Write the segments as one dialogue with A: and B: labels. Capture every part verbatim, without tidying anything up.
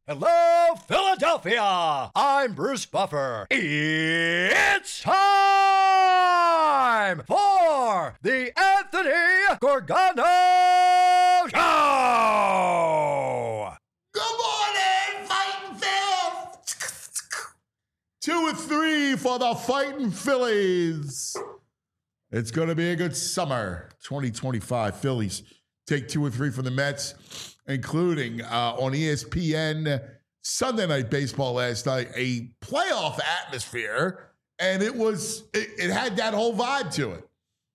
A: Hello, Philadelphia! I'm Bruce Buffer. It's time for the Anthony Gorgano Show!
B: Good morning, Fighting Phils! Two and three for the Fighting Phillies. It's going to be a good summer. twenty twenty-five Phillies take two and three from the Mets, including uh, on E S P N Sunday Night Baseball last night, a playoff atmosphere, and it was it, it had that whole vibe to it.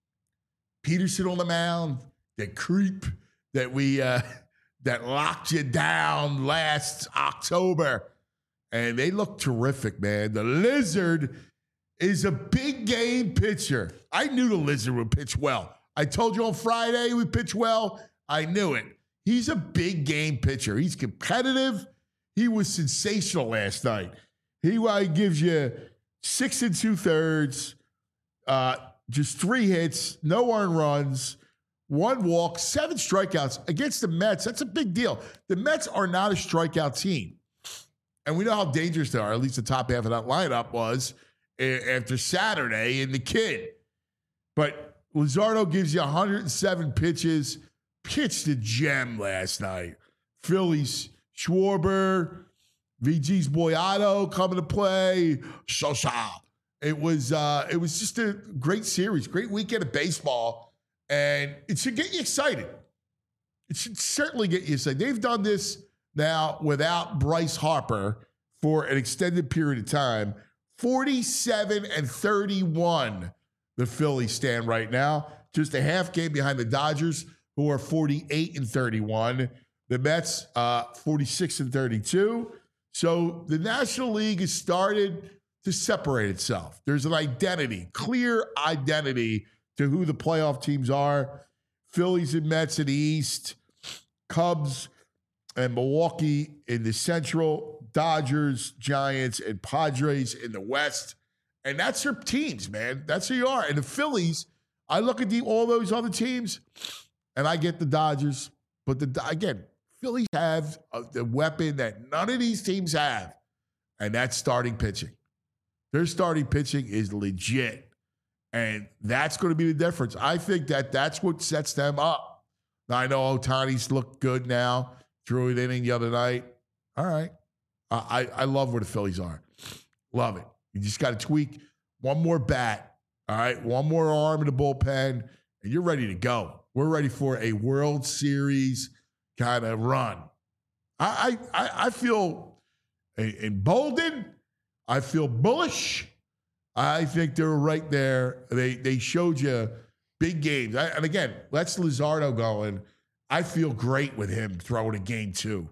B: Peterson on the mound, the creep that we uh, that locked you down last October, and they look terrific, man. The Lizard is a big game pitcher. I knew the Lizard would pitch well. I told you on Friday he would pitch well. I knew it. He's a big game pitcher. He's competitive. He was sensational last night. He uh, gives you six and two thirds, uh, just three hits, no earned runs, one walk, seven strikeouts against the Mets. That's a big deal. The Mets are not a strikeout team. And we know how dangerous they are. At least the top half of that lineup was after Saturday in the Kid. But Luzardo gives you one hundred seven pitches, pitched a gem last night. Phillies, Schwarber, V G's Boyado coming to play, Sosa. It was uh, it was just a great series, great weekend of baseball, and it should get you excited. It should certainly get you excited. They've done this now without Bryce Harper for an extended period of time. forty-seven and thirty-one, the Phillies stand right now. Just a half game behind the Dodgers, who are forty-eight and thirty-one. The Mets, uh, forty-six and thirty-two. So the National League has started to separate itself. There's an identity, clear identity to who the playoff teams are. Phillies and Mets in the East, Cubs and Milwaukee in the Central, Dodgers, Giants, and Padres in the West. And that's your teams, man. That's who you are. And the Phillies, I look at the, all those other teams, and I get the Dodgers. But the again, Phillies have a, the weapon that none of these teams have, and that's starting pitching. Their starting pitching is legit, and that's going to be the difference. I think that that's what sets them up. Now, I know Ohtani's looked good now, threw it inning the other night. All right. I, I love where the Phillies are. Love it. You just got to tweak one more bat, all right? One more arm in the bullpen, and you're ready to go. We're ready for a World Series kind of run. I I, I feel emboldened. I feel bullish. I think they're right there. They they showed you big games. I, and again, let's Luzardo going. I feel great with him throwing a game two.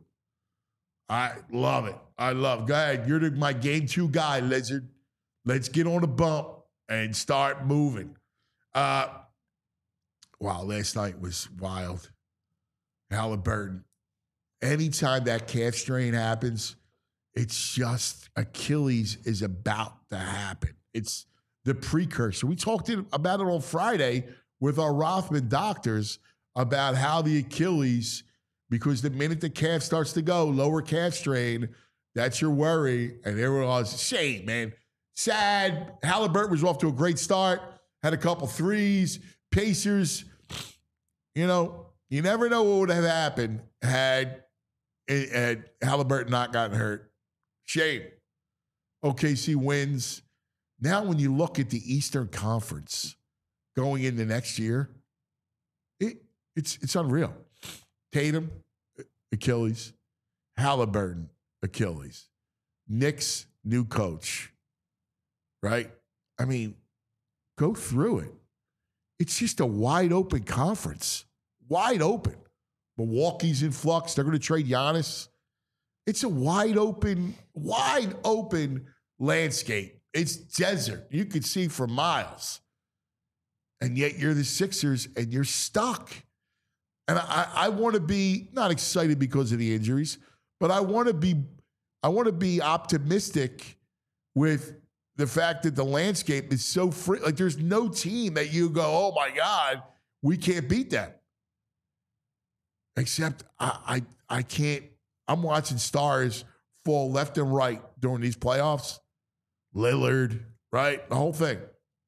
B: I love it. I love it. Go ahead. You're the, my game two guy, Lizard. Let's get on the bump and start moving. Uh, wow, last night was wild. Halliburton. Anytime that calf strain happens, it's just Achilles is about to happen. It's the precursor. We talked about it on Friday with our Rothman doctors about how the Achilles, because the minute the calf starts to go, lower calf strain, that's your worry. And there was shame, man. Sad. Halliburton was off to a great start, had a couple threes. Pacers, you know, you never know what would have happened had, had Halliburton not gotten hurt. Shame. O K C wins. Now when you look at the Eastern Conference going into next year, it, it's it's unreal. Tatum, Achilles. Halliburton, Achilles. Knicks, new coach. Right? I mean, go through it. It's just a wide open conference. Wide open. Milwaukee's in flux. They're going to trade Giannis. It's a wide open, wide open landscape. It's desert. You could see for miles. And yet you're the Sixers and you're stuck. And I, I want to be not excited because of the injuries, but I want to be I want to be optimistic with the fact that the landscape is so free. Like there's no team that you go, oh my God, we can't beat them. Except I I, I can't. I'm watching Stars fall left and right during these playoffs. Lillard, right? The whole thing.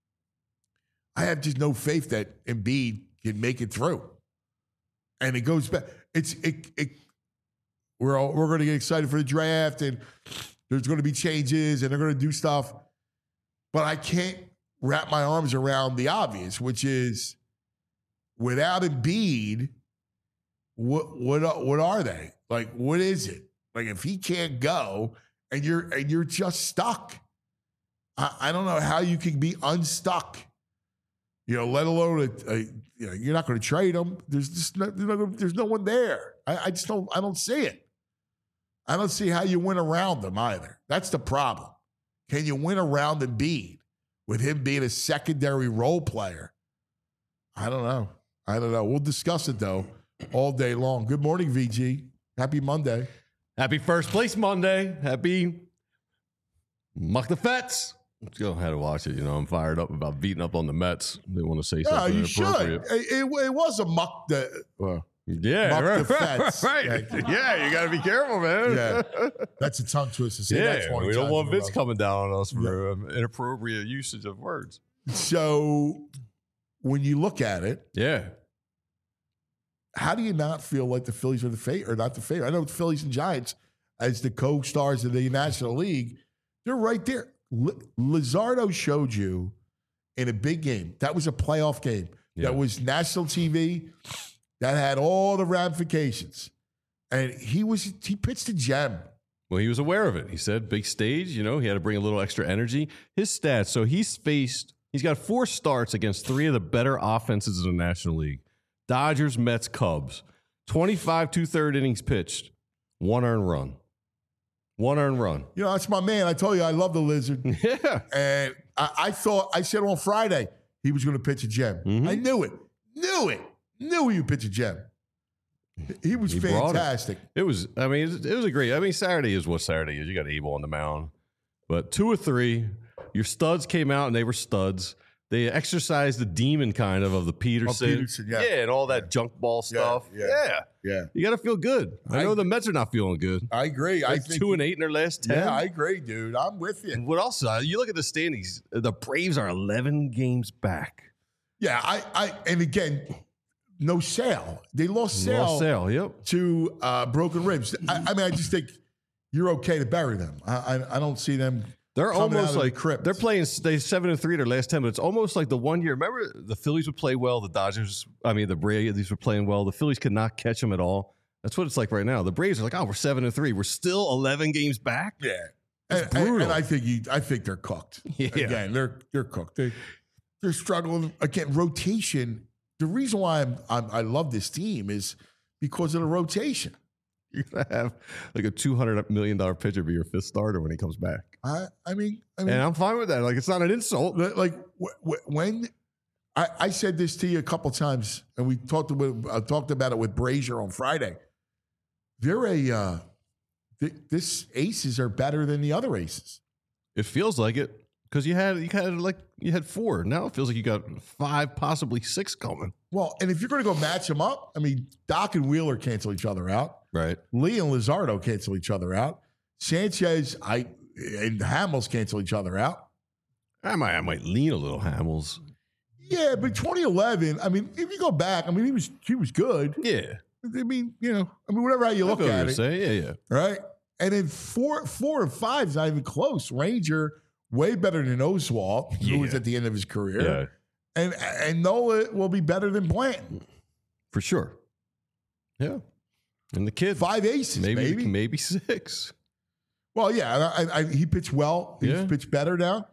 B: I have just no faith that Embiid can make it through. And it goes back. It's it. it we're all, we're going to get excited for the draft, and there's going to be changes, and they're going to do stuff. But I can't wrap my arms around the obvious, which is without Embiid, what what what are they? Like, what is it? Like, if he can't go and you're and you're just stuck, I, I don't know how you can be unstuck. You know, let alone a, a, you know, you're not going to trade him. There's just no, there's no, there's no one there. I, I just don't. I don't see it. I don't see how you win around them either. That's the problem. Can you win around Embiid with him being a secondary role player? I don't know. I don't know. We'll discuss it though all day long. Good morning, V G. Happy Monday.
C: Happy first place Monday. Happy Muck the Fets. Let's go ahead and watch it. You know, I'm fired up about beating up on the Mets. They want to say
B: Yeah,
C: something
B: you should.
C: inappropriate.
B: It, it, it was a muck the well,
C: Yeah,
B: Muck
C: right,
B: the Fets.
C: right.
B: Yeah.
C: Yeah, you got to be careful, man.
B: Yeah, that's a tongue twister. Say that
C: Yeah,
B: twenty
C: we don't
B: times
C: want
B: in a
C: Vince
B: row.
C: coming down on us for um, inappropriate usage of words.
B: So when you look at it,
C: Yeah.
B: how do you not feel like the Phillies are the favorite or not the favorite? I know the Phillies and Giants as the co-stars of the National League, they're right there. L- Lizardo showed you in a big game. That was a playoff game.
C: Yeah.
B: That was national T V. That had all the ramifications. And he was he pitched a gem.
C: Well, he was aware of it. He said, big stage, you know, he had to bring a little extra energy. His stats, so he's faced, he's got four starts against three of the better offenses in the National League. Dodgers, Mets, Cubs. twenty-five two-third innings pitched. One earned run. One earned run.
B: You know, that's my man. I told you I love the Lizard.
C: Yeah.
B: And I, I thought, I said on Friday, he was going to pitch a gem.
C: Mhm.
B: I knew it. Knew it. Knew he would pitch a gem. He was
C: He brought it.
B: fantastic.
C: It was, I mean, it was, it was a great, I mean, Saturday is what Saturday is. You got Abel on the mound. But two or three, your studs came out and they were studs. They exercised the demon kind of of the Peterson.
B: Peterson, yeah.
C: and all that junk ball stuff.
B: yeah.
C: Yeah.
B: Yeah.
C: You got to feel good. I,
B: I-
C: know the Mets are not feeling good.
B: I agree. I
C: Like
B: think
C: two and eight in their last ten.
B: Yeah, I agree, dude. I'm with you.
C: What else? Uh, you look at the standings. The Braves are eleven games back.
B: Yeah, I, I, and again, no Sale. They lost Sale,
C: Lost Sale. Yep.
B: to uh, broken ribs. I, I mean, I just think you're okay to bury them. I, I, I don't see them.
C: They're
B: coming out
C: almost
B: of the
C: like
B: crypt.
C: they're playing. They seven and three their last ten, but it's almost like the one year. Remember, the Phillies would play well. The Dodgers, I mean, the Braves were playing well. The Phillies could not catch them at all. That's what it's like right now. The Braves are like, oh, we're seven and three. We're still eleven games back.
B: Yeah,
C: That's
B: and, and-
C: brutal.
B: and I think you, I think they're cooked.
C: Yeah.
B: Again, they're they're cooked. They they're struggling again. Rotation. The reason why I'm, I'm I love this team is because of the rotation.
C: You're gonna have like a two hundred million dollar pitcher be your fifth starter when he comes back,
B: I I mean I mean
C: and I'm fine with that. Like, it's not an insult.
B: like wh- wh- when I, I said this to you a couple times, and we talked about I talked about it with Brazier on Friday. They're a uh, th- this aces are better than the other aces.
C: It feels like it because you had you had like you had four. Now it feels like you got five, possibly six coming.
B: Well, and if you're going to go match them up, I mean, Doc and Wheeler cancel each other out.
C: Right.
B: Lee and Lizardo cancel each other out. Sanchez I and Hamels cancel each other out.
C: I might I might lean a little Hamels.
B: Yeah, but twenty eleven. I mean, if you go back, I mean, he was he was good.
C: Yeah.
B: I mean, you know, I mean, whatever how you look
C: I feel what
B: at
C: you're
B: it.
C: saying. Yeah, yeah.
B: Right? And then four, four and five is not even close. Ranger, way better than Oswalt, who was
C: Yeah.
B: at the end of his career.
C: Yeah,
B: And and Nola will be better than Blanton.
C: for sure. Yeah. And the kid,
B: Five aces,
C: maybe
B: maybe.
C: maybe six.
B: Well, yeah, I, I, he pitched well. He's
C: Yeah.
B: pitched better now.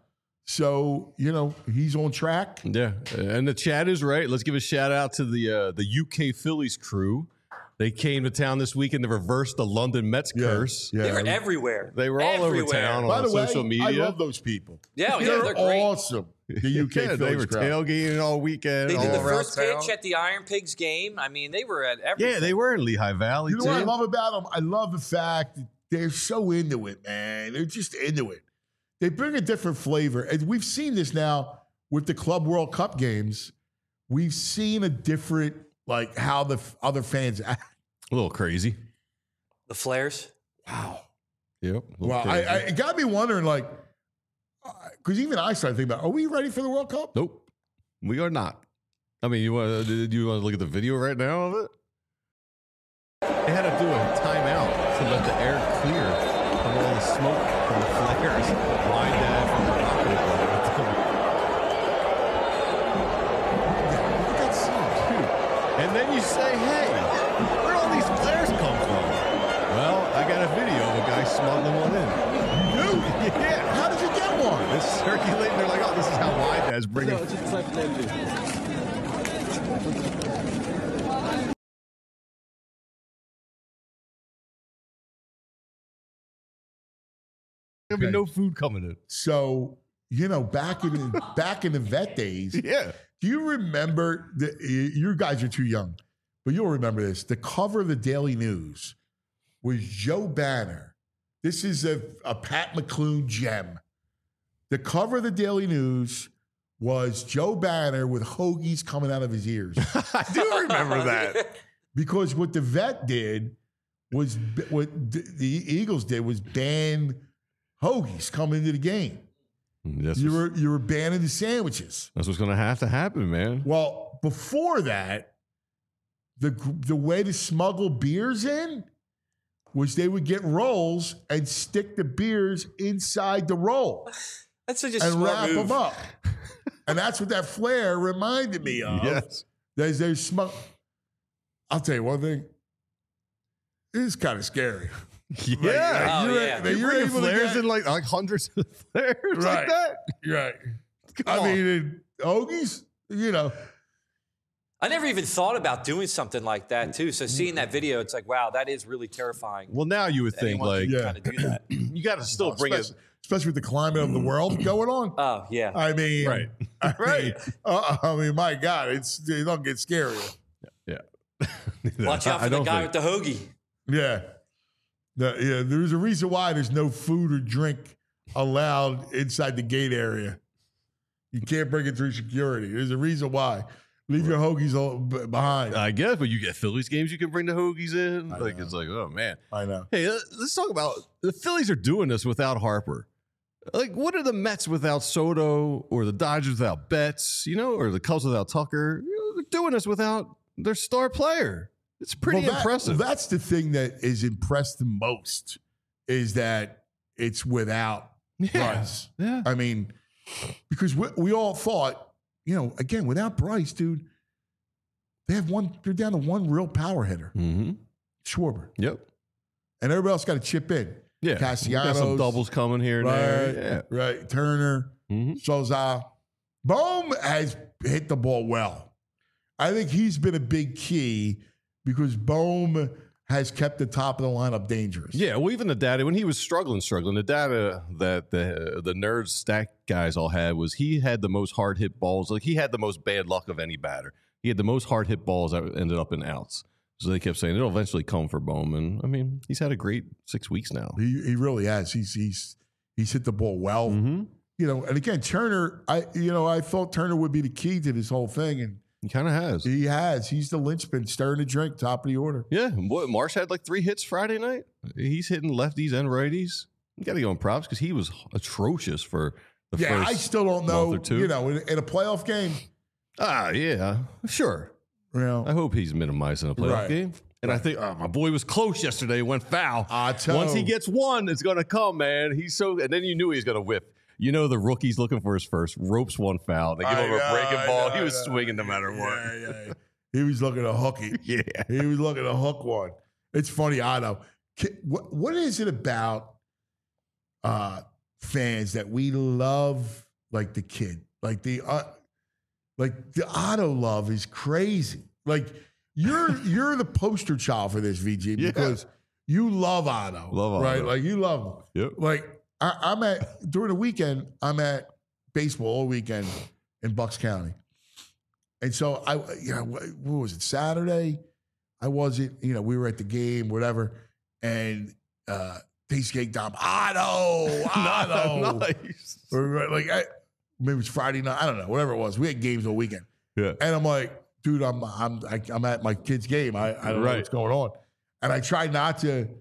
B: So, you know, he's on track.
C: Yeah. And the chat is right. Let's give a shout out to the uh, the U K Phillies crew. They came to town this weekend to reverse the London Mets
B: Yeah,
C: curse.
B: yeah.
D: They were everywhere.
C: They were all
D: Everywhere.
C: over town
B: By
C: on
B: the way,
C: social media.
B: I love those people.
D: Yeah, yeah,
B: they're,
D: they're great.
B: awesome. The U K
C: Yeah,
B: Phillies
C: they were
B: crowd.
C: tailgating all weekend.
D: They
C: all
D: did the
C: around
D: first
C: town.
D: pitch at the Iron Pigs game. I mean, they were at everything.
C: Yeah, they were in Lehigh Valley
B: You know
C: too.
B: what I love about them? I love the fact that they're so into it, man. They're just into it. They bring a different flavor. And we've seen this now with the Club World Cup games. We've seen a different, like, how the f- other fans act.
C: A little crazy.
D: The Flares.
B: Wow.
C: Yep.
B: Well, I, I, it got me wondering, like, because even I started thinking about, are we ready for the World Cup?
C: Nope. We are not. I mean, you want to you want to look at the video right now of it? They had to do a timeout to let the air clear from all the smoke from the flares. Why dad from the rocket ball?
B: Look at that scene.
C: Dude. And then you say, hey, where all these flares come from? Well, I got a video of a guy smuggling one in.
B: You do?
C: Yeah.
B: How did you get one?
C: It's circulating. They're like, oh, this is how wide dad's bringing it. There'll be no food coming in.
B: So, you know, back in the, back in the vet days,
C: Yeah.
B: do you remember, the, you guys are too young, but you'll remember this. The cover of the Daily News was Joe Banner. This is a, a Pat McClune gem. The cover of the Daily News was Joe Banner with hoagies coming out of his ears.
C: I do remember that.
B: Because what the vet did was, what the Eagles did was ban hoagies coming into the game.
C: That's
B: You
C: what's,
B: were you were banning the sandwiches.
C: that's what's going to have to happen, man.
B: Well, before that, the the way to smuggle beers in was they would get rolls and stick the beers inside the roll
D: That's such a
B: and
D: smart
B: wrap
D: move.
B: them up. And that's what that flare reminded me of.
C: Yes.
B: There's there's smug. I'll tell you one thing. It is kind of scary.
C: Yeah.
B: Like,
D: Oh,
B: you're,
D: yeah.
B: that
C: You're
B: you're
C: bringing
B: able to
C: flares
B: get-
C: in like, like hundreds of flares like
B: Right.
C: that.
B: Right.
C: Come
B: I
C: on.
B: mean, in hoagies, you know.
D: I never even thought about doing something like that too. So seeing that video, it's like, wow, that is really terrifying.
C: Well, now you would think
D: Anyone
C: like
D: can
B: Yeah.
D: kind of do that.
C: you got to still bring it.
B: especially, especially with the climate of the world going on.
D: Oh yeah.
B: I mean,
C: Right.
B: I
C: Right.
B: mean, uh, I mean, my God, it's it don't get scarier.
C: Yeah.
D: Watch out
C: I
D: for the
C: don't
D: guy
C: think-
D: with the hoagie.
B: Yeah, The- yeah. There's a reason why there's no food or drink allowed inside the gate area. You can't bring it through security. There's a reason why. Leave your hoagies all b- behind.
C: I guess, but you get Phillies games, you can bring the hoagies in. Like
B: know.
C: it's like, oh man.
B: I know.
C: Hey, let- let's talk about the Phillies are doing this without Harper. Like, what are the Mets without Soto, or the Dodgers without Betts, you know, or the Cubs without Tucker? You know, they're doing this without their star player. It's pretty
B: Well, that-
C: impressive.
B: That's the thing that is impressed the most is that it's without
C: yeah.
B: Bryce.
C: Yeah.
B: I mean, because we, we all thought, you know, again, without Bryce, dude, they have one, they're down to one real power hitter,
C: Mm-hmm.
B: Schwarber.
C: Yep.
B: And everybody else got to chip in.
C: Yeah. We got
B: Castellanos.
C: some doubles coming here and
B: Right,
C: there.
B: right. Turner,
C: Yeah. Mm-hmm.
B: Souza. Bohm has hit the ball well. I think he's been a big key because Bohm has kept the top of the lineup dangerous.
C: Yeah, well, even the data when he was struggling, struggling, the data that the the nerds stack guys all had was he had the most hard hit balls. Like he had the most bad luck of any batter. He had the most hard hit balls that ended up in outs. So they kept saying it'll eventually come for Bowman. I mean, he's had a great six weeks now.
B: He he really has. He's he's he's hit the ball well.
C: Mm-hmm.
B: You know, and again, Turner, I you know, I thought Turner would be the key to this whole thing, and
C: He kind of has.
B: he has. He's the linchpin, stirring the drink, top of the order.
C: Yeah, what Marsh had like three hits Friday night. He's hitting lefties and righties. You got to go in props because he was atrocious for the
B: Yeah,
C: first
B: I still don't know.
C: month or two.
B: You know, in, in a playoff game,
C: Ah, yeah, sure.
B: you know,
C: I hope he's minimizing a playoff
B: Right.
C: game. And I think oh, my boy was close yesterday. Went foul.
B: I tell-
C: Once he gets one, it's going to come, man. He's so. And then you knew he was going to whip. You know the rookie's looking for his first. Ropes one foul. They give
B: I
C: him a
B: know,
C: breaking
B: I
C: ball.
B: know,
C: he was
B: I know.
C: swinging no matter what.
B: Yeah, yeah, yeah. He was looking to hook it.
C: Yeah.
B: He was looking to hook one. It's funny, I know. Ki- What what is it about uh, fans that we love like the kid, like the uh, like the Otto love is crazy. Like you're you're the poster child for this, V G,
C: Yeah.
B: because you love Otto,
C: Love Otto.
B: right? Like you love him.
C: Yep.
B: Like I, I'm at during the weekend, I'm at baseball all weekend in Bucks County, and so I, you know, what was it Saturday? I wasn't, you know, we were at the game, whatever, and uh, they skate down Otto, Otto,
C: Nice.
B: Or, like I, maybe it was Friday night, I don't know, whatever it was. We had games all weekend,
C: Yeah.
B: and I'm like, dude, I'm I'm I, I'm at my kid's game. I, I don't know
C: Right.
B: what's going on, and I try not to.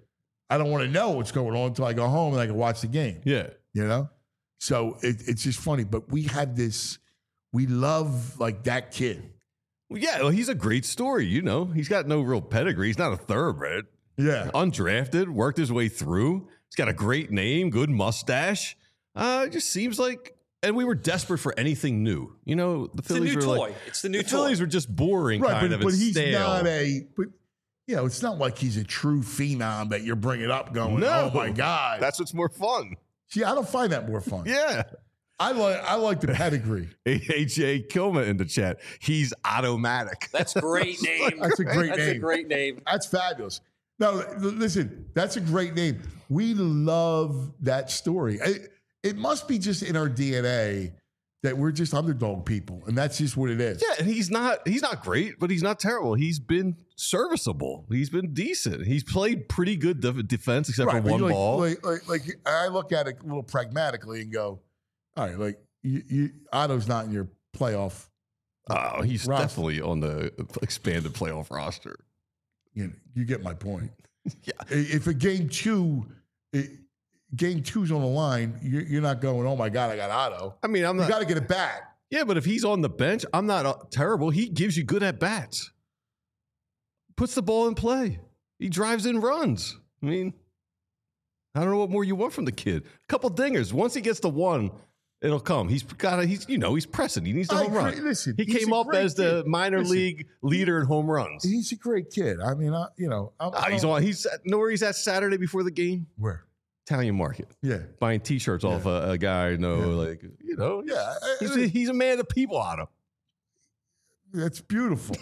B: I don't want to know what's going on until I go home and I can watch the game.
C: Yeah.
B: You know? So it, it's just funny. But we had this, we love like that kid.
C: Well, yeah, well, he's a great story. You know, he's got no real pedigree. He's not a thoroughbred.
B: Yeah.
C: Undrafted, worked his way through. He's got a great name, good mustache. Uh, it just seems like, and we were desperate for anything new. You know, the
D: It's the
C: Phillies
D: new
C: were
D: toy.
C: like,
D: It's the new
C: the
D: toy.
C: Phillies were just boring,
B: Right,
C: kind
B: but,
C: of,
B: but
C: and
B: he's
C: stale.
B: not a, but you know, it's not like he's a true phenom that you're bringing up going,
C: No.
B: oh my God.
C: That's what's more fun.
B: See, I don't find that more fun.
C: Yeah.
B: I like I like the pedigree.
C: A J Kilman in the chat. He's automatic.
D: That's a great name.
B: That's a great
D: That's
B: name.
D: a great name.
B: That's fabulous. No, l- listen, that's a great name. We love that story. It, it must be just in our D N A that we're just underdog people, and that's just what it is.
C: Yeah, and he's not he's not great, but he's not terrible. He's been serviceable. He's been decent. He's played pretty good def- defense except
B: Right,
C: for
B: but
C: one
B: you like,
C: ball.
B: Like, like, like I look at it a little pragmatically and go, all right, like you, you, Otto's not in your playoff.
C: Oh, he's
B: roster.
C: definitely on the expanded playoff roster.
B: You know, you get my point.
C: Yeah.
B: I- If a game two, i- game two's on the line, you're, you're not going, oh my God, I got Otto.
C: I mean, I'm
B: You
C: not.
B: got to get it back.
C: Yeah, but if he's on the bench, I'm not uh, terrible. He gives you good at bats. Puts the ball in play. He drives in runs. I mean, I don't know what more you want from the kid. A couple dingers. Once he gets the one, it'll come. He's got. He's you know he's pressing. He needs the
B: I
C: home
B: agree.
C: run.
B: Listen,
C: he
B: he's
C: came
B: a
C: up
B: great
C: as the
B: kid.
C: minor
B: Listen,
C: league leader in home runs.
B: He's a great kid. I mean, I, you know, I'm,
C: Ah, he's on. He's know where he's at Saturday before the game.
B: where?
C: Italian Market,
B: Yeah,
C: buying T-shirts off a, a guy. No,
B: Yeah.
C: like you know,
B: yeah. I-
C: He's
B: I-
C: a, he's a man of people on him.
B: that's beautiful.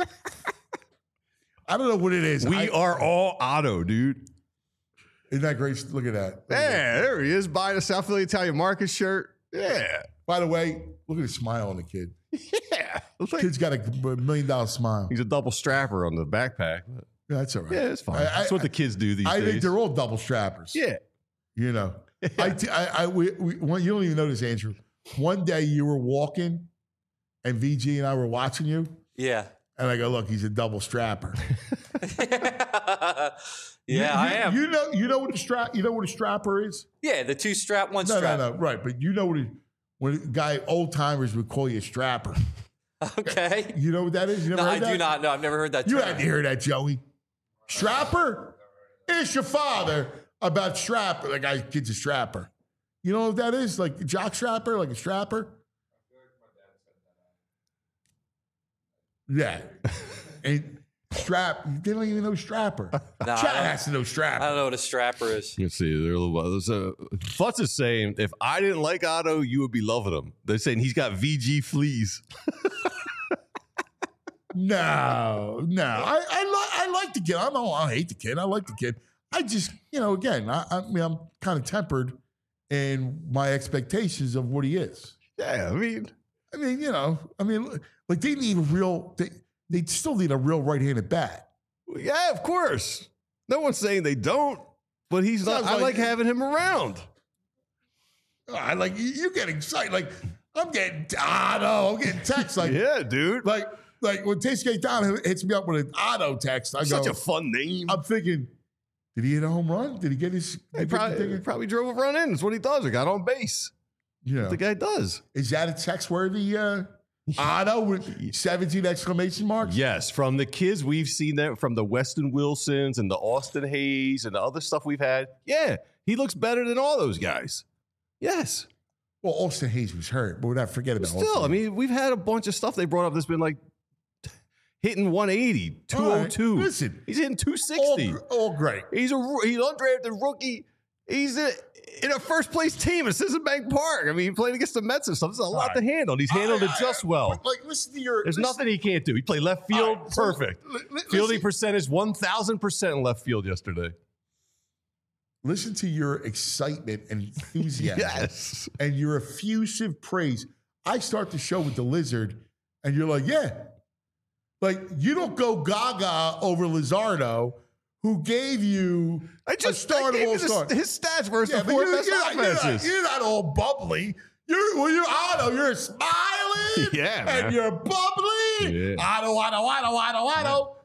B: I don't know what it is.
C: We
B: I-
C: are all Otto, dude.
B: Isn't that great? Look at that. Look at that.
C: Yeah, there he is buying a South Philly Italian Market shirt. Yeah,
B: By the way, look at the smile on the kid.
C: yeah. Looks like
B: Kid's got a million dollar smile.
C: he's a double strapper on the backpack.
B: Yeah, that's all right.
C: Yeah, it's fine.
B: I-
C: That's
B: I-
C: what the kids do these
B: I
C: days.
B: think they're all double strappers.
C: yeah.
B: You know, I, t- I, I, we, we, one, you don't even notice, Andrew. One day you were walking, and V G and I were watching you,
D: Yeah.
B: and I go, "Look, he's a double strapper."
D: yeah,
B: You-
D: I
B: you-
D: am.
B: You know, you know what a strap. You know what a strapper is?
D: yeah, the two strap, one
B: No,
D: strap.
B: no, no. Right, but you know what? A, when a guy old timers would call you a strapper.
D: Okay.
B: You know what that is? You never
D: No,
B: heard
D: I
B: that?
D: do not know. I've never heard that
B: You
D: term.
B: had to hear that, Joey. Strapper? It's your father about strapper. Like, I kid's a strapper. You know what that is? Like a jock strapper, like a strapper? Yeah. And strap, they don't even know strapper.
D: No, I
B: Chad
D: don't-
B: has to know
D: I
B: strapper.
D: don't know what a strapper is.
C: Let's see. They're a little. So Futz is saying, if I didn't like Otto, you would be loving him. They're saying he's got V G fleas.
B: No, no. I I, li- I like the kid. I don't I hate the kid. I like the kid. I just, you know, again, I, I mean, I'm kind of tempered in my expectations of what he is.
C: Yeah, I mean,
B: I mean, you know, I mean, like they need a real, they, they still need a real right-handed bat.
C: yeah, of course. No one's saying they don't, but he's not.
B: Sounds
C: I
B: like-
C: like having him around.
B: I like, you, you get excited. Like, I'm getting, Otto, I'm getting texts like,
C: Yeah, dude.
B: like, like when Tasty Down hits me up with an Otto text, I go,
C: Such a fun name.
B: I'm thinking, did he hit a home run? Did he get his,
C: He
B: did he
C: probably,
B: get-
C: probably drove a run in. That's what he does. He got on base.
B: you know,
C: The guy does.
B: is that a text-worthy uh, Otto with seventeen exclamation marks?
C: Yes, from the kids we've seen that from the Weston Wilsons and the Austin Hayes and the other stuff we've had. Yeah, he looks better than all those guys. Yes.
B: Well, Austin Hayes was hurt, but we're not forgetting about
C: Still, I
B: Austin.
C: mean, we've had a bunch of stuff they brought up that's been like hitting one eighty, two oh two.
B: All right, listen.
C: He's hitting two
B: all,
C: sixty.
B: all great.
C: He's a roo- he's undrafted rookie. He's a, in a first place team at Citizen Bank Park. I mean, he played against the Mets and stuff. There's a lot
B: right.
C: to handle. And he's handled it
B: I- I-
C: just well.
B: but, Like, listen to your.
C: There's
B: listen,
C: nothing he can't do. He played left
B: all
C: field,
B: right, so
C: perfect.
B: li- li-
C: Fielding
B: listen,
C: percentage one thousand percent in left field yesterday.
B: listen to your excitement and enthusiasm
C: Yes.
B: and your effusive praise. I start the show with the Lizard, and you're like, yeah. Like, you don't go gaga over Lizardo, who gave you
C: I
B: a
C: just I
B: start of
C: gave
B: all
C: you the-
B: stars.
C: his stats versus
B: Yeah,
C: the
B: but
C: four
B: you're,
C: best
B: you're, not, you're, not,
C: offenses.
B: you're not all bubbly. You're well, you're Otto. You're smiling.
C: Yeah, man.
B: and you're bubbly.
C: Yeah.
B: Otto, Otto, Otto, Otto, Otto.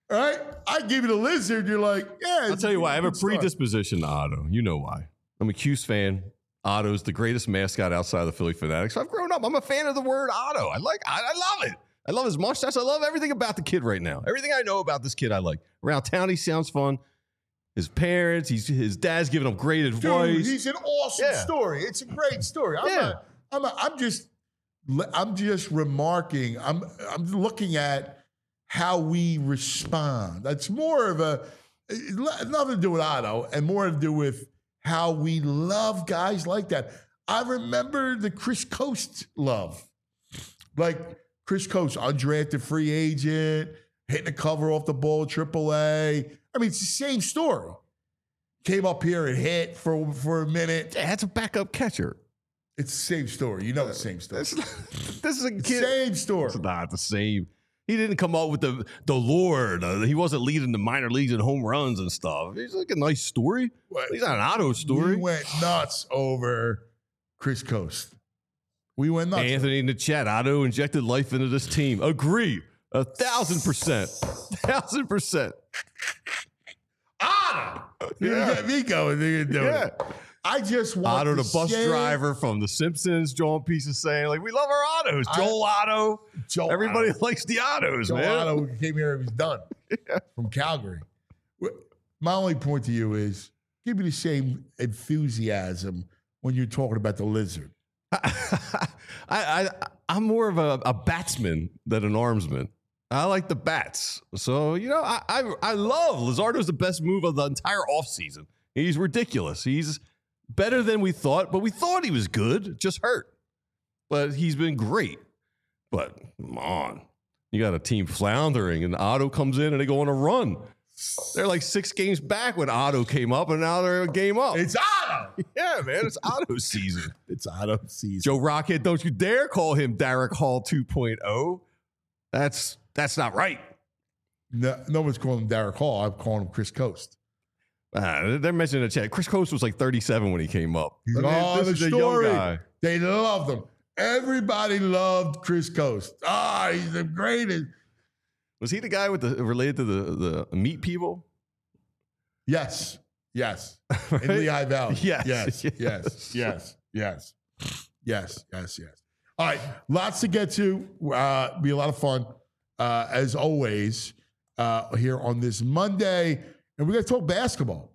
B: right? I give you the Lizard. You're like, yeah.
C: I'll tell you why. I have a
B: good story.
C: predisposition to Otto. You know why. I'm a Cuse fan. Otto's the greatest mascot outside of the Philly Fanatics. So I've grown up. I'm a fan of the word Otto. I like I, I love it. I love his mustache. I love everything about the kid right now. Everything I know about this kid I like. Around town, he sounds fun. His parents, he's, his dad's giving him great advice.
B: Dude, he's an awesome
C: Yeah.
B: story. It's a great story. I'm,
C: Yeah.
B: not, I'm, not, I'm just I'm just remarking. I'm I'm looking at how we respond. That's more of a nothing to do with Otto and more to do with how we love guys like that. I remember the Chris Coast love. Like Chris Coast, undrafted free agent, hitting the cover off the ball, triple A. I mean, it's the same story. Came up here and hit for, for a minute.
C: Yeah, that's a backup catcher.
B: It's the same story. You know the same story.
C: This, this is a kid.
B: Same story.
C: It's not the same. He didn't come up with the the Lord. Uh, he wasn't leading the minor leagues in home runs and stuff. He's like a nice story.
B: What?
C: He's not an Otto story.
B: We went nuts over Chris Coast. We went nuts.
C: Anthony in the chat. Otto injected life into this team. Agree. A thousand percent. Thousand percent.
B: Otto. You
C: Yeah.
B: get me going. You do
C: Yeah.
B: it. I just want
C: Otto,
B: to
C: the bus
B: say-
C: driver from The Simpsons, John Pieces saying, like, we love our Ottos.
B: I-
C: Joel Otto.
B: Joe
C: Everybody
B: Otto.
C: likes the Ottos,
B: Joe
C: man.
B: Otto came here and was done from Calgary. My only point to you is give me the same enthusiasm when you're talking about the Lizard.
C: I, I, I'm more of a, a batsman than an armsman. I like the bats. So, you know, I, I, I love Lizardo's the best move of the entire offseason. He's ridiculous. He's better than we thought, but we thought he was good, just hurt. But he's been great. But come on. You got a team floundering, and Otto comes in and they go on a run. They're like six games back when Otto came up, and now they're a game up.
B: It's Otto.
C: Yeah, man, it's Otto season.
B: It's Otto season.
C: Joe Rockhead, don't you dare call him Derek Hall two point oh. That's that's not right.
B: No, no one's calling him Derek Hall. I'm calling him Chris Coast.
C: Uh, they're mentioning in the chat. Chris Coast was like thirty-seven when he came up.
B: He's
C: I mean,
B: oh,
C: this
B: the
C: is a
B: story.
C: young guy.
B: They loved him. Everybody loved Chris Coast. Ah, he's the greatest.
C: Was he the guy with the related to the the meat people?
B: Yes, yes.
C: Right?
B: In Lehigh Valley.
C: Yes,
B: yes,
C: yes.
B: yes, yes, yes, yes, yes, yes. All right, lots to get to. Uh, be a lot of fun, uh, as always, uh, here on this Monday. And we're going to talk basketball.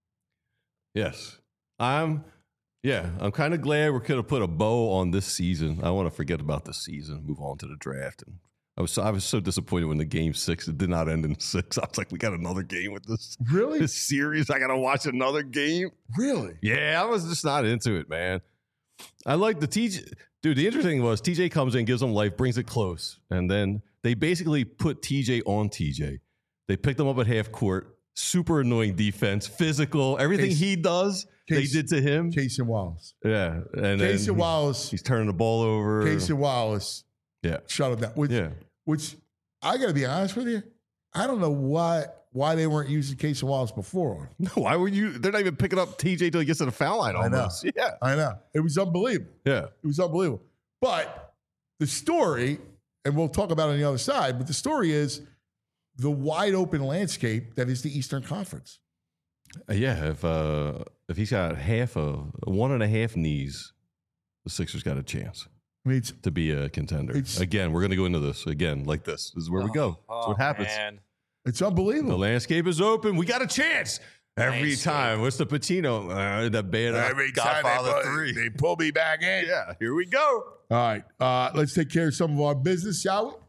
C: Yes. I'm yeah, I'm kind of glad we could have put a bow on this season. I want to forget about the season, move on to the draft. And I was so, I was so disappointed when the game six, it did not end in six. I was like, we got another game with this,
B: Really?
C: this series. I got to watch another game.
B: Really?
C: Yeah, I was just not into it, man. I like the T J. Dude, the interesting thing was T J comes in, gives him life, brings it close. And then they basically put T J on T J. They picked him up at half court. Super annoying defense, physical, everything
B: Case-
C: he does,
B: Case-
C: they did to him.
B: Casey Wallace.
C: Yeah. And
B: Casey
C: then
B: Wallace.
C: he's turning the ball over.
B: Casey Wallace.
C: Yeah.
B: Shut him down. Which,
C: Yeah.
B: which I got to be honest with you. I don't know why why they weren't using Casey Wallace before.
C: No, why were you? They're not even picking up T J till he gets to the foul line
B: I know.
C: almost. Yeah.
B: I know. It was unbelievable.
C: Yeah.
B: It was unbelievable. But the story, and we'll talk about it on the other side, but the story is the wide open landscape that is the Eastern Conference.
C: Uh, yeah. If uh, if he's got half of one and a half knees, the Sixers got a chance
B: I mean, it's
C: to be a contender.
B: It's-
C: Again, we're going to go into this again like this. This is where we go. That's
D: Oh,
C: what happens.
D: man.
B: it's
C: The
B: unbelievable.
C: landscape is open. We got a chance every
D: Landscape.
C: time. What's the Pacino? Uh, the band Godfather three.
B: they pull me back in.
C: Yeah, here we go.
B: All right, uh, let's take care of some of our business, shall we?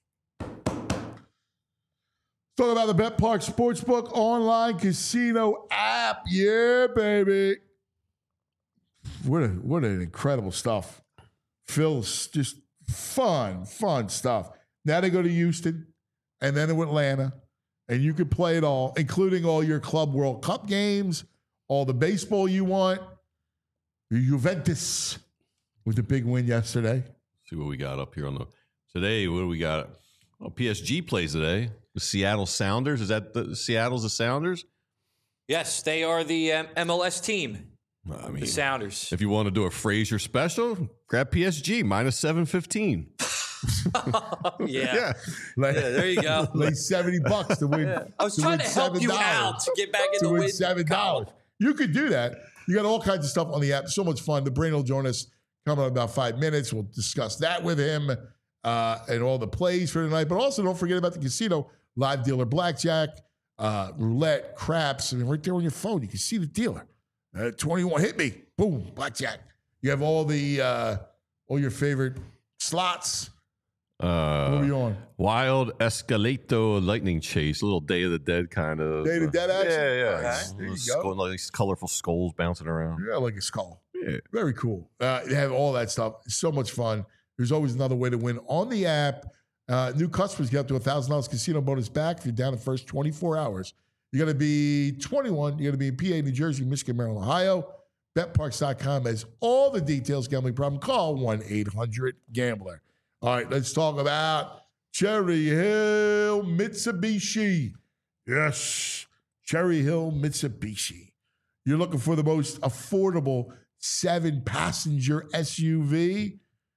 B: Talk about the Bet Park Sportsbook online casino app. Yeah, baby. What a, what an incredible stuff. Phil's just fun, fun stuff. Now they go to Houston and then to Atlanta, and you can play it all, including all your Club World Cup games, all the baseball you want. Juventus with the big win yesterday.
C: See what we got up here on the today. What do we got? Well, P S G plays today. The Seattle Sounders. Is that the Seattle's the Sounders?
D: Yes, they are the um, M L S team,
C: I mean,
D: the Sounders.
C: if you want to do a Frazier special, grab P S G minus seven fifteen.
D: yeah.
C: Yeah.
B: Like,
D: Yeah, there you go.
B: like seventy bucks to win.
D: I was
B: to
D: trying
B: win
D: to help
B: seven
D: you
B: dollars.
D: out to get back in
B: To
D: the
B: win
D: win
B: seven dollars. You could do that. You got all kinds of stuff on the app. So much fun. The Brain will join us coming up in about five minutes. We'll discuss that with him uh, and all the plays for tonight. But also don't forget about the casino, live dealer blackjack, uh, roulette, craps. I mean, right there on your phone, you can see the dealer. Uh, twenty-one, hit me. Boom, blackjack. You have all the uh, all your favorite slots.
C: Uh,
B: What are you on?
C: Wild Escalato Lightning Chase, a little Day of the Dead kind of.
B: Day of the Dead action?
C: Yeah, yeah.
B: Nice. There you go.
C: Skull, like these colorful skulls bouncing around.
B: Yeah, like a skull.
C: Yeah.
B: Very cool. Uh, they have all that stuff. It's so much fun. There's always another way to win on the app. Uh, new customers get up to one thousand dollars casino bonus back if you're down the first twenty-four hours. You got to be twenty-one. You got to be in P A, New Jersey, Michigan, Maryland, Ohio. bet parks dot com has all the details. Gambling problem? Call one eight hundred gambler. All right, let's talk about Cherry Hill Mitsubishi. Yes, Cherry Hill Mitsubishi. You're looking for the most affordable seven-passenger S U V?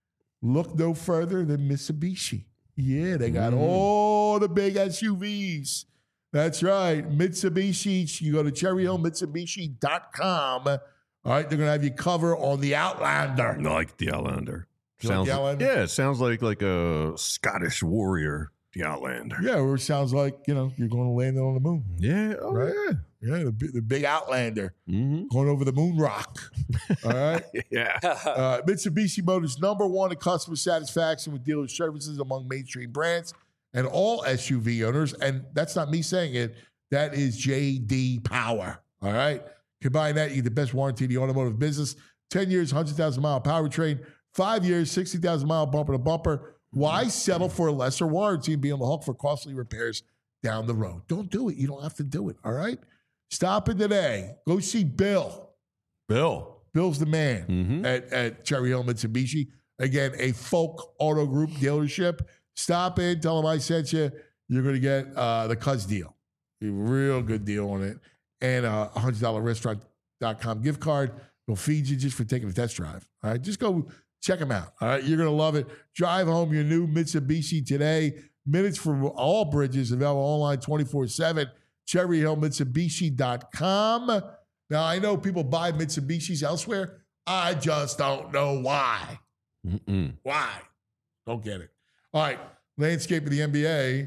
B: Look no further than Mitsubishi. Yeah, they got mm. all the big S U Vs. That's right, Mitsubishi. You go to cherry hill mitsubishi dot com. All right, they're going to have you cover on the Outlander.
C: I like the Outlander.
B: You
C: Sounds
B: like the Outlander?
C: Yeah, it sounds like like a Scottish warrior, the Outlander.
B: Yeah, or it sounds like, you know, you're going to land it on the moon.
C: Yeah, oh,
B: Right?
C: yeah.
B: Yeah, the, bi- the big Outlander
C: Mm-hmm.
B: going over the moon rock. All right.
C: Yeah.
B: Uh, Mitsubishi Motors, number one in customer satisfaction with dealer services among mainstream brands and all S U V owners. And that's not me saying it. That is J D Power. All right. Combine that, you get the best warranty in the automotive business. ten years, one hundred thousand mile powertrain. Five years, sixty thousand mile bumper to bumper. Why settle for a lesser warranty and be on the hook for costly repairs down the road? Don't do it. You don't have to do it. All right. Stop in today. Go see Bill.
C: Bill.
B: Bill's the man
C: Mm-hmm.
B: at, at Cherry Hill Mitsubishi. Again, a Folk Auto Group dealership. Stop in, tell them I sent you. You're going to get uh, the Cuz deal. A real good deal on it. And a one hundred dollars restaurant dot com gift card. They'll feed you just for taking a test drive. All right, just go check them out. All right, you're going to love it. Drive home your new Mitsubishi today. Minutes for all bridges, available online twenty-four seven. cherry hill mitsubishi dot com. Now, I know people buy Mitsubishis elsewhere. I just don't know why.
C: Mm-mm.
B: Why? Don't get it. All right, landscape of the N B A,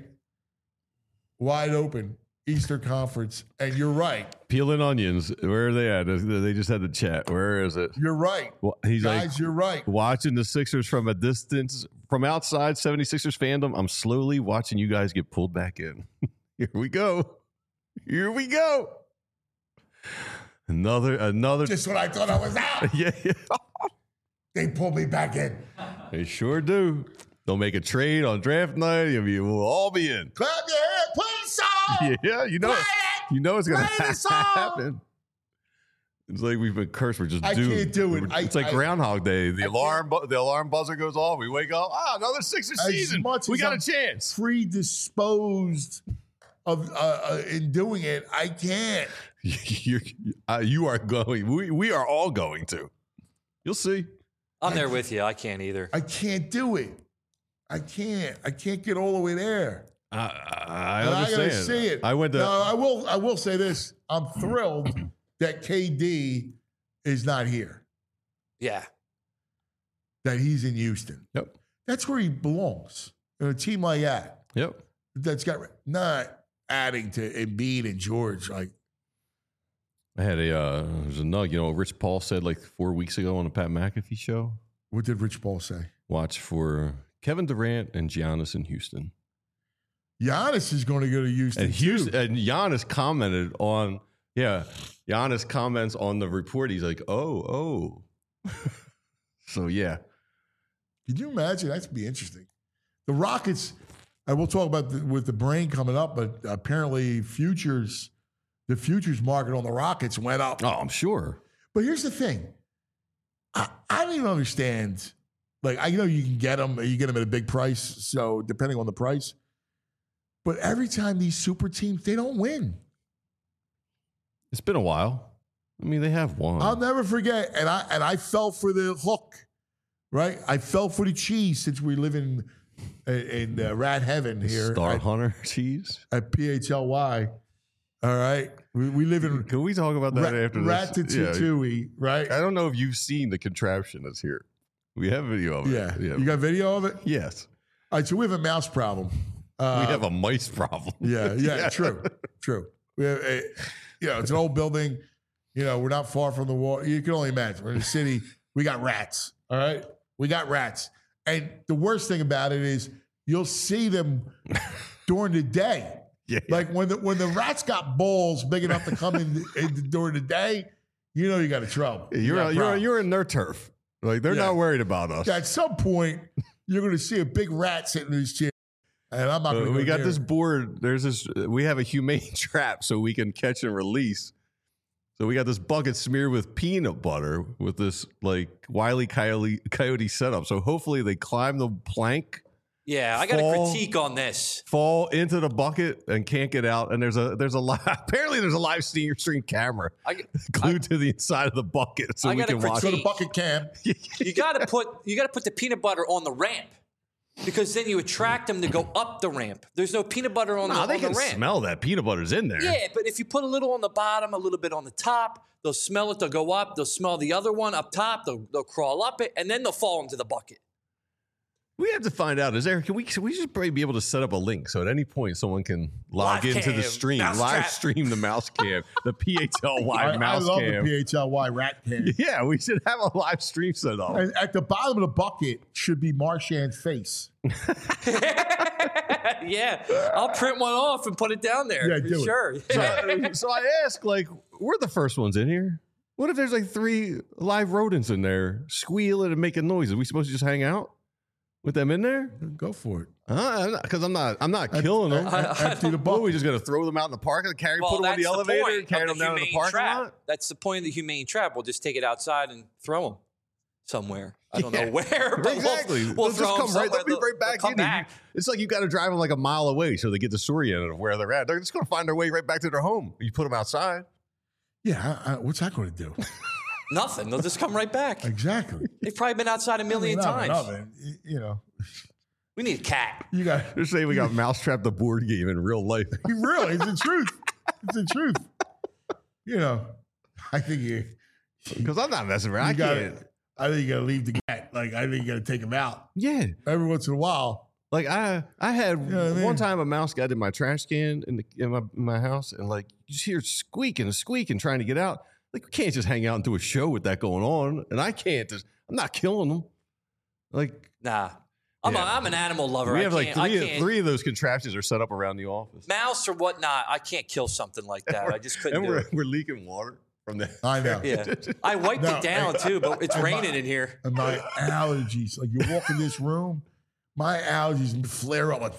B: wide open, Eastern Conference. And you're right.
C: Peeling onions. Where are they at? They just had the chat. Where is it?
B: You're right.
C: Well, he's
B: Guys,
C: like,
B: you're right.
C: watching the Sixers from a distance, from outside seventy-sixers fandom, I'm slowly watching you guys get pulled back in. Here we go. Here we go. Another, another.
B: Just when I thought I was out,
C: yeah, yeah.
B: they pulled me back in.
C: They sure do. They'll make a trade on draft night. I mean, we'll all be in.
B: Clap your hands, play the song.
C: Yeah, you know,
B: Play
C: it,
B: it.
C: you know it's gonna
B: Play the song.
C: happen. It's like we've been cursed. We're just
B: I
C: doomed.
B: can't do it.
C: We're-
B: I-
C: It's like
B: I-
C: Groundhog Day. The
B: I
C: alarm, bu- the alarm buzzer goes off. We wake up. Ah, another Sixers
B: As
C: season.
B: much
C: We
B: as
C: got
B: I'm
C: a chance.
B: Predisposed of uh, uh, in doing it, I can't.
C: You're, uh, you are going. We we are all going to. You'll see.
D: I'm there with you. I can't either.
B: I can't do it. I can't. I can't get all the way there.
C: I, I
B: And I
C: understand.
B: gotta see it.
C: I went to.
B: Now, I will. I will say this. I'm thrilled that K D is not here.
D: Yeah.
B: That he's in Houston.
C: Yep.
B: That's where he belongs. In a team like that,
C: Yep.
B: that's got not adding to Embiid and George. Like,
C: I had a. Uh, there's a nug. You know, what Rich Paul said like four weeks ago on the Pat McAfee show.
B: what did Rich Paul say?
C: Watch for Kevin Durant and Giannis in Houston.
B: Giannis is going to go to Houston.
C: And Houston
B: too.
C: and Giannis commented on. Yeah, Giannis comments on the report. He's like, "Oh, oh." So yeah.
B: Can you imagine? That'd be interesting. The Rockets. And we'll talk about the, with the brain coming up, but apparently futures, the futures market on the Rockets went up.
C: Oh, I'm sure.
B: But here's the thing. I, I don't even understand. Like, I know you can get them, you get them at a big price, so depending on the price. But every time these super teams, they don't win.
C: It's been a while. I mean, they have won.
B: I'll never forget. And I and I fell for the hook, right? I fell for the cheese since we live in in, in uh, rat heaven here
C: Star
B: at,
C: Hunter cheese.
B: at P H L Y. All right, we, we live in
C: Can we talk about that
B: rat,
C: after this?
B: Ratatouille, right?
C: I don't know if you've seen the contraption that's here. We have video of it.
B: Yeah. You got video of it?
C: Yes.
B: All right, so we have a mouse problem. Uh,
C: we have a mice problem.
B: Yeah, yeah, yeah. true, true. We have a, you know, it's an old building. You know, we're not far from the wall. You can only imagine. We're in the city. We got rats. All right, we got rats. And the worst thing about it is you'll see them during the day.
C: Yeah.
B: Like when the when the rats got balls big enough to come in, in during the day, you know you got a trouble. You
C: You're
B: got a
C: you're
B: problem.
C: you're in their turf. Like they're
B: Yeah.
C: not worried about us.
B: At some point, you're going to see a big rat sitting in his chair, and I'm not
C: Uh,
B: going to.
C: we got
B: near
C: this
B: it.
C: board. There's this. We have a humane trap so we can catch and release. So we got this bucket smeared with peanut butter with this like Wile E. Coyote, coyote setup. So hopefully they climb the plank,
D: Yeah, I got a
C: Fall-
D: critique on this.
C: fall into the bucket, and can't get out. And there's a there's a li- apparently there's a live stream stream camera
D: I,
C: glued to the inside of the bucket so
D: I
C: we
D: got a
C: can watch.
B: So
D: critique.
B: the bucket cam.
D: you got to put you got to put the peanut butter on the ramp because then you attract them to go up the ramp. There's no peanut butter on,
C: Nah,
D: the,
C: they
D: on
C: can
D: the ramp.
C: smell that peanut butter's in there.
D: Yeah, but if you put a little on the bottom, a little bit on the top, they'll smell it. They'll go up. They'll smell the other one up top. They'll, they'll crawl up it, and then they'll fall into the bucket.
C: We have to find out. Is there? Can we? Can we just probably be able to set up a link so at any point someone can log
D: Live
C: into the
D: cam,
C: stream,
D: mouse
C: live
D: trap.
C: stream the mouse cam, the P H L Y
B: I, I
C: mouse
B: love
C: cam.
B: the P H L Y rat cam.
C: Yeah, we should have a live stream set up.
B: And at the bottom of the bucket should be Marshan's face.
D: Yeah, I'll print one off and put it down there.
B: Yeah,
D: for
B: do it.
D: sure.
C: So, so I ask, like, we're the first ones in here. What if there's like three live rodents in there squealing and making noises? Are we supposed to just hang out with them in there?
B: Go for it.
C: Because I'm not. I'm not killing them.
D: I- I
B: Empty the
C: What, are we
B: bucket.
C: just gonna throw them out in the park and carry,
D: Well,
C: put them on
D: that's
C: the
D: the
C: elevator,
D: point
C: and carry
D: of
C: them
D: the
C: down to the
D: humane
C: parking
D: trap.
C: lot?
D: That's the point of the humane trap. We'll just take it outside and throw them somewhere. I don't
C: Yeah.
D: know where, but
C: Exactly.
D: we'll, we'll
C: They'll
D: throw
C: just come
D: them
C: right. They'll be
D: somewhere.
C: right back
D: They'll
C: in.
D: come
C: You-
D: back.
C: It's like you got to drive them like a mile away so they get the story in of where they're at. They're just going to find their way right back to their home. You put them outside.
B: Yeah, I, I, what's that going to do?
D: Nothing. They'll just come right back.
B: Exactly.
D: They've probably been outside a million
B: I mean,
D: times.
B: I mean, y- You know,
D: We need a cat.
B: you got
C: They're saying we got Mousetrap the board game in real life.
B: really. It's the truth. It's the truth. You know, I think you.
C: Because I'm not messing around. I
B: you gotta,
C: can't.
B: I think you got to leave the cat. Like I think you got to take him out
C: Yeah.
B: every once in a while.
C: Like I, I had
B: You know what I mean?
C: one time a mouse got in my trash can in, the, in my in my house, and like you just hear squeaking and squeaking trying to get out. Like we can't just hang out and do a show with that going on, and I can't. Just, I'm not killing them. Like
D: Nah. I'm,
C: Yeah.
D: a, I'm an animal lover.
C: we
D: I
C: have like
D: can't- I
C: three
D: can't-
C: three of those contraptions are set up around the office,
D: mouse or whatnot. I can't kill something like that. I just couldn't
C: and
D: do
C: we're
D: it.
C: we're leaking water from the.
B: I know.
D: Yeah, I wiped
B: No,
D: it down
B: I-
D: too, but it's
B: I-
D: raining in here.
B: And my allergies, like you walk in this room, my allergies flare up like,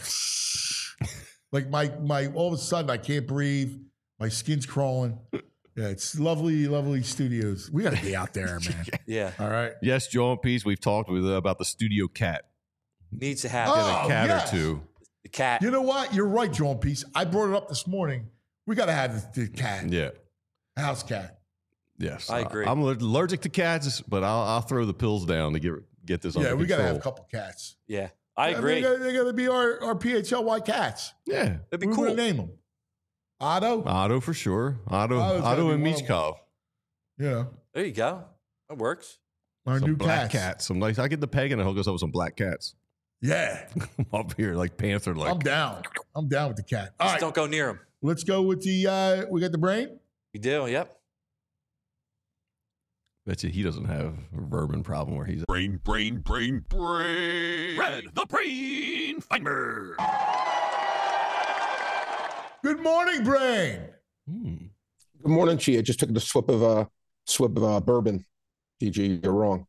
B: like my my all of a sudden I can't breathe. My skin's crawling. Yeah, it's lovely, lovely studios. We got to be out there, man.
D: Yeah,
B: All right.
C: Yes, Joe and Peace. We've talked with uh, about the studio cat.
D: needs to happen.
C: Get
B: Oh,
C: a cat
B: yes.
C: or two.
D: The cat.
B: You know what? You're right, John Peace. I brought it up this morning. We got to have the, the cat,
C: Yeah.
B: house cat.
C: Yes,
D: I agree.
C: I'm allergic to cats, but I'll, I'll throw the pills down to get get this
B: Yeah,
C: under
B: we got to have a
C: control.
B: couple cats.
D: yeah, I
B: mean,
D: agree.
B: They got, they got to be our, our P H L Y cats.
C: Yeah,
D: It'd be
B: We're
D: cool.
B: going to name them. Otto.
C: Otto for sure. Otto,
B: Otto's gotta
C: Otto
B: be
C: and
B: one of them.
C: Michkov.
B: You know,
D: There you go. That works.
B: our
C: Some
B: new
C: black
B: cats.
C: cats. Some like I get the peg and I'll hook us up with some black cats.
B: Yeah.
C: Up here, like Panther, like
B: I'm down. I'm down with the cat. All
D: Just
B: right.
D: don't go near him.
B: Let's go with the, uh, we got the brain.
D: You do. Yep.
C: bet you he doesn't have a vermin problem where he's
A: Brain, brain, brain, brain. Red, the brain finder.
B: Good morning, brain.
C: Hmm.
E: Good morning, Chi. I just took the swip of uh swip of uh, bourbon. D G, you're wrong.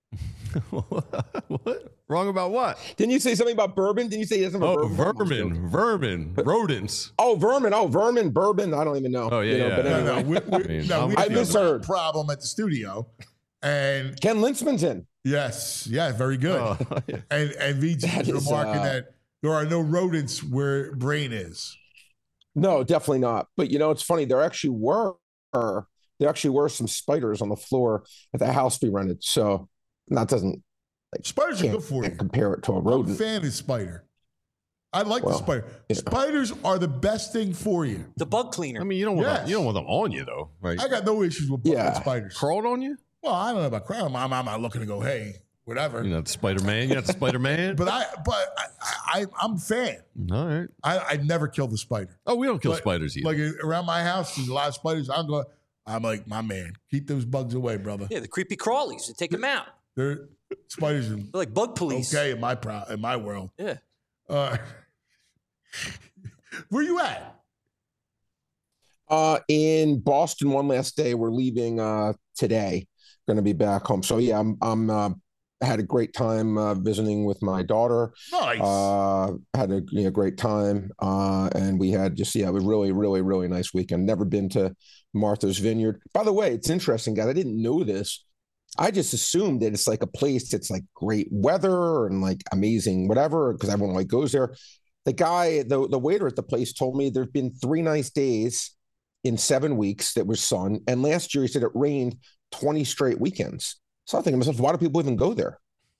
C: What? Wrong about what?
E: Didn't you say something about bourbon? Didn't you say he doesn't have a
C: Oh,
E: bourbon? problem?
C: vermin, vermin, rodents.
E: Oh, vermin. Oh, vermin, bourbon. I don't even know.
C: Oh, yeah,
E: You know,
C: yeah.
E: But
C: No,
B: No,
E: anyway,
B: no, we, we,
C: I mean,
B: no,
C: I'm
B: we
C: with
B: have
C: you.
B: a
E: Misheard.
B: problem at the studio. And
E: Ken Lintzman's in.
B: yes, yeah, very good.
C: Oh, yeah.
B: And and V G
E: That
B: is
E: is,
B: remarking
E: uh,
B: that there are no rodents where brain is.
E: No, definitely not. But you know, it's funny. There actually were there actually were some spiders on the floor at the house we rented. So that doesn't Like,
B: Spiders are
E: can't,
B: good for you.
E: can't compare it to a
B: I'm a
E: rodent.
B: fan of spider. I like
E: Well,
B: the spider.
E: yeah.
B: Spiders are the best thing for you.
D: The bug cleaner.
C: I mean, you don't want
B: Yes.
C: them, you don't want them on you though, right?
B: I got no issues with
E: Yeah.
B: with spiders.
C: Crawled on you?
B: Well, I don't know about crime. I'm, I'm not looking to go, hey, whatever.
C: You know, the Spider Man. You got the Spider Man.
B: But I, but I, I, I'm a fan.
C: All right.
B: I, I never killed a spider.
C: Oh, we don't kill
B: Like-
C: spiders either.
B: Like around my house, there's a lot of spiders. I'm going. I'm like, my man, keep those bugs away, brother.
D: Yeah, the creepy crawlies. They take them out.
B: They're spiders are
D: They're like bug police.
B: okay in my pro, in my world.
D: Yeah.
B: Uh, where you at?
E: Uh, in Boston, one last day. We're leaving uh, today. Going to be back home. So yeah, I'm. I'm. Uh, had a great time uh, visiting with my daughter.
B: Nice.
E: Uh, had a you know, great time, uh, and we had just yeah, it was really, really, really nice weekend. Never been to Martha's Vineyard. By the way, it's interesting, guys. I didn't know this. I just assumed that it's like a place that's like great weather and like amazing whatever because everyone like goes there. The guy, the the waiter at the place, told me there've been three nice days in seven weeks that was sun, and last year he said it rained twenty straight weekends. So I'm thinking to myself, why do people even go there?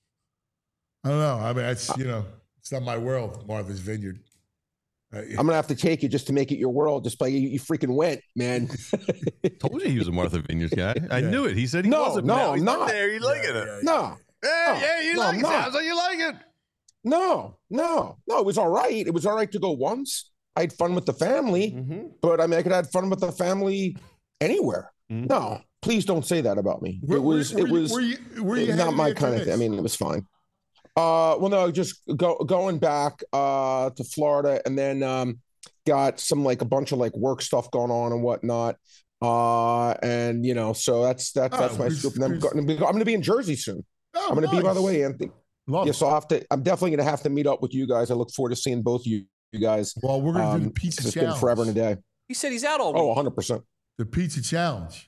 B: I don't know. I mean, it's you know, it's not my world. Martha's Vineyard. Uh,
E: I'm gonna have to take you just to make it your world. Just like you, you freaking went, man.
C: Told you he was a Martha Vineyards guy. I
B: Yeah.
C: knew it. He said he
E: No,
C: wasn't.
E: no,
C: Now he's
E: I'm not.
C: there. He's liking
B: yeah,
C: it.
B: yeah,
E: No,
C: Yeah,
E: No,
C: yeah, you
E: no,
C: like
E: I'm
C: it.
E: not.
C: Sounds like you like it.
E: no, no, no. It was all right. It was all right to go once. I had fun with the family,
C: Mm-hmm.
E: but I mean, I could have had fun with the family anywhere.
C: Mhm.
E: No, please don't say that about me.
B: Where-
E: it was,
B: where-
E: it
B: where you-
E: was
B: where you- where you
E: not
B: headed
E: my
B: after
E: kind of
B: this?
E: thing. I mean, it was fine. Uh, well, no, just go going back uh to Florida, and then um got some like a bunch of like work stuff going on and whatnot. Uh, and you know, so that's that's
B: Oh,
E: that's my
B: who's-
E: scoop. And I'm,
B: who's-
E: going I'm going to be in Jersey soon.
B: Oh,
E: I'm going to be, by the
B: nice.
E: way, Anthony.
B: Love
E: Yes,
B: it.
E: I'll have to. I'm definitely going to have to meet up with you guys. I look forward to seeing both you, you guys.
B: Well, we're gonna do the
E: Um,
B: pizza
E: 'cause it's
B: challenge.
E: been forever and a day.
D: He said he's out all week.
E: Oh, one hundred percent.
B: The pizza challenge.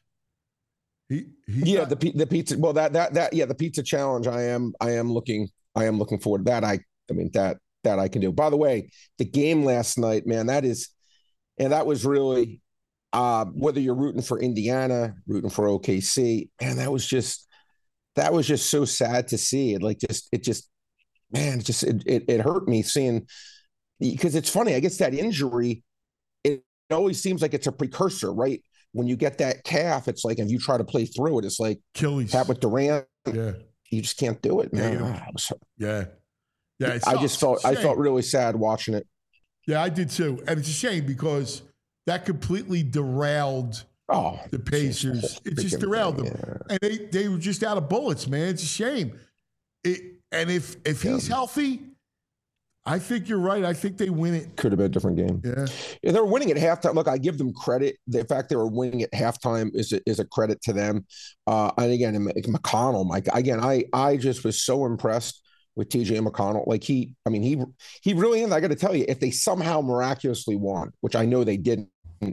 B: He, he's
E: Yeah,
B: not-
E: the pi- the pizza. Well, that that that yeah, the pizza challenge. I am I am looking I am looking forward to that. I I mean that that I can do. By the way, the game last night, man, that is, and that was really, uh, whether you're rooting for Indiana, rooting for O K C, man, that was just that was just so sad to see. It like just it just man, it just it it, it hurt me seeing because it's funny. I guess that injury, it always seems like it's a precursor, right? When you get that calf, it's like if you try to play through it, it's like
B: Achilles.
E: that with Durant.
B: Yeah,
E: You just can't do it, man.
B: Yeah, you don't-
E: Ah, it was-
B: yeah, yeah. it
E: I just
B: sucks.
E: felt I
B: Shame.
E: felt really sad watching it.
B: Yeah, I did too, and it's a shame because that completely derailed
E: Oh,
B: the Pacers. It just
E: freaking
B: derailed
E: thing,
B: them,
E: yeah.
B: and they they were just out of bullets, man. It's a shame. It and if if he's healthy, I think you're right. I think they win it.
E: Could have been a different game.
B: Yeah,
E: Yeah, they were winning at halftime. Look, I give them credit. The fact they were winning at halftime is a, is a credit to them. Uh, and again, McConnell, Mike. Again, I I just was so impressed with T J McConnell. Like he, I mean, he he really is. I got to tell you, if they somehow miraculously won, which I know they didn't,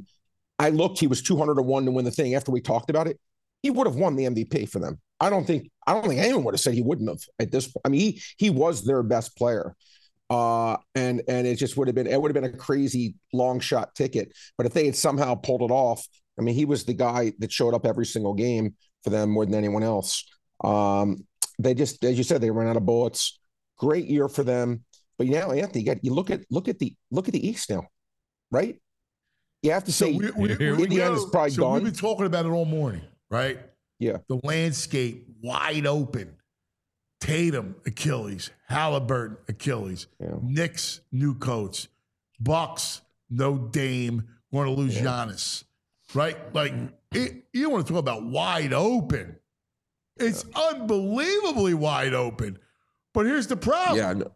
E: I looked. He was two hundred to one to win the thing. After we talked about it, he would have won the M V P for them. I don't think I don't think anyone would have said he wouldn't have at this point. I mean, he he was their best player. Uh, and and it just would have been it would have been a crazy long shot ticket. But if they had somehow pulled it off, I mean, he was the guy that showed up every single game for them more than anyone else. Um, they just, as you said, they ran out of bullets. Great year for them. But now, Anthony, you, got, you look at look at the look at the East now, right? You have to
B: so
E: say
B: we, we,
C: here
B: we,
C: we
E: Indiana's
C: go.
E: probably
B: so
E: gone.
B: we've been talking about it all morning, right?
E: Yeah.
B: The landscape wide open. Tatum, Achilles. Halliburton, Achilles.
E: Yeah.
B: Knicks, new coach. Bucks, no Dame. Going to lose
E: Yeah.
B: Giannis, right? Like it, you want to talk about wide open. It's unbelievably wide open. But here's the problem.
E: Yeah. No,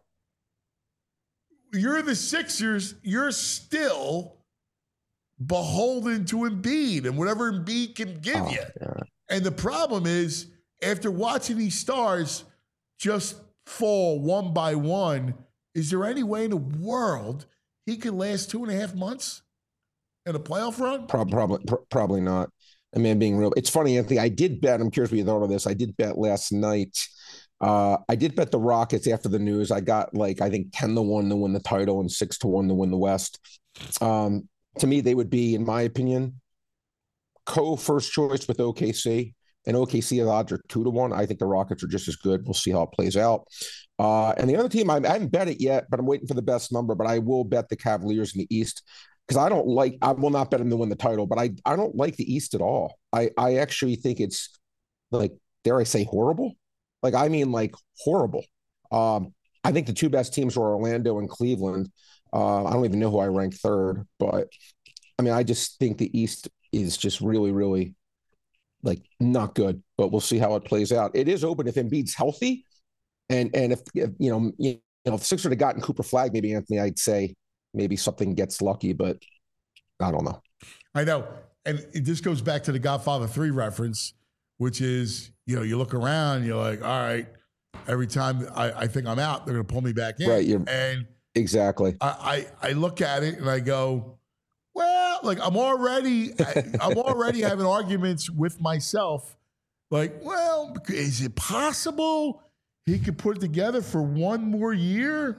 B: You're the Sixers. You're still beholden to Embiid and whatever Embiid can give
E: oh,
B: you.
E: yeah.
B: And the problem is, after watching these stars just fall one by one, is there any way in the world he could last two and a half months in a playoff run?
E: Prob- Probably, pr- probably not. I mean, being real, it's funny, Anthony. I did bet. I'm curious what you thought of this. I did bet last night. Uh, I did bet the Rockets after the news. I got like I think ten to one to win the title and six to one to win the West. Um, to me, they would be, in my opinion, co first choice with O K C. and O K C odds are two to one. I think the Rockets are just as good. We'll see how it plays out. Uh, and the other team, I, I haven't bet it yet, but I'm waiting for the best number. But I will bet the Cavaliers in the East because I don't like. I will not bet them to win the title, but I I don't like the East at all. I I actually think it's like, dare I say, horrible. Like I mean, like horrible. Um, I think the two best teams are Orlando and Cleveland. Uh, I don't even know who I rank third, but I mean, I just think the East is just really, really like not good. But we'll see how it plays out. It is open if Embiid's healthy. And and if, if you know you know if Sixers had gotten Cooper Flag, maybe Anthony, I'd say maybe something gets lucky, but I don't know.
B: I know, and it just goes back to the Godfather three reference, which is you know you look around, you're like, all right, every time I, I think I'm out, they're gonna pull me back in,
E: Right, you're,
B: and
E: exactly.
B: I, I I look at it and I go, well, like I'm already I'm already having arguments with myself, like, well, is it possible he could put it together for one more year?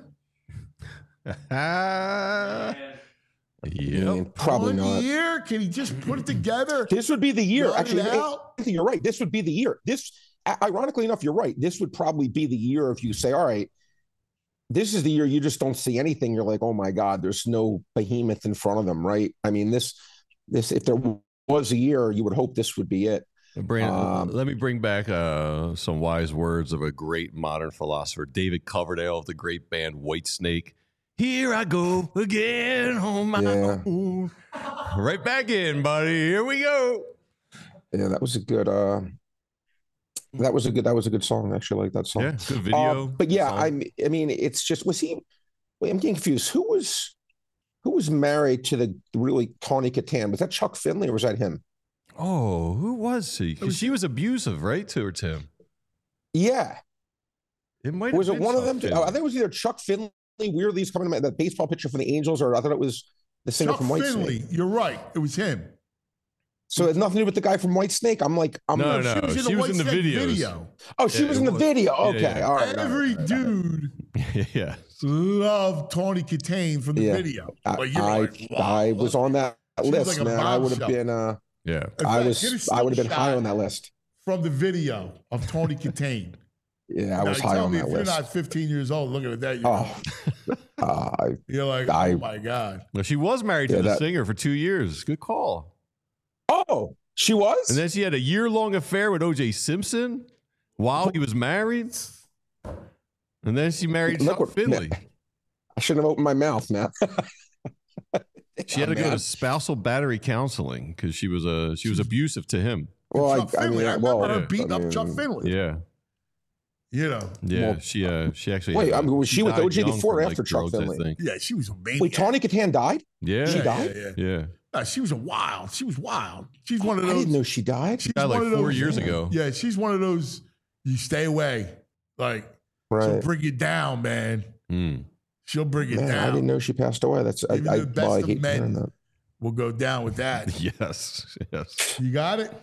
C: Uh,
E: Yeah, probably
B: one
E: not.
B: year? Can he just put it together?
E: This would be the year.
B: Run
E: Actually,
B: it out?
E: Anthony, you're right. This would be the year. This, ironically enough, you're right. This would probably be the year if you say, all right, this is the year you just don't see anything. You're like, oh my God, there's no behemoth in front of them, right? I mean, this, this, if there was a year, you would hope this would be it.
C: Brandon,
E: Um,
C: let me bring back uh, some wise words of a great modern philosopher, David Coverdale of the great band Whitesnake. Here I go again on my
E: Yeah.
C: own. Right back in, buddy. Here we go.
E: Yeah, that was a good. Uh, that was a good. That was a good song. I actually like that song.
C: Yeah, good video.
E: Uh, but yeah,
C: song.
E: I. I mean, it's just was he? Wait, I'm getting confused. Who was, who was married to the really Tawny Katan? Was that Chuck Finley or was that him?
C: Oh, who was he? Because she was abusive, right, to her, Tim?
E: Yeah.
C: It might
E: Was
C: have
E: it
C: been
E: one of
C: Chuck
E: them?
C: Finley.
E: Oh, I think it was either Chuck Finley. Weirdly, he's coming to my, that baseball pitcher from the Angels, or I thought it was the singer
B: Chuck
E: from Whitesnake.
B: Finley, you're right. It was him.
E: So it had nothing to do with the guy from Whitesnake. I'm like, I'm
C: No,
E: like,
C: no.
B: She was in
C: she
B: the,
C: was in the
B: White Snake
C: videos.
B: video.
E: oh, she
C: Yeah,
E: was
C: it
E: in the
C: was.
E: video.
C: Yeah,
E: Okay,
C: yeah.
E: all right. all
B: Every
E: right, all right.
B: dude
C: yeah.
B: loved Tawny Kitaen from the
E: Yeah.
B: video.
E: I,
B: Like, you're
E: I,
B: like, wow.
E: I was on that
B: She was
E: list,
B: like a
E: man. I would have
B: bombshell.
E: been. Uh,
C: Yeah.
B: In
E: I
B: fact, get a
E: was. I would have been high
B: snapshot
E: on that list.
B: from the video of Tawny Kitaen.
E: Yeah, I
B: Now,
E: was
B: you
E: high
B: tell
E: on
B: me
E: that
B: if you're
E: list.
B: not fifteen years old looking at that, you're,
E: Oh, uh, I,
B: you're like,
E: I-
B: oh my God.
C: Well, she was married
E: Yeah,
C: to the
E: that-
C: singer for two years. Good call.
E: oh, she was.
C: And then she had a year-long affair with O J Simpson while he was married. And then she married
E: Look
C: Chuck
E: what-
C: Finley.
E: I shouldn't have opened my mouth, man.
C: She had to
E: Yeah,
C: go
E: man.
C: to spousal battery counseling because she was uh, she was abusive to him.
E: Well,
B: Chuck
E: I, I
B: Finley.
E: mean,
B: I remember
E: well,
B: her
C: yeah,
B: beating
E: I
B: up Chuck
E: mean,
B: Finley.
C: Yeah,
B: You know.
C: yeah.
E: Well,
C: she uh, she actually
E: wait,
C: had,
E: I mean, was she with
C: died
E: O J
C: young
E: before or
C: from,
E: after
C: like,
E: Chuck
C: drugs, I
E: Finley?
C: think.
B: Yeah, she was a maniac.
E: Wait, Tawny Katan died?
C: Yeah,
E: She
B: yeah,
E: died?
B: Yeah, yeah.
C: yeah.
B: Nah, she was a wild. She was wild. She's one of
E: I
B: those.
E: didn't know she died.
B: She's
C: Died like
B: one of
C: four
B: those-
C: years ago.
B: Yeah, she's one of those. You stay away. Like she'll
E: Right.
B: bring you down, man.
C: Mm.
B: She'll bring you
E: Man,
B: down.
E: I didn't know she passed away. That's I,
B: Even
E: I,
B: the best
E: well, I
B: of
E: hate
B: men.
E: hearing that.
B: We'll go down with that.
C: Yes, yes.
B: You got it.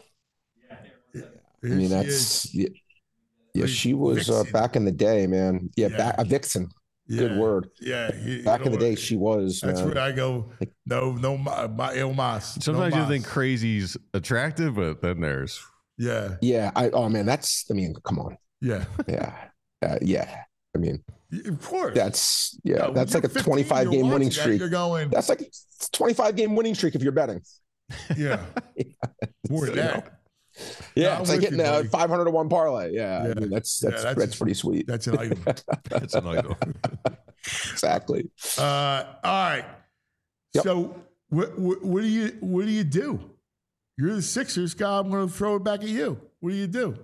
E: I mean, that's yeah, yeah, she was uh,
B: Vixen.
E: back in the day, man. Yeah,
B: Yeah.
E: back a vixen. Good
B: Yeah.
E: word.
B: Yeah, you- you
E: Back in
B: know
E: the day,
B: what?
E: she was.
B: That's
E: man.
B: where I go. No, no, my, my el mas.
C: Sometimes
B: no
C: you
B: mas.
C: think crazy's attractive, but then there's
B: Yeah,
E: Yeah. I. Oh man, that's. I mean, come on.
B: yeah,
E: Yeah. Uh, yeah. I mean,
B: of course.
E: that's yeah.
B: Yeah, when
E: that's
B: you're
E: like a
B: fifteen,
E: twenty-five
B: you're
E: game winning
B: watching that,
E: streak.
B: You're going.
E: That's like a twenty-five game winning streak if you're betting.
B: Yeah, more than
E: You know.
B: that.
E: Yeah,
B: I'm
E: it's like
B: with
E: hitting
B: you,
E: a
B: buddy.
E: five hundred to one parlay. Yeah, I
B: Yeah.
E: mean, that's
B: Yeah,
E: that's
B: that's-
E: that's, pretty sweet.
B: That's an item.
C: it's an idol.
E: Exactly.
B: Uh, all right.
E: Yep.
B: So what, what what do you what do you do? You're the Sixers guy. I'm going to throw it back at you. What do you do?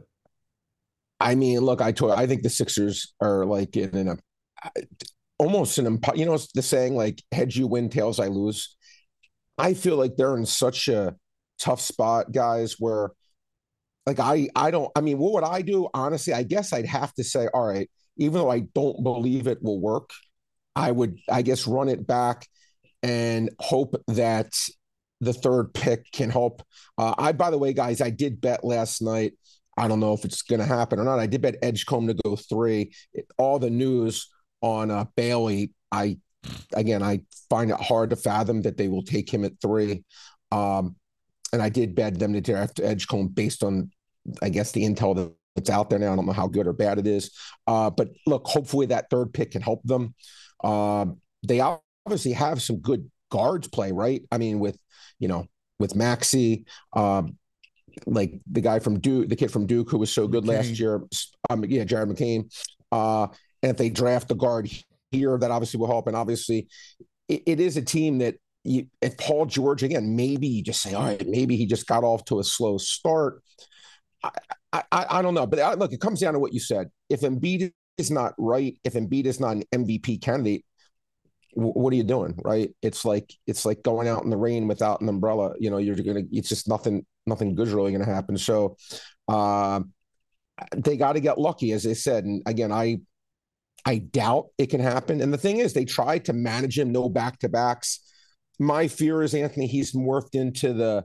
E: I mean, look, I told I think the Sixers are like in an almost an impo- you know the saying like heads you win, tails I lose. I feel like they're in such a tough spot, guys, where like I I don't I mean, what would I do? Honestly, I guess I'd have to say, all right, even though I don't believe it will work, I would I guess run it back and hope that the third pick can help. Uh, I by the way, guys, I did bet last night. I don't know if it's going to happen or not. I did bet Edgecombe to go three. It, all the news on uh, Bailey, I again, I find it hard to fathom that they will take him at three. Um, and I did bet them to draft Edgecombe based on I guess the intel that's out there now. I don't know how good or bad it is. Uh, but look, hopefully that third pick can help them. Uh, they obviously have some good guards play, right? I mean, with, you know, with Maxey, um, like the guy from Duke, the kid from Duke who was so good
B: McCain.
E: last year. Um, yeah, Jared McCain. Uh, and if they draft the guard here, that obviously will help. And obviously, it, it is a team that you, if Paul George, again, maybe you just say, all right, maybe he just got off to a slow start. I, I, I don't know. But I, look, it comes down to what you said. If Embiid is not right, if Embiid is not an M V P candidate, w- what are you doing, right? It's like it's like going out in the rain without an umbrella. You know, you're gonna. It's just nothing. Nothing good's really going to happen. So uh, they got to get lucky, as they said. And again, I I doubt it can happen. And the thing is, they tried to manage him, no back to backs. My fear is, Anthony, he's morphed into the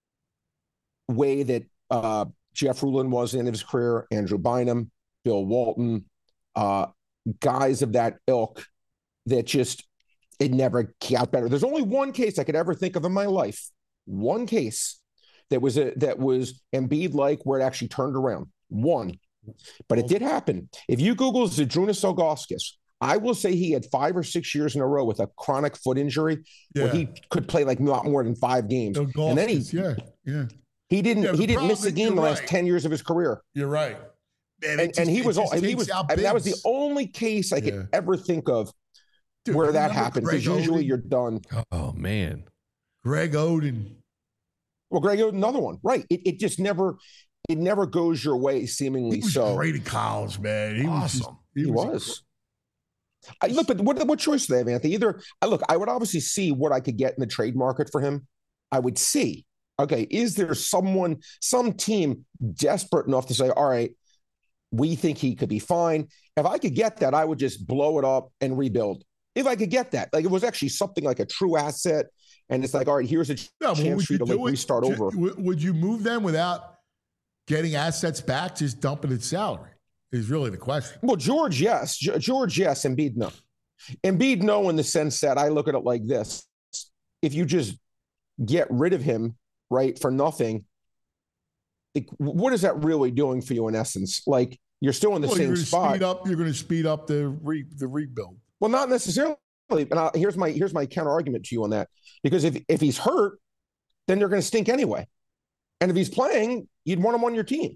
E: way that uh, Jeff Ruland was in the end of his career, Andrew Bynum, Bill Walton, uh, guys of that ilk that just, it never got better. There's only one case I could ever think of in my life, one case that was a, that was Embiid like where it actually turned around. One. But it did happen. If you Google Zydrunas Ilgauskas, I will say he had five or six years in a row with a chronic foot injury
B: Yeah.
E: where he could play like not more than five games.
B: Ilgauskas,
E: and then he
B: yeah, yeah.
E: he didn't
B: Yeah, the
E: he didn't miss a
B: problem-
E: game
B: you're
E: the last
B: right.
E: ten years of his career.
B: You're right. Man, it
E: And,
B: just-
E: and he
B: it
E: was all
B: just
E: and he
B: takes
E: was
B: out
E: I mean, that was the
B: bigs.
E: only case I could
B: Yeah.
E: ever think of
B: Dude,
E: where that
B: remember
E: happened.
B: Greg
E: Because usually
B: Oden?
E: you're done.
C: Oh man.
B: Greg Oden.
E: Well, Greg, another one, right? It it just never it never goes your way, seemingly
B: He was
E: so.
B: great in college, man. He was just,
C: Awesome.
E: He was. I, look, but what what choice do they have, Anthony? Either I look, I would obviously see what I could get in the trade market for him. I would see, okay, is there someone, some team desperate enough to say, all right, we think he could be fine. If I could get that, I would just blow it up and rebuild. If I could get that, like it was actually something like a true asset, and it's like, all right, here's a
B: Yeah, but
E: chance
B: would
E: for you to
B: do
E: like
B: it-
E: restart
B: ju-
E: over.
B: w- Would you move them without getting assets back, just dumping its salary? Is really the question.
E: Well, George, yes. G- George, yes. Embiid, no. Embiid, no, in the sense that I look at it like this. If you just get rid of him, right, for nothing, like, what is that really doing for you in essence? Like, you're still in the
B: Well,
E: same
B: you're going to
E: spot.
B: speed up. You're going to speed up the re, the rebuild.
E: Well, not necessarily. And I, here's my here's my counter argument to you on that. Because if, if he's hurt, then they're going to stink anyway. And if he's playing, you'd want him on your team.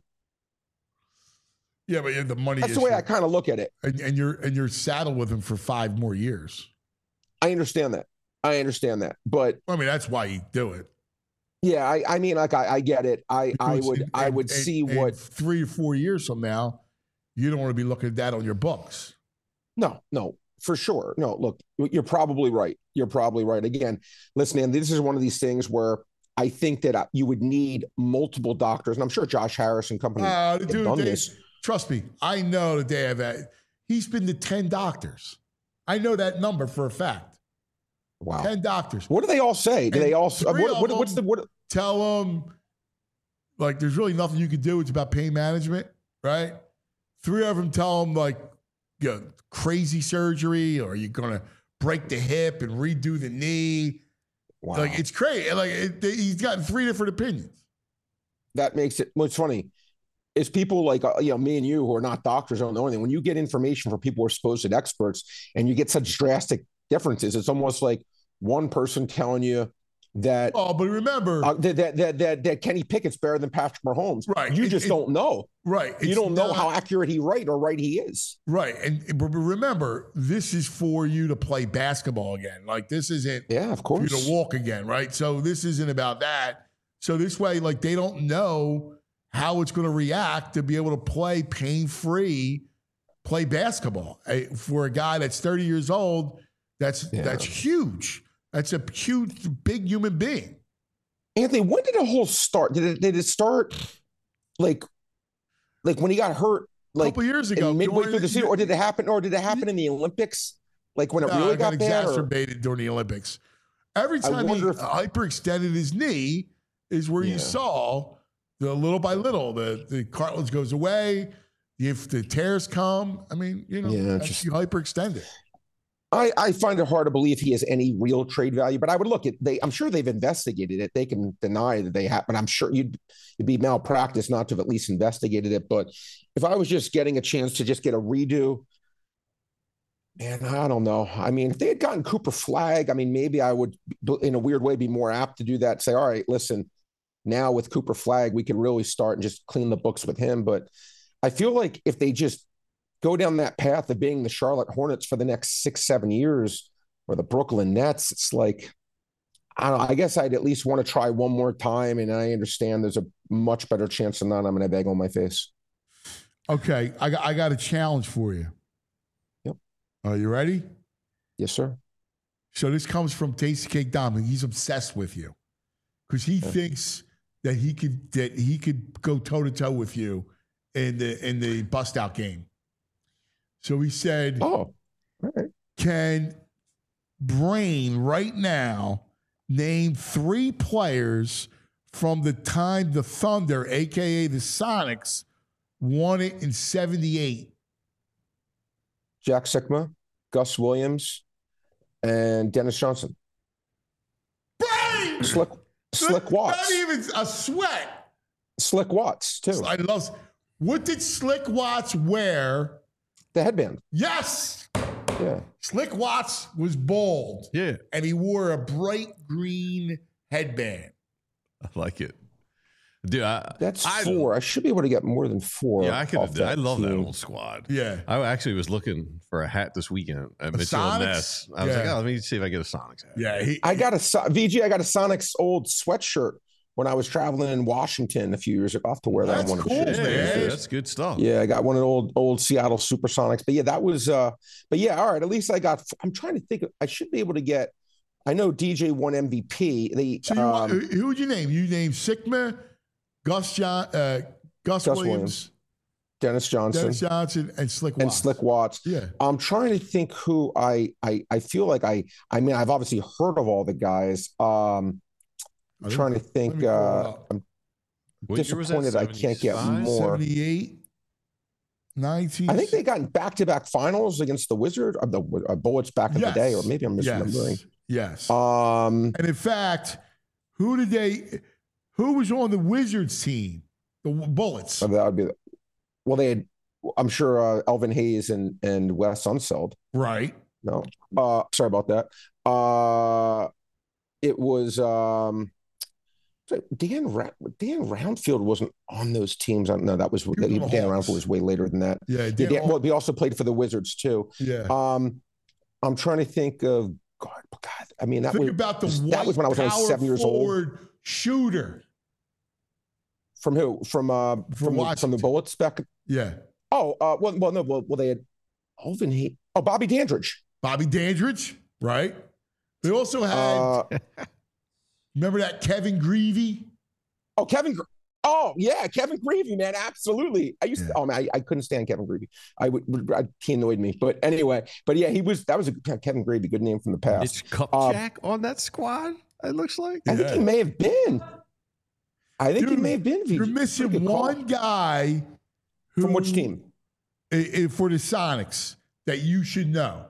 B: Yeah, but you have the money.
E: That's the way
B: issue.
E: I kind of look at it.
B: and, and you're and you're saddled with him for five more years.
E: I understand that. I understand that. But
B: I mean, that's why you do it.
E: yeah, I, I mean, like I, I get it. I, I
B: Because
E: would
B: in-
E: I
B: in-
E: would
B: in-
E: see
B: in
E: what
B: three or four years from now, you don't want to be looking at that on your books.
E: No, no, for sure. No, look, you're probably right. You're probably right. Again, listen, Andy, this is one of these things where I think that you would need multiple doctors, and I'm sure Josh Harris and company
B: Uh,
E: have
B: dude,
E: done
B: they-
E: this.
B: trust me, I know that they have that. He's been to ten doctors. I know that number for a fact.
E: Wow.
B: ten doctors.
E: What do they all say? Do
B: And
E: they all?
B: three
E: What,
B: of
E: what, what's the
B: them-
E: what?
B: Tell them, like, there's really nothing you can do. It's about pain management, right? Three of them tell them, like, you know, crazy surgery, or you're going to break the hip and redo the knee.
E: Wow.
B: Like, it's crazy. Like, it, he's gotten three different opinions.
E: That makes it. What's funny is people like uh, you know me and you who are not doctors don't know anything. When you get information from people who are supposed experts, and you get such drastic differences, it's almost like one person telling you that
B: Oh, but remember,
E: uh, that, that that that that Kenny Pickett's better than Patrick Mahomes.
B: Right.
E: You
B: It-
E: just
B: it-
E: don't know.
B: right.
E: You
B: it's
E: don't know
B: not-
E: how accurate he right or right he is.
B: Right. And but remember, this is for you to play basketball again. Like, this isn't
E: Yeah, of
B: for you
E: course.
B: to walk again, right? So this isn't about that. So this way, like, they don't know how it's going to react to be able to play pain-free, play basketball. Eh, For a guy that's thirty years old, that's
E: Yeah.
B: that's huge. That's a huge, big human being.
E: Anthony, when did the whole start? Did it did it start like like when he got hurt?
B: A
E: Like
B: couple years ago,
E: in midway
B: during
E: through the
B: the-
E: season, or did it happen? Or did it happen in the Olympics? Like when it
B: No,
E: really
B: it got,
E: got, bad? Or,
B: exacerbated during the Olympics. Every
E: I
B: time he
E: wonder if-
B: hyperextended his knee is where
E: Yeah.
B: you saw the little by little, the, the cartilage goes away. If the tears come, I mean, you know,
E: Yeah,
B: that's
E: just-
B: you hyperextend it.
E: I, I find it hard to believe he has any real trade value, but I would look at they. I'm sure they've investigated it. They can deny that they have, but I'm sure you'd, you'd be malpractice not to have at least investigated it. But if I was just getting a chance to just get a redo, man, I don't know. I mean, if they had gotten Cooper Flagg, I mean, maybe I would, in a weird way, be more apt to do that. Say, all right, listen, now with Cooper Flagg, we can really start and just clean the books with him. But I feel like if they just go down that path of being the Charlotte Hornets for the next six, seven years, or the Brooklyn Nets, it's like, I don't know, I guess I'd at least want to try one more time. And I understand there's a much better chance than not I'm going to have egg on my face.
B: Okay, I got, I got a challenge for you.
E: Yep.
B: Are you ready?
E: Yes, sir.
B: So this comes from Tasty Cake Dom. He's obsessed with you because he
E: Okay.
B: thinks that he could that he could go toe to toe with you in the in the bust out game. So he said,
E: Oh, all right.
B: can Brain right now name three players from the time the Thunder, a k a the Sonics, won it in seventy-eight?
E: Jack Sikma, Gus Williams, and Dennis Johnson.
B: Brain!
E: Slick, Slick Watts.
B: Not even a sweat.
E: Slick Watts, too.
B: I love. What did Slick Watts wear?
E: The headband.
B: Yes.
E: Yeah.
B: Slick Watts was bald.
C: Yeah,
B: And he wore a bright green headband.
C: I like it, dude. I,
E: That's
C: I,
E: four. I should be able to get more than four.
C: Yeah, I could.
E: off
C: I love that
E: team.
C: old squad.
B: Yeah.
C: I actually was looking for a hat this weekend at
B: A
C: Mitchell and
B: Sonics?
C: Ness. I was
B: Yeah.
C: like, oh, let me see if I get a Sonics hat.
B: Yeah. He,
E: I got a So- V G. I got a Sonics old sweatshirt when I was traveling in Washington a few years ago. I'll have to wear that
B: That's
E: one.
B: cool,
C: Yeah,
B: man.
C: yeah, that's good stuff.
E: Yeah, I got one of the old old Seattle Supersonics. But yeah, that was. uh But yeah, all right. At least I got. I'm trying to think. I should be able to get. I know D J won M V P. They
B: So you,
E: um,
B: who who would you name? You named Sigma, Gus John, uh, Gus,
E: Gus
B: Williams,
E: Williams, Dennis Johnson,
B: Dennis Johnson, and Slick
E: and
B: Watts.
E: Slick Watts.
B: Yeah.
E: I'm trying to think who I I I feel like I I mean I've obviously heard of all the guys. Um I'm trying to think uh I'm
C: What year was that?
E: disappointed I can't get
C: seventy-five?
E: more.
B: seventy-eight, nineteen.
E: I think they got back-to-back finals against the Wizard of the uh, Bullets back in
B: Yes.
E: the day, or maybe I'm misremembering.
B: Yes. Yes.
E: Um
B: and in fact, who did they? Who was on the Wizards team? The Bullets.
E: so that would be well they had I'm sure uh, Elvin Hayes and and Wes Unseld.
B: Right.
E: No. Uh sorry about that. Uh it was um Dan Ra- Dan Roundfield wasn't on those teams. I don't know. That was
B: was
E: Dan
B: on the Hawks.
E: Roundfield was way later than that.
B: Yeah.
E: Yeah,
B: Dan-
E: Dan, well, he also played for the Wizards too.
B: yeah.
E: Um, I'm trying to think of God. God, I mean that
B: Think
E: was
B: about the
E: that
B: white
E: was when I was only
B: power
E: seven years old.
B: forward shooter.
E: From who? From uh from the, from the
B: Washington.
E: Bullets back.
B: Yeah.
E: Oh, uh, well, well, no, well, well they had Alvin Hayes. Oh, Bobby Dandridge.
B: Bobby Dandridge. Right. They also had.
E: Uh,
B: remember that Kevin Greavy?
E: oh, Kevin. Gr- Oh yeah, Kevin Greavy, man, absolutely. I used to.
B: Yeah.
E: Oh man, I, I couldn't stand Kevin Greavy. I would. would I, he annoyed me. But anyway, but yeah, he was. That was a Kevin Greavy, good name from the past.
C: It's Cup
E: Uh,
C: Jack on that squad. It looks like.
E: I think
B: Yeah.
E: he may have been. I think he
B: Dude,
E: may have been. V J.
B: You're
E: Pretty
B: missing
E: good call.
B: one guy. Who,
E: From which team?
B: i- i- for the Sonics that you should know.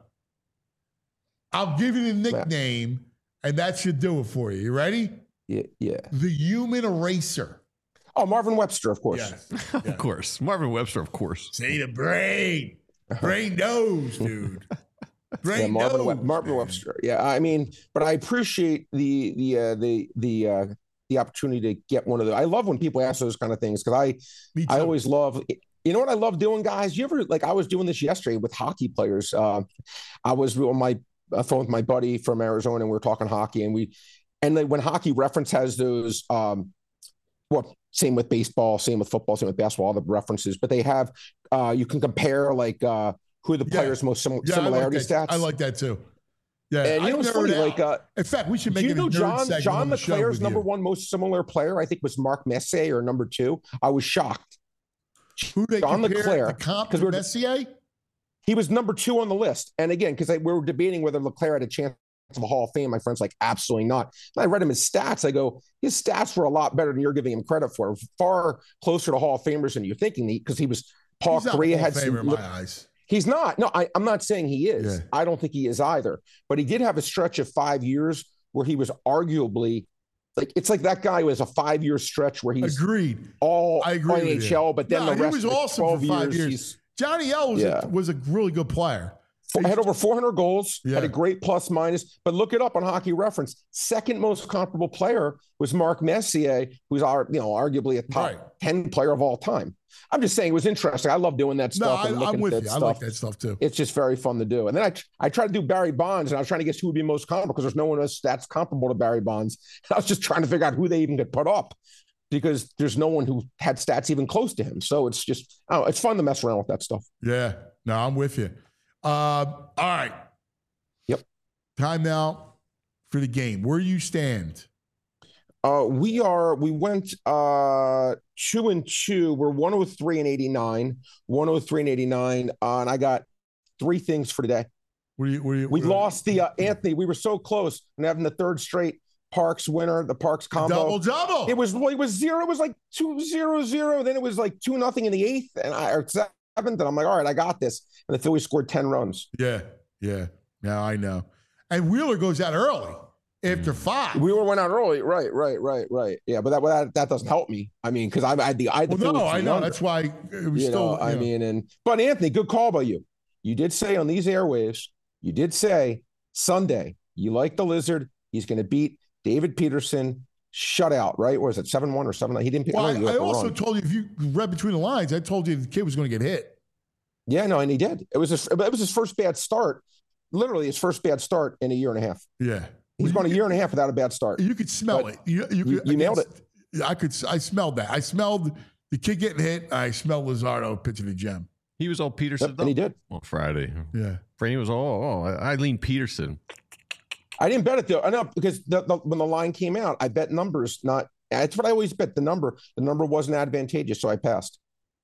B: I'll give you the nickname, and that should do it for you. You ready?
E: Yeah, yeah.
B: The Human Eraser.
E: Oh, Marvin Webster, of course.
B: Yes.
C: Of course, Marvin Webster. Of course.
B: Say the brain. Brain knows, dude. Brain
E: Yeah, Marvin,
B: knows.
E: Web- Marvin
B: man.
E: Webster. Yeah, I mean, but I appreciate the the uh, the the uh, the opportunity to get one of the. I love when people ask those kind of things because I
B: Me too.
E: I always love. You know what I love doing, guys? You ever like I was doing this yesterday with hockey players. Uh, I was on my uh, phone with my buddy from Arizona, and we were talking hockey, and we and then when Hockey Reference has those. Um, well, same with baseball, same with football, same with basketball, all the references, but they have uh, you can compare like uh, who are the
B: Yeah.
E: players' most sim-
B: Yeah, I like
E: similarity
B: that.
E: stats.
B: I like that too. Yeah.
E: And you
B: I
E: know what's
B: nerd
E: funny?
B: out.
E: Like, uh,
B: in fact, we should
E: do
B: make
E: you
B: it a
E: know
B: nerd
E: John
B: segment
E: John
B: on the show
E: McClare's
B: with
E: number
B: you.
E: one most similar player? I think was Mark Messier or number two. I was shocked.
B: Who they
E: John
B: compare
E: LeClaire,
B: the comp
E: 'cause
B: to
E: we're-
B: Messier?
E: He was number two on the list. And again, because we were debating whether LeClaire had a chance of a Hall of Fame, my friend's like, absolutely not. And I read him his stats. I go, his stats were a lot better than you're giving him credit for. Far closer to Hall of Famers than you're thinking, because he was Paul
B: He's not a
E: Correa
B: Hall
E: had
B: of Famer
E: some,
B: in my eyes.
E: He's not. No, I, I'm not saying he is.
B: Yeah.
E: I don't think he is either. But he did have a stretch of five years where he was arguably like it's like that guy was a five year stretch where he's
B: Agreed.
E: all
B: I agree
E: N H L, but then
B: no,
E: the rest
B: he was
E: of the
B: awesome
E: twelve
B: for five
E: years,
B: years. Johnny L was,
E: Yeah.
B: a, was a really good player.
E: had over four hundred goals,
B: Yeah.
E: had a great plus minus. But look it up on Hockey Reference. Second most comparable player was Mark Messier, who's our, you know, arguably a top
B: Right.
E: ten player of all time. I'm just saying it was interesting. I love doing that
B: No,
E: stuff.
B: I,
E: and
B: I'm
E: looking
B: with
E: at
B: you.
E: that
B: I
E: stuff.
B: like that stuff too.
E: It's just very fun to do. And then I I tried to do Barry Bonds, and I was trying to guess who would be most comparable because there's no one else stats comparable to Barry Bonds. I was just trying to figure out who they even could put up because there's no one who had stats even close to him. So it's just, oh, it's fun to mess around with that stuff.
B: Yeah. No, I'm with you. Uh, all right.
E: Yep.
B: Time now for the game. Where you stand?
E: Uh, we are, we went uh, two and two. We're one oh three and eighty-nine, one oh three and eighty-nine. Uh, and I got three things for today.
B: Where you, where you,
E: We
B: where,
E: lost the, uh, Anthony, we were so close and having the third straight Parks winner, the Parks combo.
B: double double.
E: It was, well, it was zero. It was like two zero zero. Then it was like two nothing in the eighth and I, or seventh. And I'm like, all right, I got this. And the Phillies scored ten runs.
B: Yeah. Yeah. Now I know. And Wheeler goes out early after five.
E: Wheeler went out early. Right, right, right, right. Yeah, but that that, that doesn't help me. I mean, because I, I had the I had the
B: Well, no,
E: Phillies
B: I
E: to the
B: know.
E: under.
B: That's why it was
E: You
B: still.
E: know, I
B: you know.
E: mean, and but Anthony, good call by you. You did say on these airwaves, you did say Sunday, you like the Lizard. He's going to beat David Peterson shutout, right? Or is it seven one or seven nine? He didn't.
B: Well,
E: I, know
B: I,
E: he
B: I
E: got the
B: also
E: run.
B: told you, if you read between the lines, I told you the kid was going to get hit.
E: Yeah, no, and he did. It was his, it was his first bad start. Literally, his first bad start in a year and a half.
B: Yeah.
E: He's
B: Well,
E: gone a
B: you
E: year and a half without a bad start.
B: You could smell
E: But
B: it. You, you,
E: you-
B: could,
E: you nailed
B: against- I could. I smelled that. I smelled the kid getting hit. I smelled Luzardo pitching a gem.
C: He was all Peterson
E: Yep, and he did.
C: on Friday.
B: Yeah.
C: Franny was all, oh, Eileen Peterson.
E: I didn't bet it though. I know because the, the, when the line came out, I bet numbers. Not that's what I always bet. The number. The number wasn't advantageous, so I passed.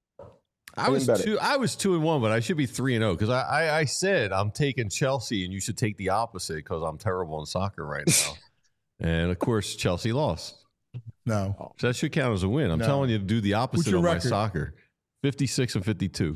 C: I
E: I
C: was
E: didn't bet
C: two. I was two and one, but I should be three and zero because I, I I said I'm taking Chelsea, and you should take the opposite because I'm terrible in soccer right now. And of course, Chelsea lost,
B: No.
C: so that should count as a win. I'm
B: No.
C: telling you to do the opposite
B: your
C: of my
B: record?
C: soccer. fifty-six and fifty-two.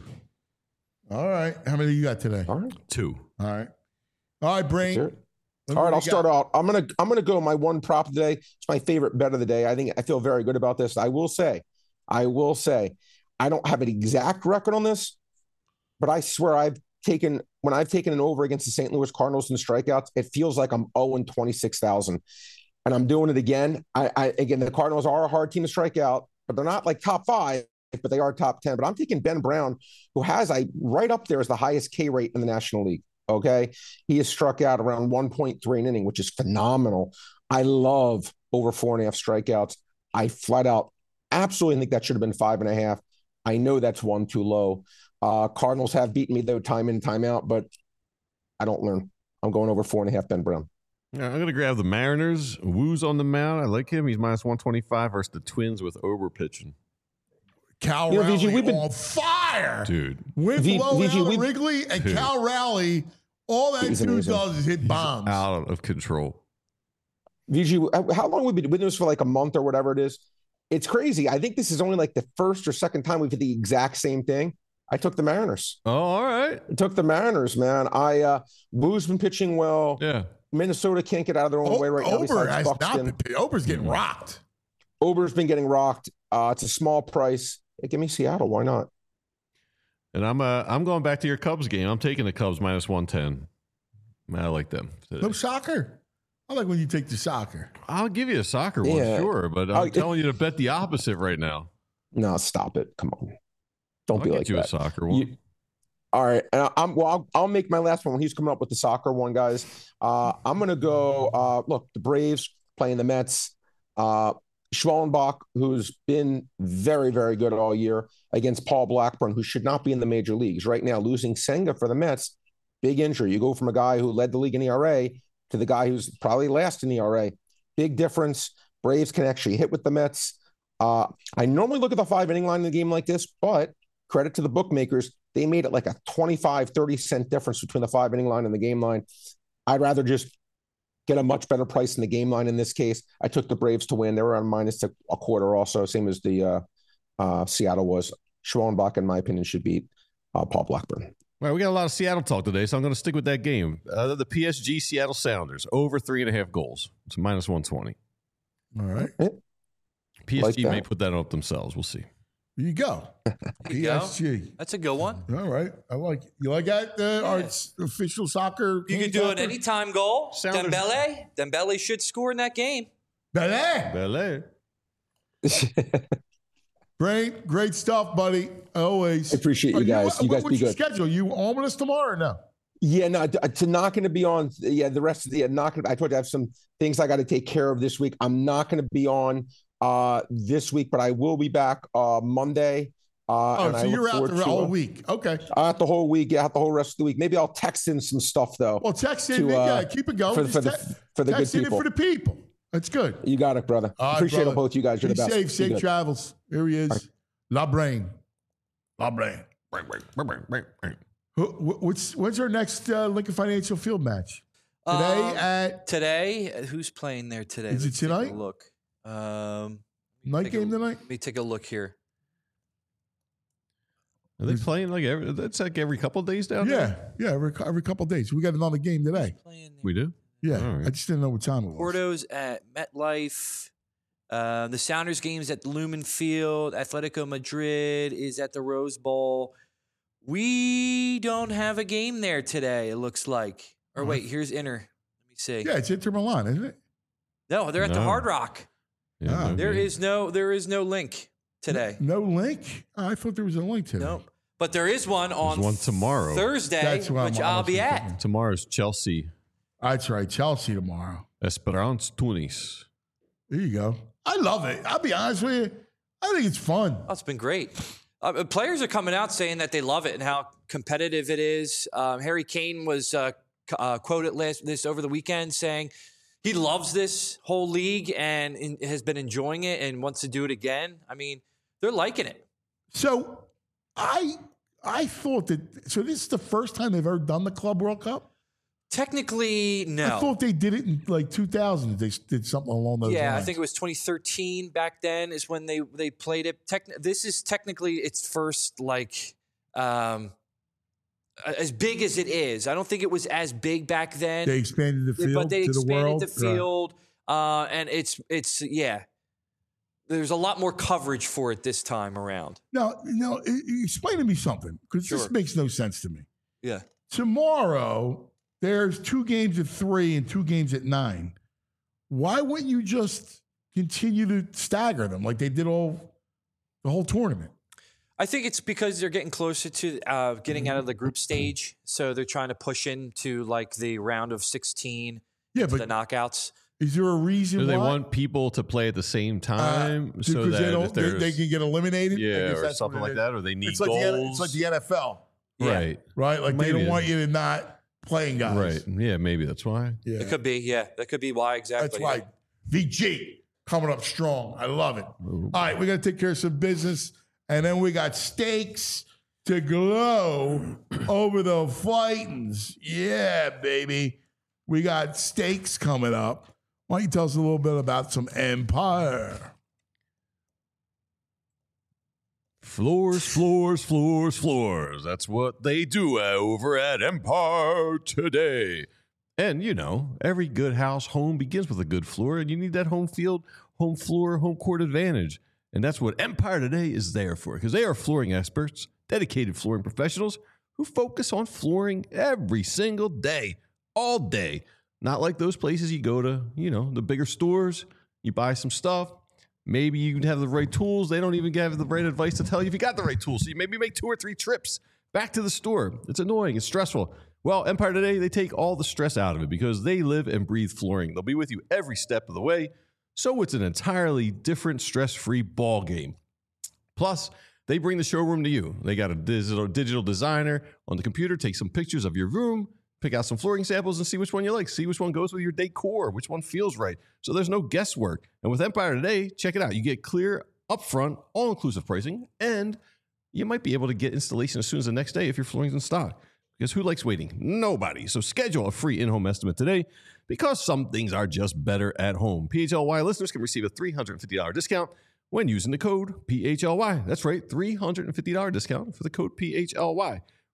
B: All right. How many you got today?
E: All right.
C: Two.
B: All right. All right, Brain.
E: Sure. All right, I'll start out. I'm gonna I'm gonna go my one prop today. It's my favorite bet of the day. I think I feel very good about this. I will say, I will say, I don't have an exact record on this, but I swear I've taken when I've taken an over against the Saint Louis Cardinals in strikeouts, it feels like I'm oh and twenty-six thousand. And I'm doing it again. I, I again the Cardinals are a hard team to strike out, but they're not like top five, but they are top ten. But I'm taking Ben Brown, who has I right up there as the highest K rate in the National League. Okay. He has struck out around one point three an inning, which is phenomenal. I love over four and a half strikeouts. I flat out absolutely think that should have been five and a half. I know that's one too low. Uh, Cardinals have beaten me though, time in, time out, but I don't learn. I'm going over four and a half Ben Brown.
C: Yeah, I'm going to grab the Mariners. Woo's on the mound. I like him. He's minus one twenty-five versus the Twins with Ober pitching.
B: Cal
E: You know,
B: Raleigh
E: V G, we've been-
B: on fire.
C: Dude.
B: Went
E: V-
B: below
E: V G,
B: Alan
E: we've-
B: Wrigley and
C: Dude.
B: Cal Raleigh. All that
E: He's
B: dude
E: amazing.
B: does is hit bombs.
C: Out of control.
E: V G, how long have we been doing this for like a month or whatever it is? It's crazy. I think this is only like the first or second time we've hit the exact same thing. I took the Mariners.
C: Oh, all right.
E: I took the Mariners, man. I uh Woo's been pitching well.
C: Yeah.
E: Minnesota can't get out of their own
B: O-
E: way right now.
B: Ober
E: besides
B: has not
E: Buxton.
B: been. Ober's getting rocked.
E: Ober's been getting rocked. Uh, it's a small price. Hey, give me Seattle. Why not?
C: And I'm uh, I'm going back to your Cubs game. I'm taking the Cubs minus one ten. I like them today.
B: No soccer. I like when you take the soccer.
C: I'll give you a soccer one,
E: Yeah.
C: sure, but I'm
E: Oh, it-
C: telling you to bet the opposite right now.
E: No, stop it. Come on. Don't
C: I'll
E: be
C: get
E: like
C: you
E: that.
C: a soccer one.
E: You- all right. And I'm well, I'll, I'll make my last one when he's coming up with the soccer one, guys. Uh, I'm going to go. Uh, look, the Braves playing the Mets. Uh, Schwellenbach, who's been very, very good all year against Paul Blackburn, who should not be in the major leagues right now. Losing Senga for the Mets, big injury. You go from a guy who led the league in E R A to the guy who's probably last in E R A. Big difference. Braves can actually hit with the Mets. Uh, I normally look at the five inning line in a game like this, but credit to the bookmakers. They made it like a twenty-five, thirty cent difference between the five inning line and the game line. I'd rather just get a much better price in the game line in this case. I took the Braves to win. They were on minus a, a quarter also, same as the uh, uh, Seattle was. Schwellenbach, in my opinion, should beat uh, Paul Blackburn.
C: All right, we got a lot of Seattle talk today, so I'm going to stick with that game. Uh, the P S G Seattle Sounders, over three and a half goals. It's minus one twenty.
B: All right.
C: P S G
E: Like that.
C: may put that up themselves. We'll see.
B: There you go.
D: There you go.
B: P S G.
D: That's a good one.
B: All right. I like it. You like that? Uh, Our s- official soccer.
D: You
B: king
D: could do an
B: soccer?
D: anytime goal.
C: Sounders-
D: Dembele. Dembele should score in that game.
B: Belé.
C: Belé.
B: Great, great stuff, buddy. Always.
E: I appreciate you
B: Are
E: guys.
B: what-
E: You guys
B: what's
E: be
B: your
E: good.
B: schedule? You on with us tomorrow or no?
E: Yeah, no, to, to not going to be on. Yeah, the rest of the yeah, not going. to I told you I have some things I got to take care of this week. I'm not going to be on uh this week, but I will be back uh Monday. Uh,
B: Oh,
E: and I
B: so
E: look
B: you're out
E: forward
B: the
E: to,
B: whole
E: uh,
B: week. Okay.
E: Out the whole week. Yeah, out the whole rest of the week. Maybe I'll text in some stuff though.
B: Well, text in.
E: To,
B: yeah,
E: uh,
B: keep it going.
E: for the- for
B: Just
E: the-
B: te-
E: for the good
B: text it in
E: people.
B: for the people. That's good.
E: You got it, brother.
B: All right,
E: Appreciate
B: brother.
E: it, both you guys. You're
B: Be
E: the best.
B: safe.
E: Be
B: Safe
E: good.
B: travels. Here he is. La Brain. La Brain. Who- wh- What's when's our next uh, Lincoln Financial Field match? Today
D: Um,
B: at
D: Today, uh, who's playing there today?
B: Is it
D: Let's take a
B: tonight?
D: Look. Um,
B: night
D: take a-
B: game tonight.
D: Let me take a look here.
C: Are they playing like every, that's like every couple of days down
B: Yeah,
C: there?
B: yeah. Every, every couple of days, we got another game today.
D: Playing there.
C: We do?
B: Yeah,
C: All right.
B: I just didn't know what time it was.
D: Porto's at MetLife. Uh, the Sounders game's at Lumen Field. Atletico Madrid is at the Rose Bowl. We don't have a game there today, it looks like. Or wait, here's Inter. Let me see.
B: Yeah, it's Inter Milan, isn't it?
D: No, they're at the
C: No.
D: Hard Rock.
C: Yeah,
B: Ah.
C: no
D: There
C: game.
D: is no there is no link today.
B: No link. Oh, I thought there was a link today.
D: Nope. But there is one on
C: one tomorrow.
D: Thursday,
B: That's what I'm
D: which I'll
B: almost
D: be at.
B: thinking.
C: Tomorrow's Chelsea,
B: That's right. Chelsea tomorrow.
C: Esperance Tunis.
B: There you go. I love it. I'll be honest with you. I think it's fun.
D: Oh, it's been great. Uh, players are coming out saying that they love it and how competitive it is. Um, Harry Kane was uh, c- uh, quoted last this over the weekend saying he loves this whole league and in, has been enjoying it and wants to do it again. I mean, they're liking it.
B: So I I thought that so this is the first time they've ever done the Club World Cup.
D: Technically,
B: I
D: no.
B: thought they did it in like two thousand. They did something along those
D: Yeah,
B: lines.
D: I think it was twenty thirteen back then is when they they played it. Techn- this is technically its first like um, as big as it is. I don't think it was as big back then.
B: they expanded the field
D: but they
B: to the
D: expanded
B: world.
D: the field, uh, and it's it's yeah. There's a lot more coverage for it this time around.
B: Now, now, e- e- explain to me something because this
D: Sure.
B: makes no sense to me.
D: Yeah.
B: Tomorrow, there's two games at three and two games at nine. Why wouldn't you just continue to stagger them like they did all the whole tournament?
D: I think it's because they're getting closer to uh, getting out of the group stage, so they're trying to push into like the round of sixteen,
B: Yeah,
D: the
B: but
D: knockouts.
B: is there a reason
C: Do they
B: why?
C: want people to play at the same
B: Uh,
C: time so
B: because
C: that
B: they
C: if
B: don't, they,
C: there's
B: they can get eliminated. I
C: yeah
B: guess
C: or
B: that's
C: something
B: what
C: like
B: it is.
C: that, or they need
B: It's like, the,
C: goals?
B: N- it's like the N F L,
D: Yeah.
C: Right,
B: right? Like they
C: Maybe.
B: don't want you to not playing guys.
C: right. Yeah, maybe that's why.
B: Yeah.
D: It could be, yeah, that could be why exactly.
B: That's why V G coming up strong. I love it. All right, we got to take care of some business, and then we got steaks to glow over the fightings. Yeah, baby. We got steaks coming up. Why don't you tell us a little bit about some Empire?
C: Floors, floors, floors, floors. That's what they do over at Empire today. And, you know, every good house home begins with a good floor, and you need that home field, home floor, home court advantage. And that's what Empire today is there for, because they are flooring experts, dedicated flooring professionals who focus on flooring every single day, all day. Not like those places you go to, you know, the bigger stores, you buy some stuff. Maybe you have the right tools. They don't even have the right advice to tell you if you got the right tools. So you maybe make two or three trips back to the store. It's annoying. It's stressful. Well, Empire today, they take all the stress out of it because they live and breathe flooring. They'll be with you every step of the way. So it's an entirely different stress-free ball game. Plus, they bring the showroom to you. They got a digital, digital designer on the computer, take some pictures of your room, pick out some flooring samples and see which one you like. See which one goes with your decor, which one feels right. So there's no guesswork. And with Empire today, check it out. You get clear, upfront, all-inclusive pricing, and you might be able to get installation as soon as the next day if your flooring's in stock. Because who likes waiting? Nobody. So schedule a free in-home estimate today because some things are just better at home. P H L Y listeners can receive a three hundred fifty dollars discount when using the code P H L Y. That's right, three hundred fifty dollars discount for the code P H L Y.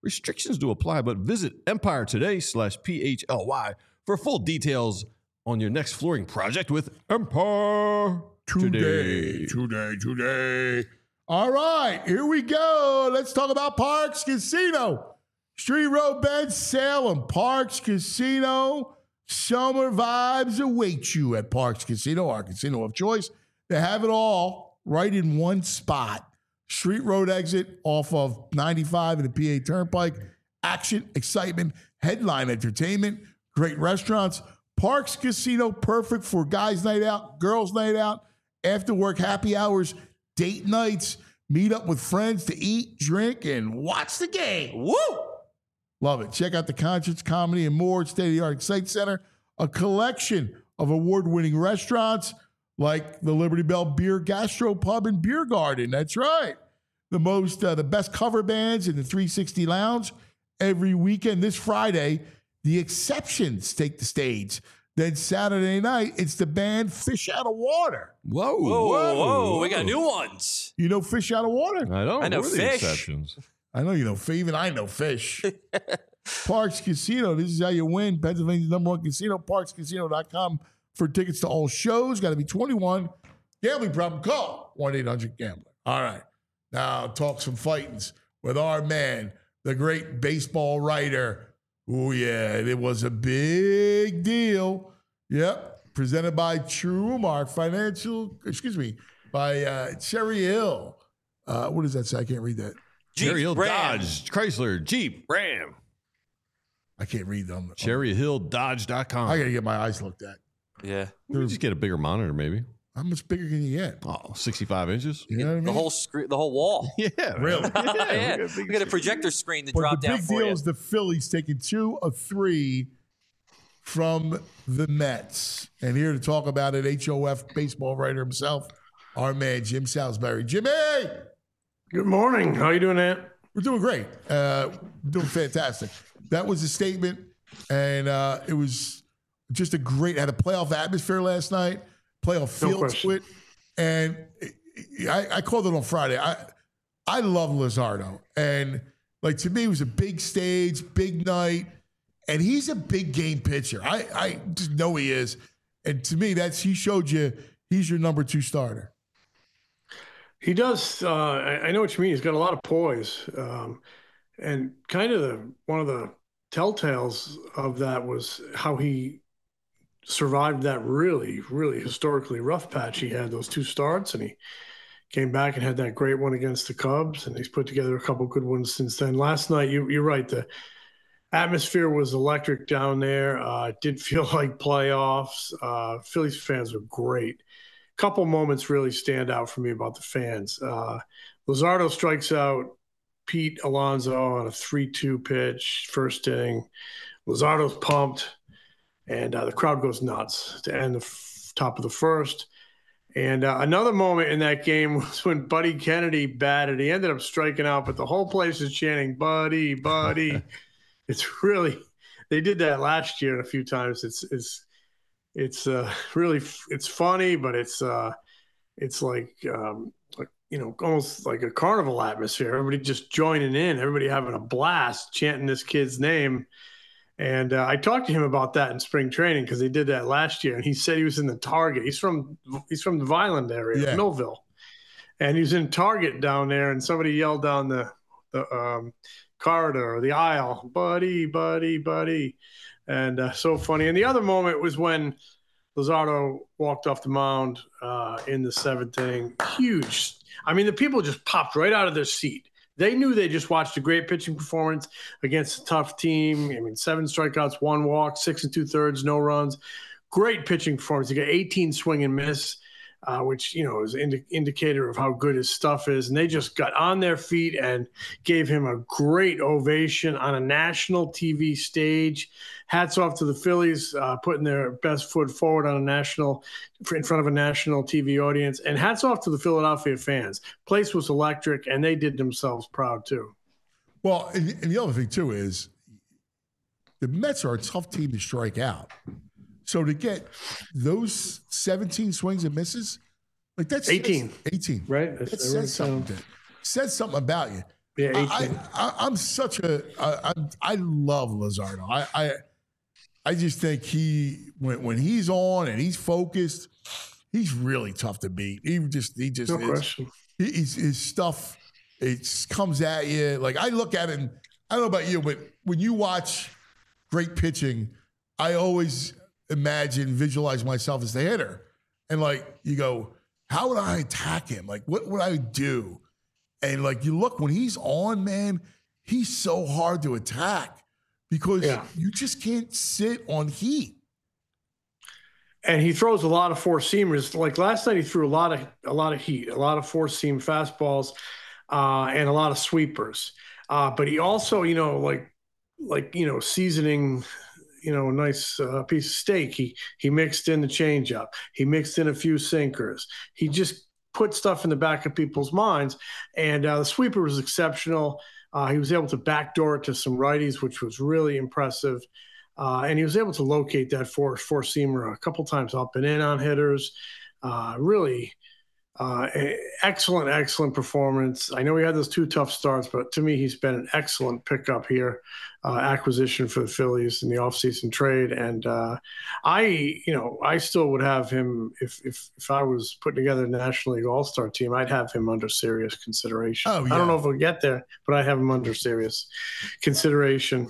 C: Restrictions do apply, but visit Empire Today slash P H L Y for full details on your next flooring project with Empire
B: Today, today, today. All right, here we go. Let's talk about Parx Casino. Street Road Bend, Salem. Parx Casino. Summer vibes await you at Parx Casino, our casino of choice. They have it all right in one spot. Street Road exit off of ninety-five and the P A Turnpike. Action, excitement, headline entertainment, great restaurants. Parx Casino, perfect for guys' night out, girls' night out, after work happy hours, date nights, meet up with friends to eat, drink, and watch the game. Woo! Love it. Check out the concerts, comedy, and more. State-of-the-art Excite Center, a collection of award-winning restaurants like the Liberty Bell Beer Gastro Pub and Beer Garden. That's right. The most, uh, the best cover bands in the three sixty Lounge. Every weekend, this Friday, the Exceptions take the stage. Then Saturday night, it's the band Fish Out of Water.
C: Whoa,
D: Whoa, whoa,
C: whoa.
D: we got new ones.
B: You know Fish Out of Water?
C: I know.
D: I know
C: We're the
D: Fish.
C: exceptions.
B: I know you know Fish. Even I know Fish. Parx Casino. This is how you win. Pennsylvania's number one casino. Parx Casino dot com for tickets to all shows. Got to be twenty-one. Gambling problem? Call one eight hundred gambler. All right. Now talk some fightings with our man, the great baseball writer. Oh, yeah. It was a big deal. Yep. Presented by Trumark Financial, excuse me, by uh, Cherry Hill. Uh, what does that say? I can't read that.
D: Jeep,
C: Cherry Hill
D: Ram.
C: Dodge, Chrysler, Jeep, Ram.
B: I can't read them.
C: Cherry Hill Dodge dot com.
B: I got to get my eyes looked at.
D: Yeah.
C: You just get a bigger monitor, maybe.
B: How much bigger can you get?
C: Oh, sixty-five inches.
B: You know what I mean?
D: The whole screen, the whole wall.
C: Yeah.
B: Really?
D: yeah,
C: we got a big
D: we got a projector screen to
B: But
D: drop
B: the
D: down
B: big
D: for
B: deal
D: you.
B: is the Phillies taking two of three from the Mets. And here to talk about it, H O F baseball writer himself, our man, Jim Salisbury. Jimmy!
F: Good morning. How you doing, Ant?
B: We're doing great. Uh, doing fantastic. That was a statement, and uh, it was just a great, had a playoff atmosphere last night, playoff feel to
F: question.
B: it. And I, I called it on Friday. I I love Luzardo. And, like, to me, it was a big stage, big night, and he's a big game pitcher. I, I just know he is. And to me, that's he showed you he's your number two starter.
F: He does. Uh, I, I know what you mean. He's got a lot of poise, um, and kind of the one of the telltales of that was how he survived that really, really historically rough patch. He had those two starts, and he came back and had that great one against the Cubs, and he's put together a couple good ones since then. Last night, you, you're right. The atmosphere was electric down there. Uh, it did feel like playoffs. Uh, Phillies fans were great. Couple moments really stand out for me about the fans. Uh, Luzardo strikes out Pete Alonso on a three two pitch, first inning. Luzardo's pumped, and uh, the crowd goes nuts to end the f- top of the first. And uh, another moment in that game was when Buddy Kennedy batted. He ended up striking out, but the whole place is chanting, Buddy, Buddy. It's really – they did that last year a few times. It's it's – It's uh, really it's funny, but it's uh, it's like, um, like you know almost like a carnival atmosphere. Everybody just joining in, everybody having a blast, chanting this kid's name. And uh, I talked to him about that in spring training because they did that last year, and he said he was in the Target. He's from he's from the Vineland area,
B: Yeah.
F: Millville, and he was in Target down there, and somebody yelled down the the um, corridor or the aisle, "Buddy, buddy, buddy." And uh, so funny. And the other moment was when Luzardo walked off the mound uh, in the seventh inning. Huge. I mean, the people just popped right out of their seat. They knew they just watched a great pitching performance against a tough team. I mean, seven strikeouts, one walk, six and two thirds, no runs. Great pitching performance. He got eighteen swing and miss, uh, which, you know, is an indi- indicator of how good his stuff is. And they just got on their feet and gave him a great ovation on a national T V stage. Hats off to the Phillies, uh, putting their best foot forward on a national, in front of a national T V audience. And hats off to the Philadelphia fans. Place was electric, and they did themselves proud too.
B: Well, and, and the other thing, too, is the Mets are a tough team to strike out. So to get those seventeen swings and misses, like that's
F: eighteen.
B: eighteen.
F: Right?
B: That
F: That's-
B: says
F: everyone's
B: something. Says something about you.
F: Yeah,
B: I,
F: eighteen.
B: I, I'm such a I, I, I love Luzardo. I, I I just think he when when he's on and he's focused, he's really tough to beat. He just he just
F: No
B: is,
F: question.
B: he, he's, his stuff it comes at you like I look at it. And I don't know about you, but when you watch great pitching, I always imagine visualize myself as the hitter, and like you go, how would I attack him? Like what would I do? And like you look when he's on, man, he's so hard to attack because
F: Yeah.
B: you just can't sit on heat.
F: And he throws a lot of four seamers. Like last night, he threw a lot of a lot of heat, a lot of four seam fastballs, uh, and a lot of sweepers. Uh, but he also, you know, like like you know, seasoning, you know, a nice uh, piece of steak. He he mixed in the changeup. He mixed in a few sinkers. He just put stuff in the back of people's minds. And uh, the sweeper was exceptional. Uh, he was able to backdoor it to some righties, which was really impressive. Uh, and he was able to locate that four four seamer a couple times up and in on hitters. Uh, really uh, excellent, excellent performance. I know he had those two tough starts, but to me, he's been an excellent pickup here, uh, acquisition for the Phillies in the offseason trade. And uh, I, you know, I still would have him if if if I was putting together a National League All-Star team, I'd have him under serious consideration.
B: Oh, yeah.
F: I don't know if we'll get there, but I'd have him under serious consideration.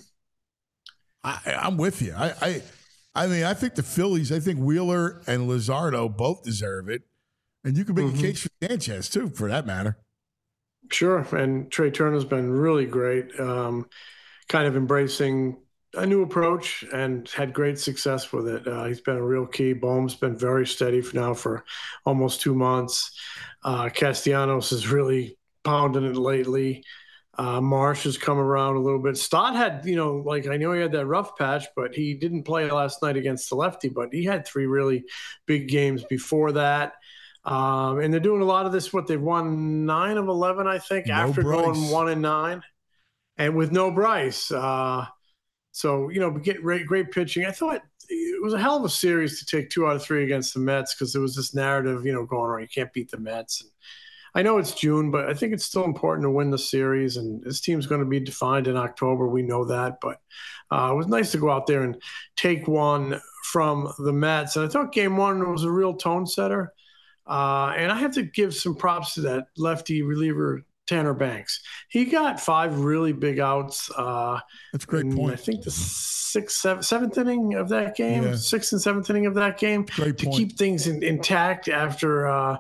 B: I, I'm with you. I, I I mean, I think the Phillies, I think Wheeler and Luzardo both deserve it. And you can make
F: Mm-hmm.
B: a case for Sanchez, too, for that matter.
F: Sure. And Trey Turner's been really great, um, kind of embracing a new approach and had great success with it. Uh, he's been a real key. Bohm's been very steady for now for almost two months. Uh, Castellanos has really pounding it lately. Uh, Marsh has come around a little bit. Stott had, you know, like I know he had that rough patch, but he didn't play last night against the lefty, but he had three really big games before that. Um, and they're doing a lot of this, what they've won nine of eleven, I think,
B: No
F: after
B: Bryce.
F: going one and nine and with no Bryce. Uh, so, you know, get great, great pitching. I thought it was a hell of a series to take two out of three against the Mets because there was this narrative, you know, going on, you can't beat the Mets. And I know it's June, but I think it's still important to win the series. And this team's going to be defined in October. We know that. But uh, it was nice to go out there and take one from the Mets. And I thought game one was a real tone setter. Uh, and I have to give some props to that lefty reliever, Tanner Banks. He got five really big outs. Uh,
B: That's a great
F: in,
B: point.
F: I think the sixth, seventh, seventh inning of that game,
B: Yeah.
F: sixth and seventh inning of that game,
B: Great
F: to
B: point.
F: keep things in, intact after uh,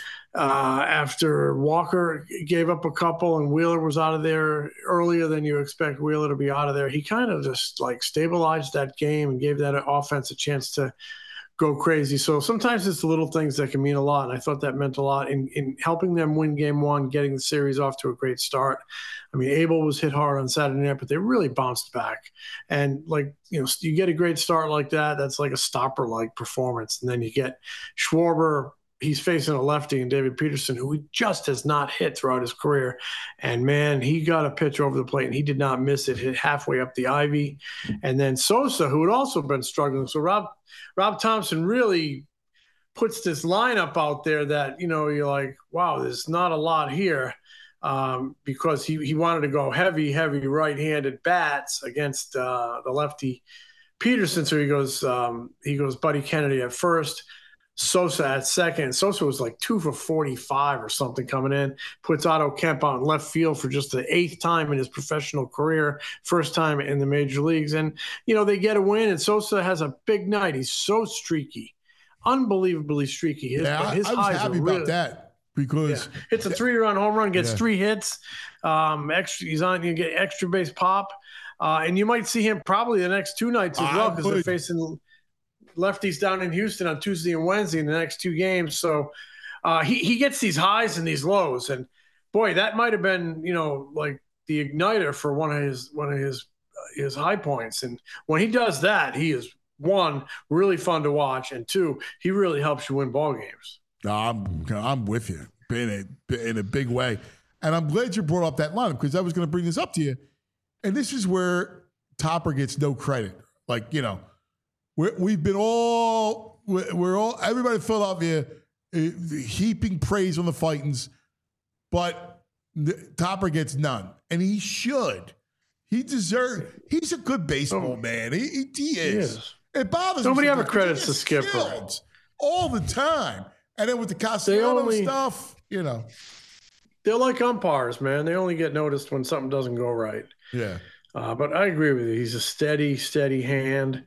F: uh, after Walker gave up a couple and Wheeler was out of there earlier than you expect Wheeler to be out of there. He kind of just like stabilized that game and gave that offense a chance to go crazy. So sometimes it's the little things that can mean a lot. And I thought that meant a lot in, in helping them win game one, getting the series off to a great start. I mean, Abel was hit hard on Saturday night, but they really bounced back. And like, you know, you get a great start like that. That's like a stopper-like performance. And then you get Schwarber. He's facing a lefty and David Peterson, who he just has not hit throughout his career. And man, he got a pitch over the plate and he did not miss it, hit halfway up the ivy. And then Sosa, who had also been struggling. So Rob, Rob Thompson really puts this lineup out there that, you know, you're like, wow, there's not a lot here. Um, because he, he wanted to go heavy, heavy right-handed bats against uh, the lefty Peterson. So he goes, um, he goes Buddy Kennedy at first, Sosa at second. Sosa was like two for forty-five or something coming in, puts Otto Kemp out in left field for just the eighth time in his professional career, first time in the major leagues. And, you know, they get a win and Sosa has a big night. He's so streaky, unbelievably streaky. His,
B: Yeah,
F: his
B: I, I was
F: highs
B: happy
F: are
B: about
F: really,
B: that because
F: yeah. Hits a three-run home run, gets
B: Yeah.
F: three hits. Um, extra, he's on. You get extra base pop, uh, and you might see him probably the next two nights as
B: I
F: well because they're
B: would.
F: facing lefties down in Houston on Tuesday and Wednesday in the next two games. So uh, he he gets these highs and these lows, and boy, that might have been you know like the igniter for one of his one of his uh, his high points. And when he does that, he is one really fun to watch, and two, he really helps you win ball games.
B: No, I'm I'm with you in a in a big way, and I'm glad you brought up that lineup because I was going to bring this up to you, and this is where Topper gets no credit. Like you know, we're, we've been all we're, we're all everybody in Philadelphia uh, heaping praise on the Fightins, but Topper gets none, and he should. He deserves. He's a good baseball oh, man. He, he, he, is. he is. It bothers
F: Nobody
B: me.
F: Nobody ever credits the skipper
B: all the time, and then with the Castellanos only, stuff, you know,
F: they're like umpires, man. They only get noticed when something doesn't go right.
B: Yeah.
F: Uh, but I agree with you. He's a steady, steady hand.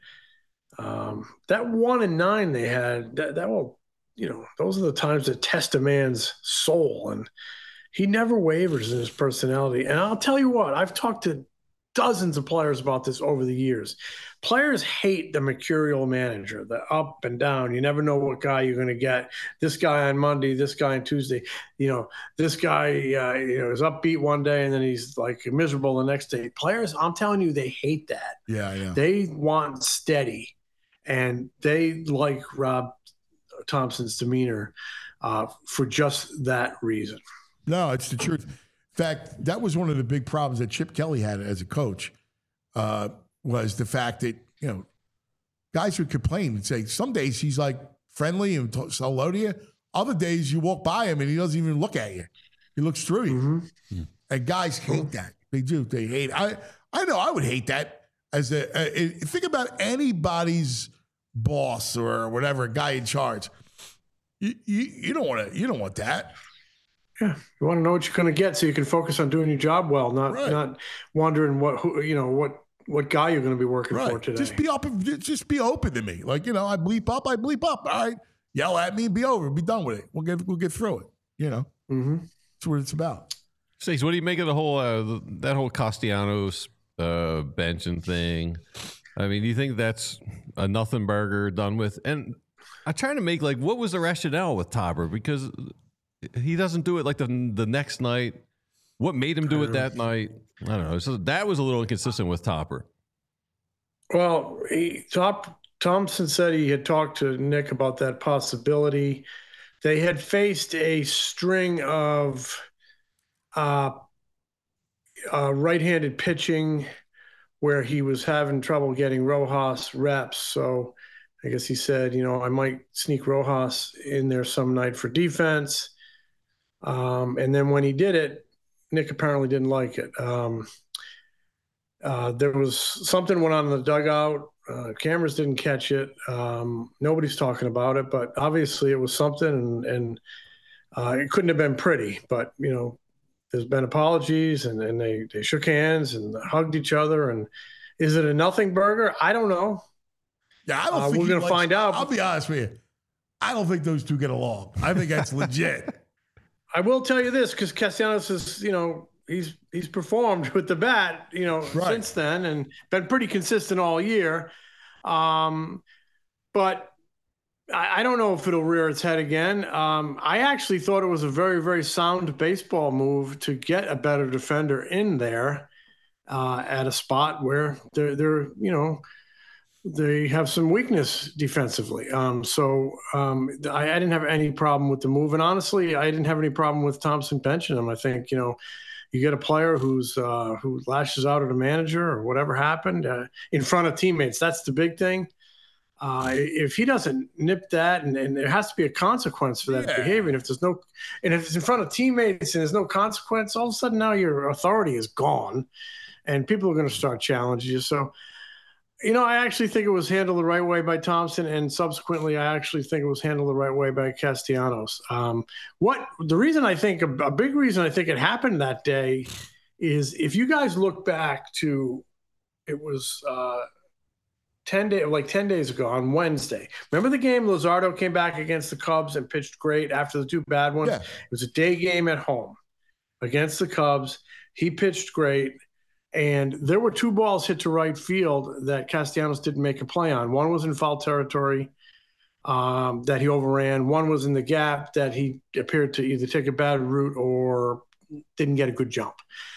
F: Um, that one and nine they had, that, that will, you know, those are the times that test a man's soul, and he never wavers in his personality. And I'll tell you what, I've talked to dozens of players about this over the years. Players hate the mercurial manager, the up and down. You never know what guy you're going to get. This guy on Monday, this guy on Tuesday. You know, this guy, uh, you know, is upbeat one day and then he's like miserable the next day. Players, I'm telling you, they hate that.
B: Yeah, yeah.
F: They want steady, and they like Rob Thompson's demeanor uh, for just that reason.
B: No, it's the truth. In fact, that was one of the big problems that Chip Kelly had as a coach, uh, was the fact that, you know, guys would complain and say, some days he's like friendly and t- say hello to you. Other days you walk by him and he doesn't even look at you. He looks through you. Mm-hmm. And guys hate that. They do. They hate it. I, I know I would hate that. As a, a, a think about anybody's boss or whatever, guy in charge. You, you, you don't want to, you don't want that.
F: Yeah, you want to know what you're going to get so you can focus on doing your job well, not
B: right.
F: not wondering what who, you know what what guy you're going to be working
B: right.
F: for today.
B: Just be up, just be open to me. Like, you know, I bleep up, I bleep up. All right, yell at me, be over, be done with it. We'll get we'll get through it. You know,
F: mm-hmm.
B: That's what it's about.
C: Stace, what do you make of the whole uh, that whole Castellanos uh, benching thing? I mean, do you think that's a nothing burger done with? And I'm trying to make like, what was the rationale with Topper? Because he doesn't do it like the the next night. What made him do it that night? I don't know. So that was a little inconsistent with Topper.
F: Well, he, Top, Thompson said he had talked to Nick about that possibility. They had faced a string of uh, uh, right-handed pitching where he was having trouble getting Rojas reps. So I guess he said, you know, I might sneak Rojas in there some night for defense. Um, and then when he did it, Nick apparently didn't like it. Um, uh, there was something went on in the dugout. Uh, cameras didn't catch it. Um, nobody's talking about it, but obviously it was something, and, and uh, it couldn't have been pretty. But, you know, there's been apologies, and, and they, they shook hands and hugged each other. And is it a nothing burger? I don't know.
B: Yeah, I don't
F: uh,
B: think
F: we're going to find out.
B: I'll be honest with you. I don't think those two get along. I think that's legit.
F: I will tell you this, because Castellanos is, you know, he's he's performed with the bat, you know, right. since then, and been pretty consistent all year. Um, but I, I don't know if it'll rear its head again. Um, I actually thought it was a very, very sound baseball move to get a better defender in there uh, at a spot where they're, they're, you know, they have some weakness defensively. Um, so um, I, I didn't have any problem with the move. And honestly, I didn't have any problem with Thompson benching him. I think, you know, you get a player who's uh, who lashes out at a manager or whatever happened uh, in front of teammates. That's the big thing. Uh, if he doesn't nip that, and, and there has to be a consequence for that yeah. behavior. And if there's no, and if it's in front of teammates and there's no consequence, all of a sudden now your authority is gone and people are going to start challenging you. So, you know, I actually think it was handled the right way by Thompson, and subsequently, I actually think it was handled the right way by Castellanos. Um, what the reason I think a, a big reason I think it happened that day is if you guys look back to, it was uh, ten day, like ten days ago on Wednesday. Remember the game Luzardo came back against the Cubs and pitched great after the two bad ones. Yeah. It was a day game at home against the Cubs. He pitched great. And there were two balls hit to right field that Castellanos didn't make a play on. One was in foul territory um, that he overran. One was in the gap that he appeared to either take a bad route or didn't get a good jump.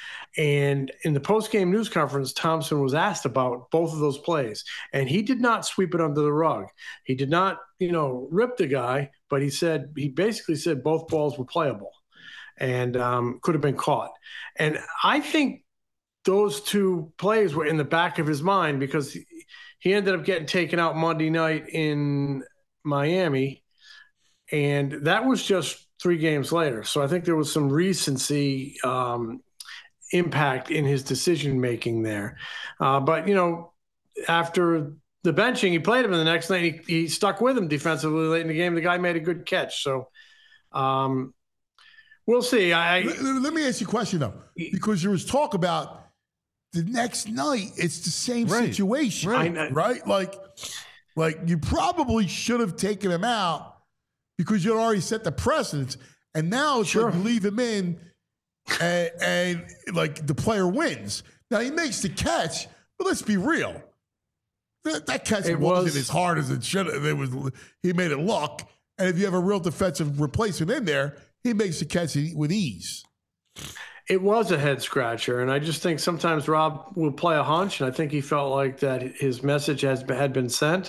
F: And in the post-game news conference, Thompson was asked about both of those plays. And he did not sweep it under the rug. He did not, you know, rip the guy, but he said, he basically said both balls were playable and um, could have been caught. And I think those two plays were in the back of his mind because he, he ended up getting taken out Monday night in Miami. And that was just three games later. So I think there was some recency um, impact in his decision making there. Uh, but, you know, after the benching, he played him, and the next night he, he stuck with him defensively late in the game. The guy made a good catch. So um, we'll see. I,
B: let, let me ask you a question, though, because there was talk about the next night, it's the same
C: right.
B: situation,
F: right.
B: right? Like, like you probably should have taken him out because you already set the precedence, and now it's
F: Sure.
B: like you leave him in, and, and like the player wins. Now he makes the catch, but let's be real, that, that catch
F: It
B: wasn't
F: was-
B: as hard as it should have. It was he made it look, and if you have a real defensive replacement in there, he makes the catch with ease.
F: It was a head scratcher, and I just think sometimes Rob will play a hunch, and I think he felt like that his message has had been sent,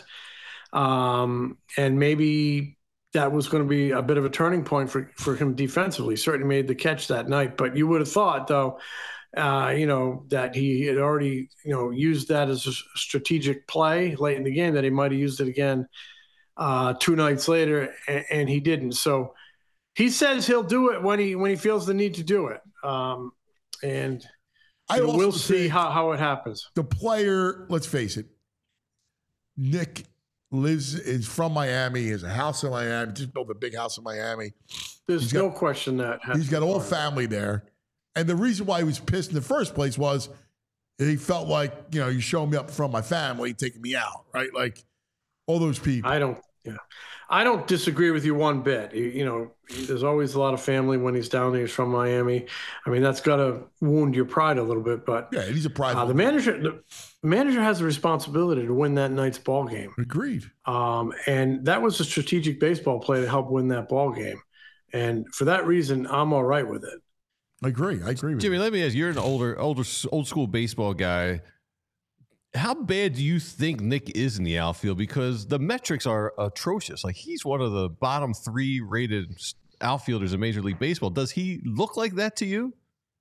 F: um, and maybe that was going to be a bit of a turning point for for him defensively. Certainly made the catch that night, but you would have thought, though, uh, you know, that he had already, you know, used that as a strategic play late in the game, that he might have used it again uh, two nights later, and, and he didn't. So. He says he'll do it when he when he feels the need to do it, um, and
B: I
F: you know,
B: also
F: we'll see
B: think
F: how, how it happens.
B: the player, let's face it, Nick lives is from Miami. He has a house in Miami. Just built a big house in Miami.
F: There's
B: He's
F: no
B: got-
F: question that
B: He's got all family there, and the reason why he was pissed in the first place was he felt like, you know, you showing me up from my family, taking me out, right? Like all those people.
F: I don't. Yeah, I don't disagree with you one bit. You, you know, there's always a lot of family when he's down there. He's from Miami. I mean, that's got to wound your pride a little bit. But
B: Yeah, he's a private.
F: uh, the manager, the manager has a responsibility to win that night's ball game.
B: Agreed.
F: Um, and that was a strategic baseball play to help win that ball game. And for that reason, I'm all right with it.
B: I agree. I agree with
C: Jimmy,
B: you.
C: let me ask, you're an older, older, old school baseball guy. How bad do you think Nick is in the outfield? Because the metrics are atrocious. Like, he's one of the bottom three rated outfielders in Major League Baseball. Does he look like that to you?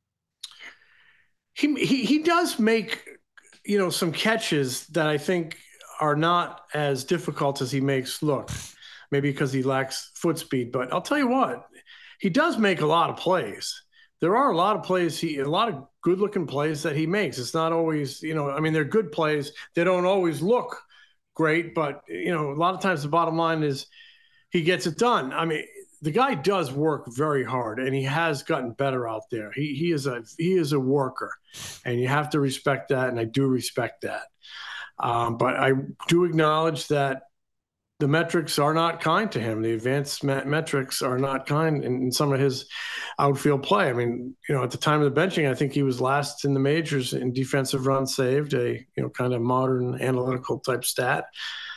F: He he he does make, you know, some catches that I think are not as difficult as he makes look. Maybe because he lacks foot speed, but I'll tell you what, he does make a lot of plays. There are a lot of plays, he a lot of good-looking plays that he makes. It's not always, you know, I mean, they're good plays. They don't always look great, but, you know, a lot of times the bottom line is he gets it done. I mean, the guy does work very hard, and he has gotten better out there. He he is a he is a worker, and you have to respect that, and I do respect that. Um, but I do acknowledge that the metrics are not kind to him. The advanced met- metrics are not kind in, in some of his outfield play. I mean, you know, at the time of the benching, I think he was last in the majors in defensive runs saved, a, you know, kind of modern analytical type stat.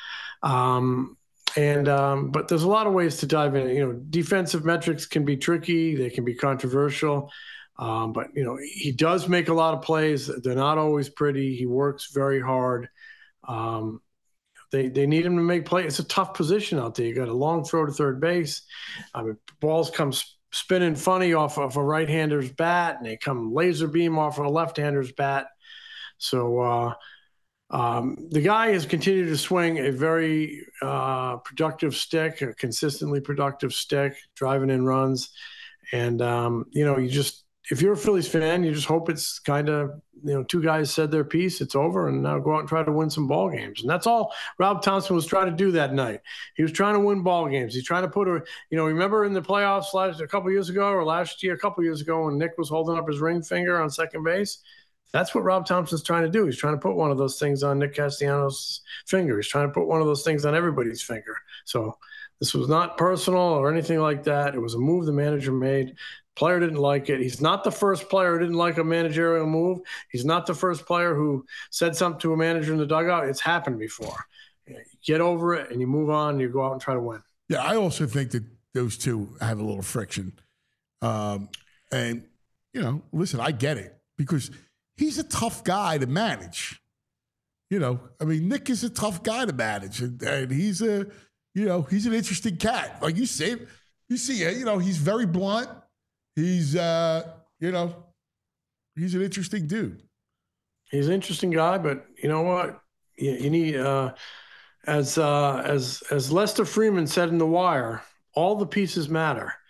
F: Um, and, um, but there's a lot of ways to dive in. You know, defensive metrics can be tricky. They can be controversial. Um, but, you know, he does make a lot of plays. They're not always pretty. He works very hard. Um, They they need him to make plays. It's a tough position out there. You got a long throw to third base. I mean, balls come spinning funny off of a right-hander's bat, and they come laser beam off of a left-hander's bat. So uh, um, the guy has continued to swing a very uh, productive stick, a consistently productive stick, driving in runs. And, um, you know, you just – if you're a Phillies fan, you just hope it's kind of, you know, two guys said their piece, it's over, and now go out and try to win some ball games. And that's all Rob Thompson was trying to do that night. He was trying to win ball games. He's trying to put a, you know, remember in the playoffs last a couple years ago or last year, a couple years ago when Nick was holding up his ring finger on second base? That's what Rob Thompson's trying to do. He's trying to put one of those things on Nick Castellanos' finger. He's trying to put one of those things on everybody's finger. So this was not personal or anything like that. It was a move the manager made. Player didn't like it. He's not the first player who didn't like a managerial move. He's not the first player who said something to a manager in the dugout. It's happened before. You get over it and you move on and you go out and try to win.
B: Yeah, I also think that those two have a little friction. Um, and, you know, listen, I get it because he's a tough guy to manage. You know, I mean, Nick is a tough guy to manage, and, and he's a, you know, he's an interesting cat. Like you say, you see, you know, he's very blunt. He's, uh, you know, he's an interesting dude.
F: He's an interesting guy, but you know what? You, you need, uh, as uh, as as Lester Freeman said in The Wire, all the pieces matter.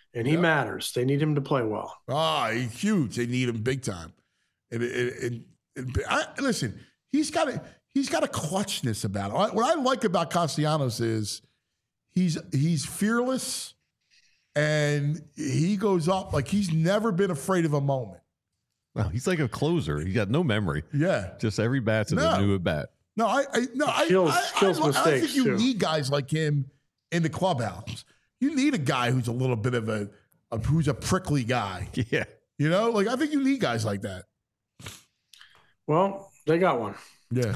F: and he
B: Yeah.
F: matters. They need him to play well.
B: Ah, he's huge. They need him big time. And, and, and, and I, listen, he's got a he's got a clutchness about it. What I like about Castellanos is he's he's fearless, and he goes up like he's never been afraid of a moment.
C: No, he's like a closer. He's got no memory.
B: Yeah.
C: Just every bat's a
B: No.
C: new at bat.
B: No, I, I no, I,
F: Kills-
B: I, I,
F: kills
B: I, I
F: mistakes,
B: think you
F: too.
B: need guys like him in the clubhouse. You need a guy who's a little bit of a, a who's a prickly guy.
C: Yeah.
B: You know, like I think you need guys like that.
F: Well, they got one.
B: Yeah.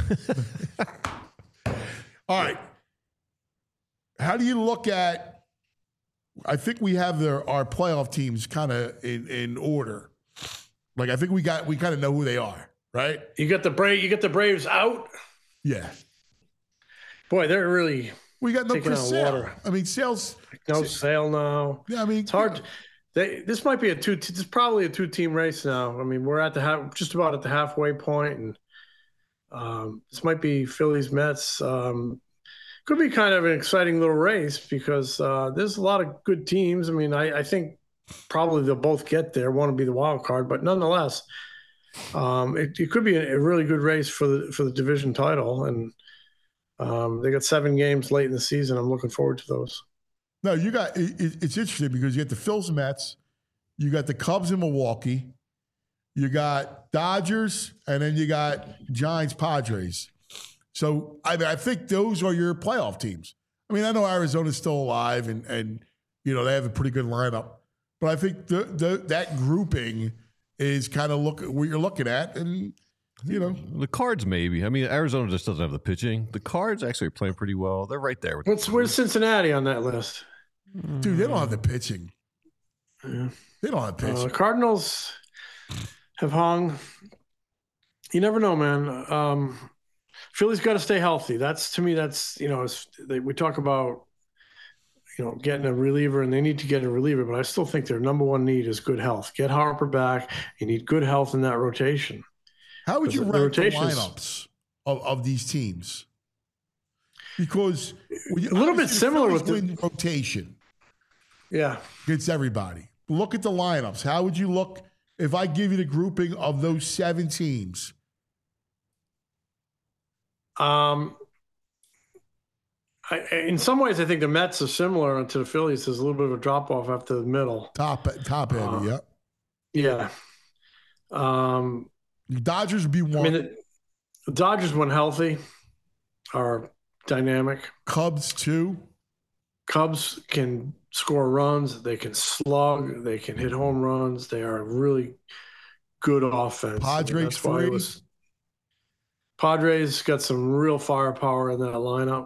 B: All right. How do you look at? I think we have their our playoff teams kind of in, in order. Like I think we got we kind of know who they are, right?
F: You got the Brave. You got the Braves out.
B: Yeah.
F: Boy, they're really
B: We got no
F: Taking
B: Chris
F: on
B: Sale.
F: water.
B: I mean, Sale's.
F: no sale now.
B: Yeah, I mean,
F: It's hard. They, this might be a two. This is probably a two-team race now. I mean, we're at the half, just about at the halfway point, and um, this might be Phillies Mets. Um, could be kind of an exciting little race because uh, there's a lot of good teams. I mean, I, I think probably they'll both get there. Want to be the wild card, but nonetheless, um, it, it could be a, a really good race for the for the division title. And um, they got seven games late in the season. I'm looking forward to those.
B: No, you got it, it- it's interesting because you got the Phils and Mets, you got the Cubs in Milwaukee, you got Dodgers, and then you got Giants, Padres. So I mean, I think those are your playoff teams. I mean, I know Arizona's still alive, and and you know they have a pretty good lineup, but I think the, the that grouping is kind of look what you're looking at, and you know,
C: The Cards, maybe. I mean, Arizona just doesn't have the pitching. The Cards actually are playing pretty well. They're right there with
F: What's where's Cincinnati on that list?
B: dude, they don't have the pitching.
F: Yeah.
B: They don't have
F: Uh,
B: pitching.
F: Cardinals have hung. You never know, man. Um, Philly's got to stay healthy. That's to me. That's you know, it's, they, we talk about you know getting a reliever, and they need to get a reliever. But I still think their number one need is good health. Get Harper back. You need good health in that rotation.
B: How would you
F: the
B: rank the
F: rotations-
B: lineups of, of these teams? Because when you-
F: A little bit
B: obviously the
F: similar
B: Phillies
F: with the-
B: win rotation
F: Yeah.
B: against everybody. Look at the lineups. How would you look if I give you the grouping of those seven teams?
F: Um, I, in some ways, I think the Mets are similar to the Phillies. There's a little bit of a drop off after the middle.
B: Top top heavy,
F: Uh,
B: yeah.
F: Yeah. Um,
B: The Dodgers would be
F: I
B: one.
F: mean, the, the Dodgers, when healthy, are dynamic.
B: Cubs two.
F: Cubs can score runs. They can slug. They can hit home runs. They are a really good offense.
B: Padres
F: that's why it
B: three.
F: was- Padres got some real firepower in that lineup.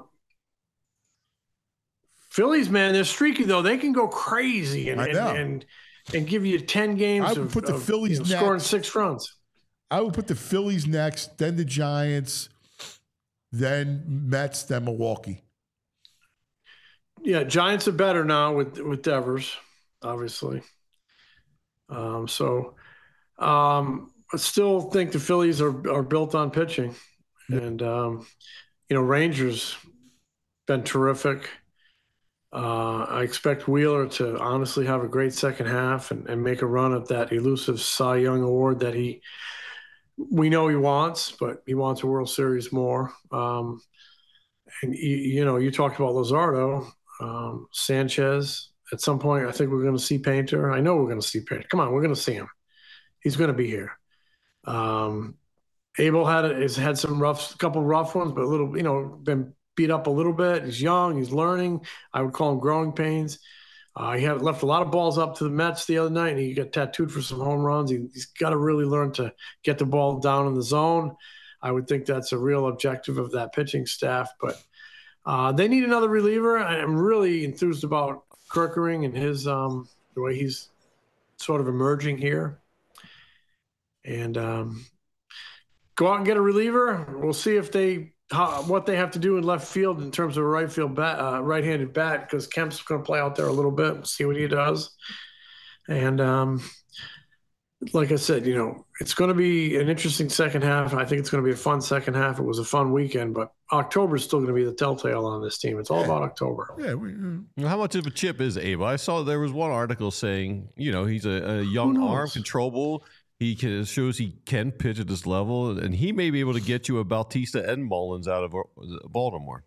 F: Phillies, man, they're streaky though. They can go crazy and
B: I
F: and,
B: know.
F: and and give you ten games
B: I would
F: of,
B: put the
F: of,
B: Phillies
F: you know, scoring
B: next.
F: six runs.
B: I would put the Phillies next, then the Giants, then Mets, then Milwaukee.
F: Yeah, Giants are better now with with Devers, obviously. Um, so, um, I still think the Phillies are are built on pitching, and um, you know, Rangers been terrific. Uh, I expect Wheeler to honestly have a great second half and, and make a run at that elusive Cy Young award that he we know he wants, but he wants a World Series more. Um, and you, you know, you talked about Luzardo. Um, Sanchez, at some point, I think we're going to see Painter. I know we're going to see Painter. Come on, we're going to see him. He's going to be here. Um, Abel had has had some rough, couple rough ones, but a little, you know, been beat up a little bit. He's young. He's learning. I would call him growing pains. Uh, he had left a lot of balls up to the Mets the other night, and he got tattooed for some home runs. He, he's got to really learn to get the ball down in the zone. I would think that's a real objective of that pitching staff, but Uh, they need another reliever. I'm really enthused about Kerkering and his um, the way he's sort of emerging here. And um, go out and get a reliever. We'll see if they how, what they have to do in left field in terms of a right field bat, uh, right-handed bat, because Kemp's going to play out there a little bit. See what he does. And um, like I said, you know, it's going to be an interesting second half. I think it's going to be a fun second half. It was a fun weekend, but October is still going to be the telltale on this team. It's all
B: Yeah.
F: about October.
B: Yeah. We, uh,
C: How much of a chip is Abe? I saw there was one article saying, you know, he's a, a young
F: knows?
C: arm, controllable. He can, shows he can pitch at this level, and he may be able to get you a Bautista and Mullins out of uh, Baltimore.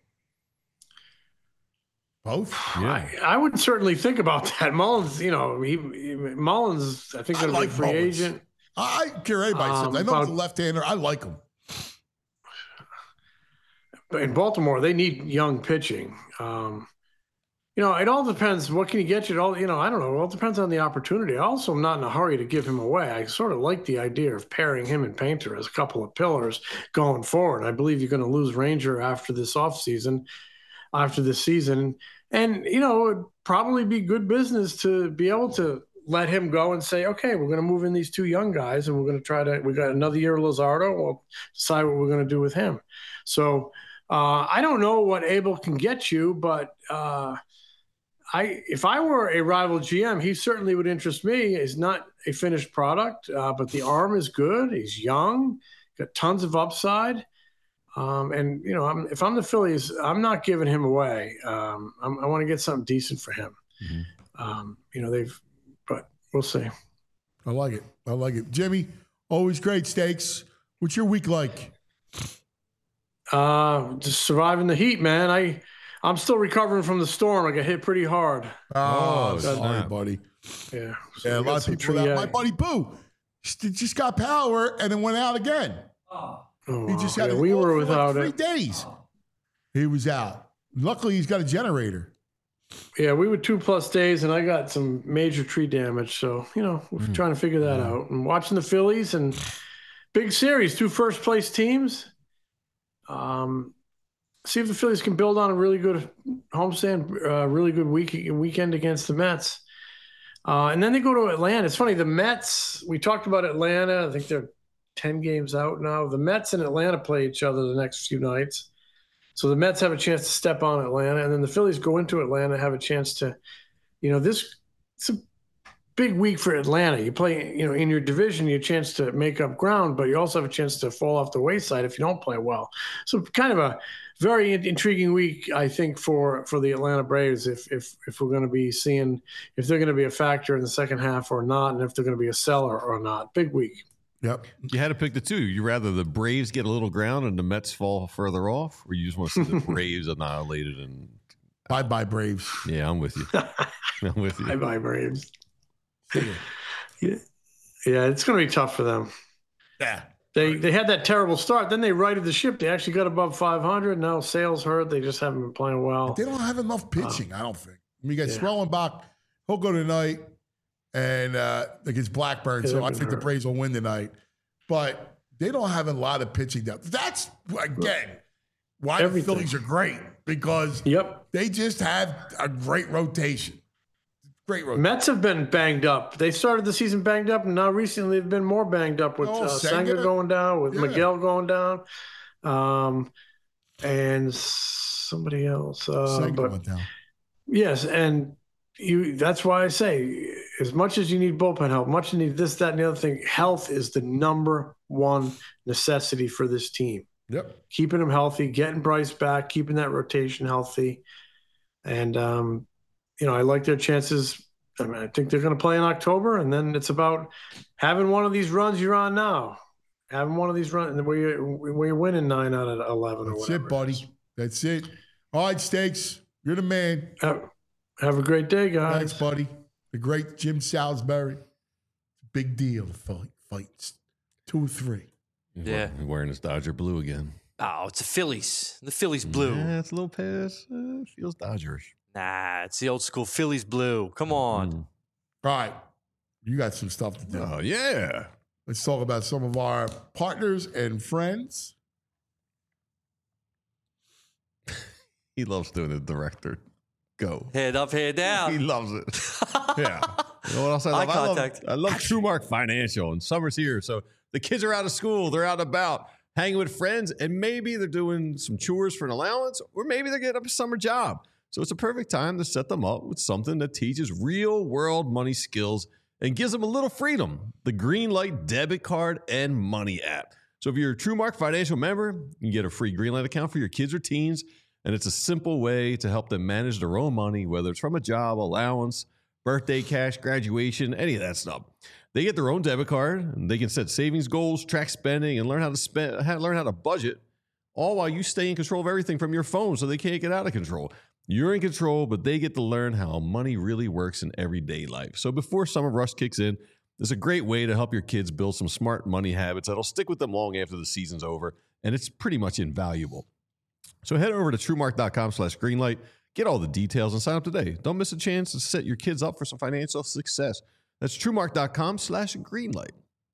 B: both.
C: Yeah.
F: I, I would certainly think about that. Mullins, you know, he, he Mullins, I think
B: I
F: going
B: like
F: to be a free
B: Mullins.
F: agent.
B: I, I care anybody
F: Um,
B: says. I know he's a
F: about-
B: left-hander. I like him.
F: But in Baltimore, they need young pitching. Um, you know, it all depends. What can you get you? It all, you know, I don't know. It all depends on the opportunity. I also am not in a hurry to give him away. I sort of like the idea of pairing him and Painter as a couple of pillars going forward. I believe you're going to lose Ranger after this offseason, after this season. And, you know, it'd probably be good business to be able to let him go and say, okay, we're going to move in these two young guys and we're going to try to, we got another year of Luzardo. We'll decide what we're going to do with him. So uh, I don't know what Abel can get you, but uh, I, if I were a rival G M, he certainly would interest me. He's not a finished product, uh, but the arm is good. He's young, got tons of upside. Um, and, you know, I'm, if I'm the Phillies, I'm not giving him away. Um, I'm, I want to get something decent for him.
C: Mm-hmm.
F: Um, you know, they've, but we'll see.
B: I like it. I like it. Jimmy, always great steaks. What's your week like?
F: Uh, just surviving the heat, man. I, I'm still recovering from the storm. I got hit pretty hard.
B: Oh,
C: Oh,
B: sorry,
C: snap.
B: buddy.
F: Yeah. So
B: Yeah, a
F: we got
B: lot of
F: some
B: people.
F: tree-
B: That. My buddy Boo just just got power and then went out again.
F: Oh,
B: He just
F: wow.
B: had
F: Yeah,
B: it
F: we
B: all
F: were
B: for
F: without
B: like
F: it.
B: three days. He was out. Luckily, he's got a generator.
F: Yeah, we were two plus days, and I got some major tree damage. So, you know, we're
B: Mm.
F: trying to figure that out. And watching the Phillies and big series, two first place teams. Um, see if the Phillies can build on a really good homestand, uh, really good week weekend against the Mets. Uh, and then they go to Atlanta. It's funny, the Mets, we talked about Atlanta. I think they're ten games out now. The Mets and Atlanta play each other the next few nights. So the Mets have a chance to step on Atlanta, and then the Phillies go into Atlanta, have a chance to, you know, this it's a big week for Atlanta. You play, you know, in your division, you have a chance to make up ground, but you also have a chance to fall off the wayside if you don't play well. So kind of a very intriguing week, I think, for for the Atlanta Braves, if if if we're going to be seeing if they're going to be a factor in the second half or not, and if they're going to be a seller or not. Big week.
B: Yep.
C: You had to pick the two. You rather the Braves get a little ground and the Mets fall further off, or you just want to see the Braves annihilated? And
B: Bye bye, Braves.
C: yeah, I'm with you. I'm with
F: Bye
C: you.
F: bye, Braves.
B: See ya.
F: Yeah, yeah, it's going to be tough for them.
B: Yeah.
F: They they had that terrible start. Then they righted the ship. They actually got above five hundred. Now sales hurt. They just haven't been playing well.
B: They don't have enough pitching, I don't think. I mean, you got
F: Yeah.
B: Swellenbach. He'll go tonight and uh, against Blackburn.
F: Yeah,
B: so
F: they've
B: I
F: been
B: think the
F: hurt.
B: Braves will win tonight. But they don't have a lot of pitching depth. That's, again, why
F: Everything.
B: the Phillies are great, because
F: Yep.
B: they just have a great rotation. Great rotation.
F: Mets have been banged up. They started the season banged up, and now recently they've been more banged up with
B: Oh,
F: uh,
B: Senga?
F: Senga going down, with
B: Yeah.
F: Miguel going down, um, and somebody else. Uh,
B: Senga
F: but
B: went down.
F: yes, and you. That's why I say, as much as you need bullpen help, much you need this, that, and the other thing. Health is the number one necessity for this team.
B: Yep.
F: Keeping them healthy, getting Bryce back, keeping that rotation healthy. And, um, you know, I like their chances. I mean, I think they're going to play in October, and then it's about having one of these runs you're on now. Having one of these runs where you're, where you're winning nine out of eleven or
B: That's
F: whatever.
B: it, buddy. That's it. All right, Steaks. You're the man.
F: Have, have a great day, guys.
B: Thanks, buddy. The great Jim Salisbury. Big deal. Fight, fights. Two, three.
D: Yeah.
C: He's wearing his Dodger blue again.
D: Oh, it's the Phillies. The Phillies blue.
C: Yeah, it's a little pass. Uh, feels Dodgers.
D: Nah, it's the old school Phillies blue. Come on.
C: Mm.
B: All right. You got some stuff to do.
C: Oh yeah.
B: Let's talk about some of our partners and friends.
C: He loves doing the director. Go.
D: Head up, head
C: He
D: down.
C: loves it. Yeah. You know what else I
D: Eye
C: love? I love,
D: contact.
C: I love TrueMark Financial, and summer's here. So the kids are out of school. They're out and about, hanging with friends, and maybe they're doing some chores for an allowance, or maybe they're getting a summer job. So it's a perfect time to set them up with something that teaches real-world money skills and gives them a little freedom. The Greenlight debit card and money app. So if you're a TrueMark Financial member, you can get a free Greenlight account for your kids or teens, and it's a simple way to help them manage their own money, whether it's from a job, allowance, birthday cash, graduation, any of that stuff. They get their own debit card, and they can set savings goals, track spending, and learn how to spend, learn how to budget, all while you stay in control of everything from your phone so they can't get out of control. You're in control, but they get to learn how money really works in everyday life. So before summer rush kicks in, it's a great way to help your kids build some smart money habits that'll stick with them long after the season's over, and it's pretty much invaluable. So head over to TrueMark.com slash Greenlight, get all the details, and sign up today. Don't miss a chance to set your kids up for some financial success. That's TrueMark.com slash Greenlight.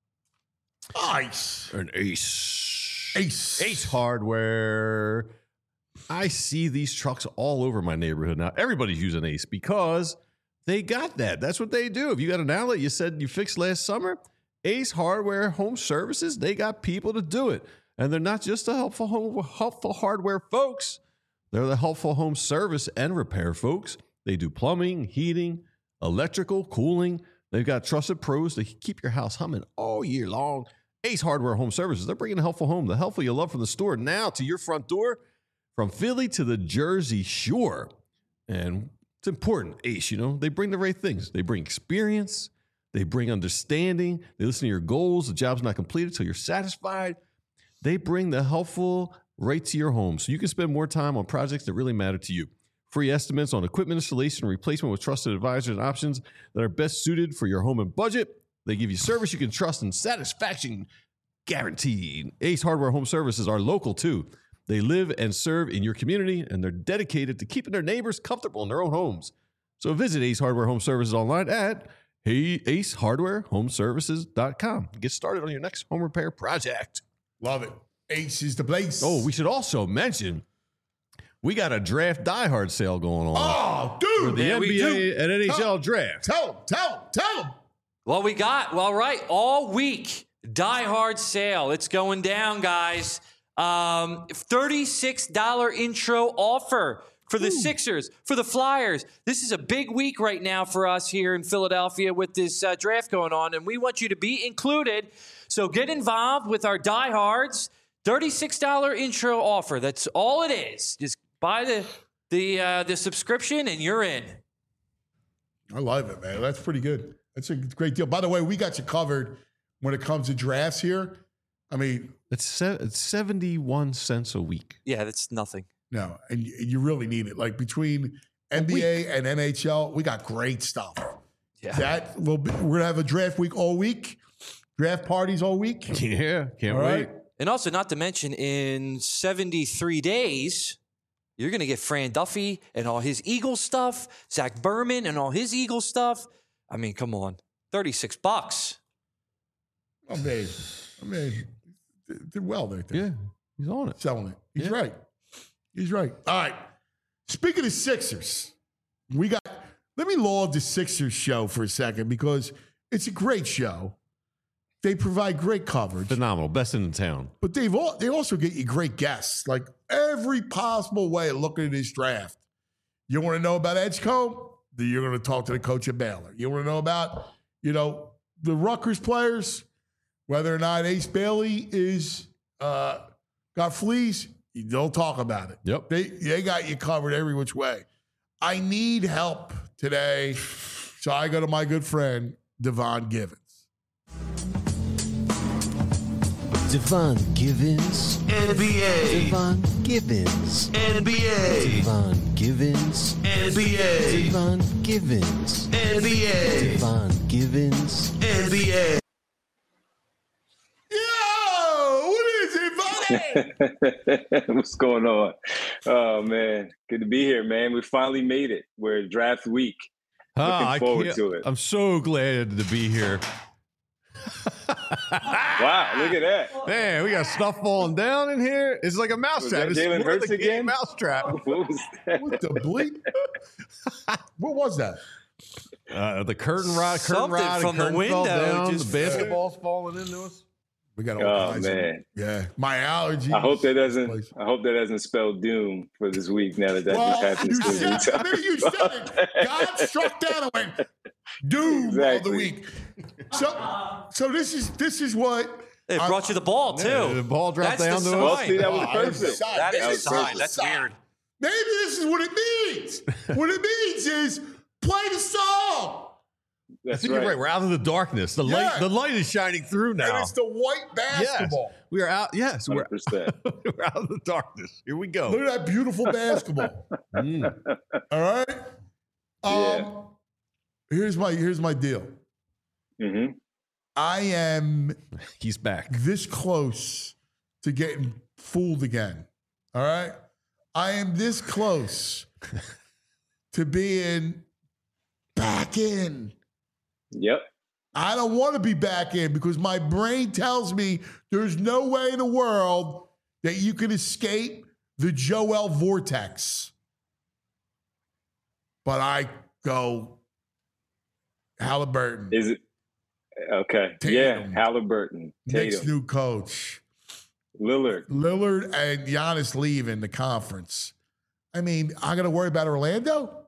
B: Nice.
C: An ace.
B: Ace.
C: Ace Hardware. I see these trucks all over my neighborhood now. Everybody's using Ace because they got that. That's what they do. If you got an outlet you said you fixed last summer, Ace Hardware Home Services, they got people to do it. And they're not just the helpful home, helpful hardware folks. They're the helpful home service and repair folks. They do plumbing, heating, electrical, cooling. They've got trusted pros to keep your house humming all year long. Ace Hardware Home Services, they're bringing the helpful home, the helpful you love from the store now to your front door, from Philly to the Jersey Shore. And it's important, Ace, you know, they bring the right things. They bring experience. They bring understanding. They listen to your goals. The job's not completed until you're satisfied. They bring the helpful right to your home so you can spend more time on projects that really matter to you. Free estimates on equipment installation and replacement with trusted advisors and options that are best suited for your home and budget. They give you service you can trust and satisfaction guaranteed. Ace Hardware Home Services are local too. They live and serve in your community, and they're dedicated to keeping their neighbors comfortable in their own homes. So visit Ace Hardware Home Services online at hey, ace hardware home services dot com. Get started on your next home repair project.
B: Love it. Ace is the place.
C: Oh, we should also mention we got a draft diehard sale going on.
B: Oh,
C: For
B: dude.
C: the
D: Yeah,
C: N
D: we
C: B A
D: do.
C: and N H L
B: Tell-
C: draft.
B: Tell him, tell him, tell him.
D: Well, we got, well, right, all week, Die Hard sale. It's going down, guys. Um, thirty-six dollars intro offer for the Ooh. Sixers, for the Flyers. This is a big week right now for us here in Philadelphia with this uh, draft going on, and we want you to be included. So get involved with our diehards. thirty-six dollars intro offer. That's all it is. Just buy the the uh, the subscription and you're in.
B: I love it, man. That's pretty good. That's a great deal. By the way, we got you covered when it comes to drafts here. I mean,
C: It's, se- it's seventy-one cents a week.
D: Yeah, that's nothing.
B: no, and you, you really need it. Like between N B A and N H L, we got great stuff.
D: Yeah.
B: That will be, we're gonna have a draft week all week, draft parties all week.
C: Yeah, can't
B: All
C: wait.
B: right.
D: And also, not to mention, in seventy-three days, you're going to get Fran Duffy and all his Eagle stuff, Zach Berman and all his Eagle stuff. I mean, come on. thirty-six bucks.
B: I mean, I mean, did well right there.
C: Yeah, he's on it.
B: Selling it. He's
C: Yeah.
B: right. He's right. All right. Speaking of Sixers, we got, let me laud the Sixers show for a second because it's a great show. They provide great coverage,
C: Phenomenal. Best in the town.
B: but they've all, they also get you great guests, like every possible way of looking at this draft. You want to know about Edgecombe? Then you're going to talk to the coach at Baylor. You want to know about, you know, the Rutgers players, whether or not Ace Bailey is uh, got fleas, you don't talk about it.
C: Yep.
B: They they got you covered every which way. I need help today, so I go to my good friend Devon Givens.
G: Devon Givens.
A: N B A.
G: Devon Givens.
A: N B A.
G: Devon Givens.
A: N B A.
G: Devon Givens.
A: N B A.
G: Devon Givens.
A: N B A.
B: Yo, what is it, buddy?
H: What's going on? Oh man, good to be here, man. We finally made it. We're draft week.
C: Ah,
H: Looking
C: I
H: forward
C: can't-
H: to it.
C: I'm so glad to be here.
H: Wow, look at that.
C: Man, we got stuff falling down in here. It's like a
H: Was
C: mousetrap.
H: that
C: It's
H: Jalen
C: more
H: Hurts
C: like a
H: again?
C: Mousetrap.
H: What was that?
B: What the bleep? What was that?
C: Uh, the curtain rod, curtain
D: Something
C: rod,
D: from
C: and
D: the
C: curtain
D: window
C: fell down.
D: just-
C: The basketball's falling into us.
B: We got all
H: Oh,
B: kinds of
H: man.
B: yeah. My allergies.
H: I hope that doesn't.
B: Place.
H: I hope that doesn't spell doom for this week. Now that that
B: Well,
H: just
B: you
H: happens.
B: said, I mean, you said it. God struck down and went, Doom
H: Exactly.
B: of the week. So, so this is this is what
D: It
B: I-
D: brought you the ball too.
C: Yeah, the ball dropped
D: That's
C: down
D: the
C: to
D: sign.
C: us.
H: Well, see, that was
B: Oh, I was
H: perfect.
B: excited.
D: That is
H: That
D: a
H: was
D: sign.
H: perfect.
D: That's weird.
B: Maybe this is what it means. What it means is play the song.
C: I
H: That's
C: think
H: right.
C: you're right. We're out of the darkness. The
B: Yeah.
C: light, the light is shining through now.
B: And it's the white
C: Yes,
B: basketball.
C: we are out. Yes,
H: one
C: we're,
H: hundred percent.
C: we're out of the darkness. Here we go.
B: Look at that beautiful basketball.
C: Mm.
B: All right. Um,
H: Yeah.
B: Here's my here's my deal.
H: hmm
B: I am
C: He's back.
B: this close to getting fooled again. All right. I am this close to being back in.
H: Yep.
B: I don't want to be back in because my brain tells me there's no way in the world that you can escape the Joel vortex. But I go Halliburton,
H: Is it okay?
B: Tatum.
H: Yeah, Halliburton,
B: Knicks
H: Tatum,
B: new coach,
H: Lillard.
B: Lillard and Giannis leaving the conference. I mean, I got to worry about Orlando?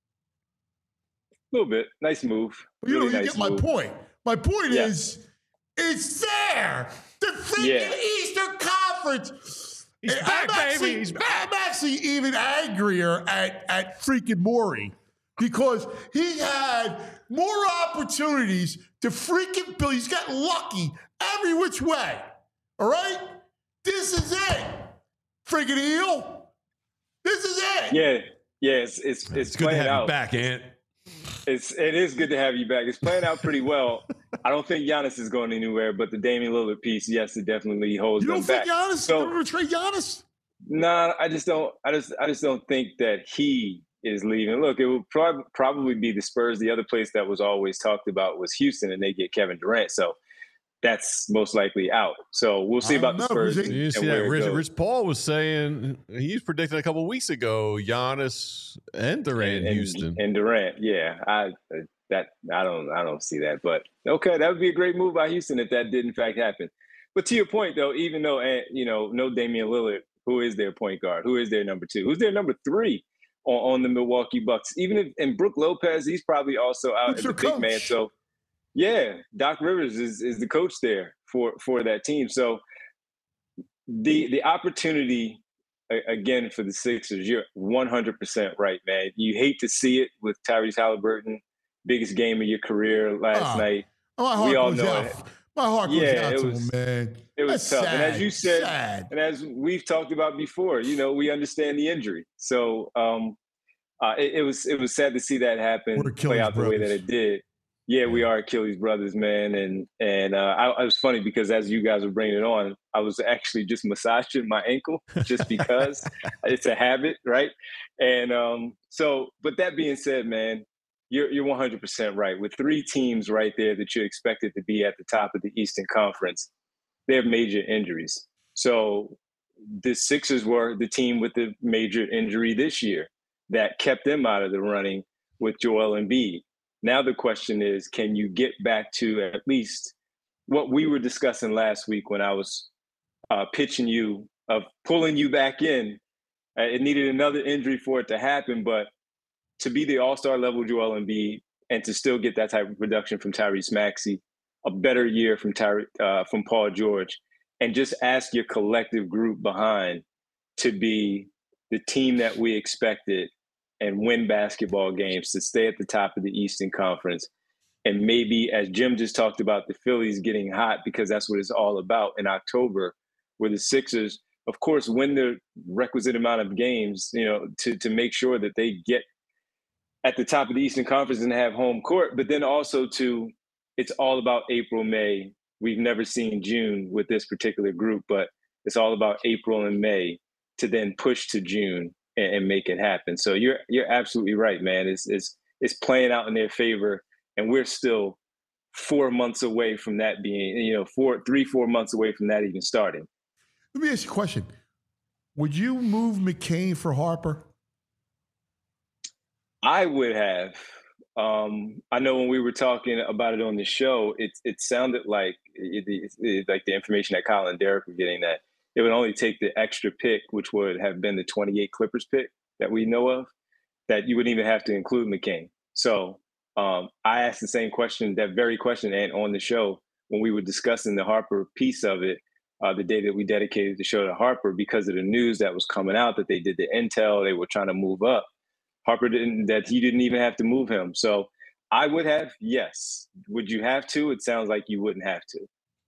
H: A little bit. Nice move.
B: But you
H: Really
B: know, you
H: nice
B: get my
H: move.
B: point. My point
H: Yeah.
B: is, it's there. The freaking
H: Yeah.
B: Eastern Conference.
C: He's
B: And
C: back,
B: I'm actually,
C: baby. He's back.
B: I'm actually even angrier at, at freaking Morey because he had more opportunities to freaking build. He's got lucky every which way. All right? This is it. Freaking eel. This is it.
H: Yeah, yeah. It's it's it's,
C: It's good to
H: playing
C: have
H: out.
C: you back, Ant.
H: It's it is good to have you back. It's playing out pretty well. I don't think Giannis is going anywhere, but the Damian Lillard piece, yes, it definitely holds
B: You
H: them
B: don't think
H: back.
B: Giannis is
H: So-
B: going to trade Giannis?
H: Nah, I just don't. I just I just don't think that he is leaving. Look, it will prob- probably be the Spurs. The other place that was always talked about was Houston, and they get Kevin Durant. So that's most likely out. So we'll see
B: I
H: about
B: don't
H: the
B: know,
H: Spurs.
B: because
H: and-
C: You see
H: and
C: that?
H: where it
C: Rich,
H: goes.
C: Rich Paul was saying he's predicting a couple of weeks ago Giannis and Durant in
H: and,
C: Houston.
H: and Durant. Yeah, I that I don't I don't see that, but okay, that would be a great move by Houston if that did in fact happen. But to your point, though, even though eh, you know no Damian Lillard, who is their point guard? Who is their number two? Who's their number three on, on the Milwaukee Bucks? Even if and Brook Lopez, he's probably also out
B: Who's
H: as
B: their
H: a big man.
B: coach?
H: So yeah, Doc Rivers is is the coach there for for that team. So the the opportunity a- again for the Sixers, you're one hundred percent right, man. You hate to see it with Tyrese Halliburton, biggest game of your career last
B: Ah,
H: night.
B: My heart
H: We all
B: goes
H: know
B: out.
H: it.
B: My heart goes
H: Yeah,
B: out
H: it
B: to
H: was-
B: him, man.
H: It was
B: That's
H: tough.
B: sad.
H: And as you said,
B: sad.
H: and as we've talked about before, you know, we understand the injury. So um, uh, it, it was it was sad to see that happen,
B: We're
H: play
B: Achilles
H: out the way that
B: brothers.
H: it did. Yeah, we are Achilles brothers, man. And and uh, I, I was funny because as you guys were bringing it on, I was actually just massaging my ankle just because it's a habit, right? And um, so, but that being said, man, you're you're one hundred percent right. With three teams right there that you're expected to be at the top of the Eastern Conference, they have major injuries. So the Sixers were the team with the major injury this year that kept them out of the running with Joel Embiid. Now the question is, can you get back to at least what we were discussing last week when I was uh, pitching you of pulling you back in? Uh, it needed another injury for it to happen, but to be the all-star level Joel Embiid and to still get that type of production from Tyrese Maxey, a better year from Tyre, uh, from Paul George, and just ask your collective group behind to be the team that we expected and win basketball games, to stay at the top of the Eastern Conference. And maybe, as Jim just talked about, the Phillies getting hot, because that's what it's all about in October, where the Sixers, of course, win the requisite amount of games, you know, to, to make sure that they get at the top of the Eastern Conference and have home court, but then also to, it's all about April, May. We've never seen June with this particular group, but it's all about April and May to then push to June and, and make it happen. So you're you're absolutely right, man. It's it's it's playing out in their favor, and we're still four months away from that being, you know, four, three, four months away from that even starting.
B: Let me ask you a question. Would you move McCain for Harper?
H: I would have. Um, I know when we were talking about it on the show, it it sounded like it, it, it, like the information that Kyle and Derek were getting, that it would only take the extra pick, which would have been the twenty-eight Clippers pick that we know of, that you wouldn't even have to include McCain. So Um, I asked the same question, that very question, and on the show when we were discussing the Harper piece of it, uh, the day that we dedicated the show to Harper, because of the news that was coming out that they did the intel, they were trying to move up. Harper didn't, that he didn't even have to move him. So I would have, yes. Would you have to? It sounds like you wouldn't have to.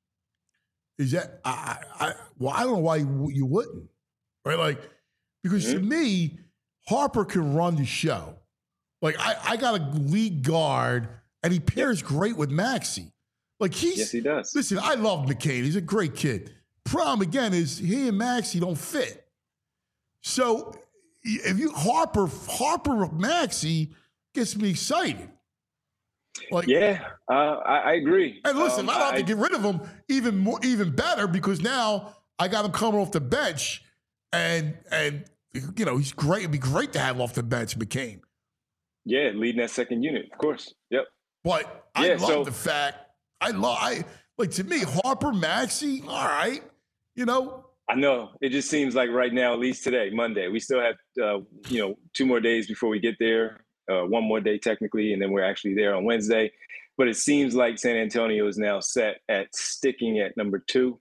B: Is that, I, I, well, I don't know why you, you wouldn't, right? Like, because mm-hmm. to me, Harper can run the show. Like, I, I got a lead guard, and he pairs yep. great with Maxey. Like, he's,
H: yes, he does.
B: Listen, I love McCain. He's a great kid. Problem, again, is he and Maxey don't fit. So, if you, Harper, Harper Maxey gets me excited. Like,
H: yeah, uh, I, I agree.
B: And listen,
H: um,
B: I don't have
H: I,
B: to get rid of him even more, even better, because now I got him coming off the bench, and and you know he's great. It'd be great to have off the bench McCain.
H: Yeah, leading that second unit, of course. Yep.
B: But
H: yeah,
B: I love
H: so,
B: the fact I love I like to me Harper Maxey. All right, you know.
H: I know it just seems like right now, at least today, Monday, we still have uh, you know two more days before we get there. Uh, one more day technically, and then we're actually there on Wednesday. But it seems like San Antonio is now set at sticking at number two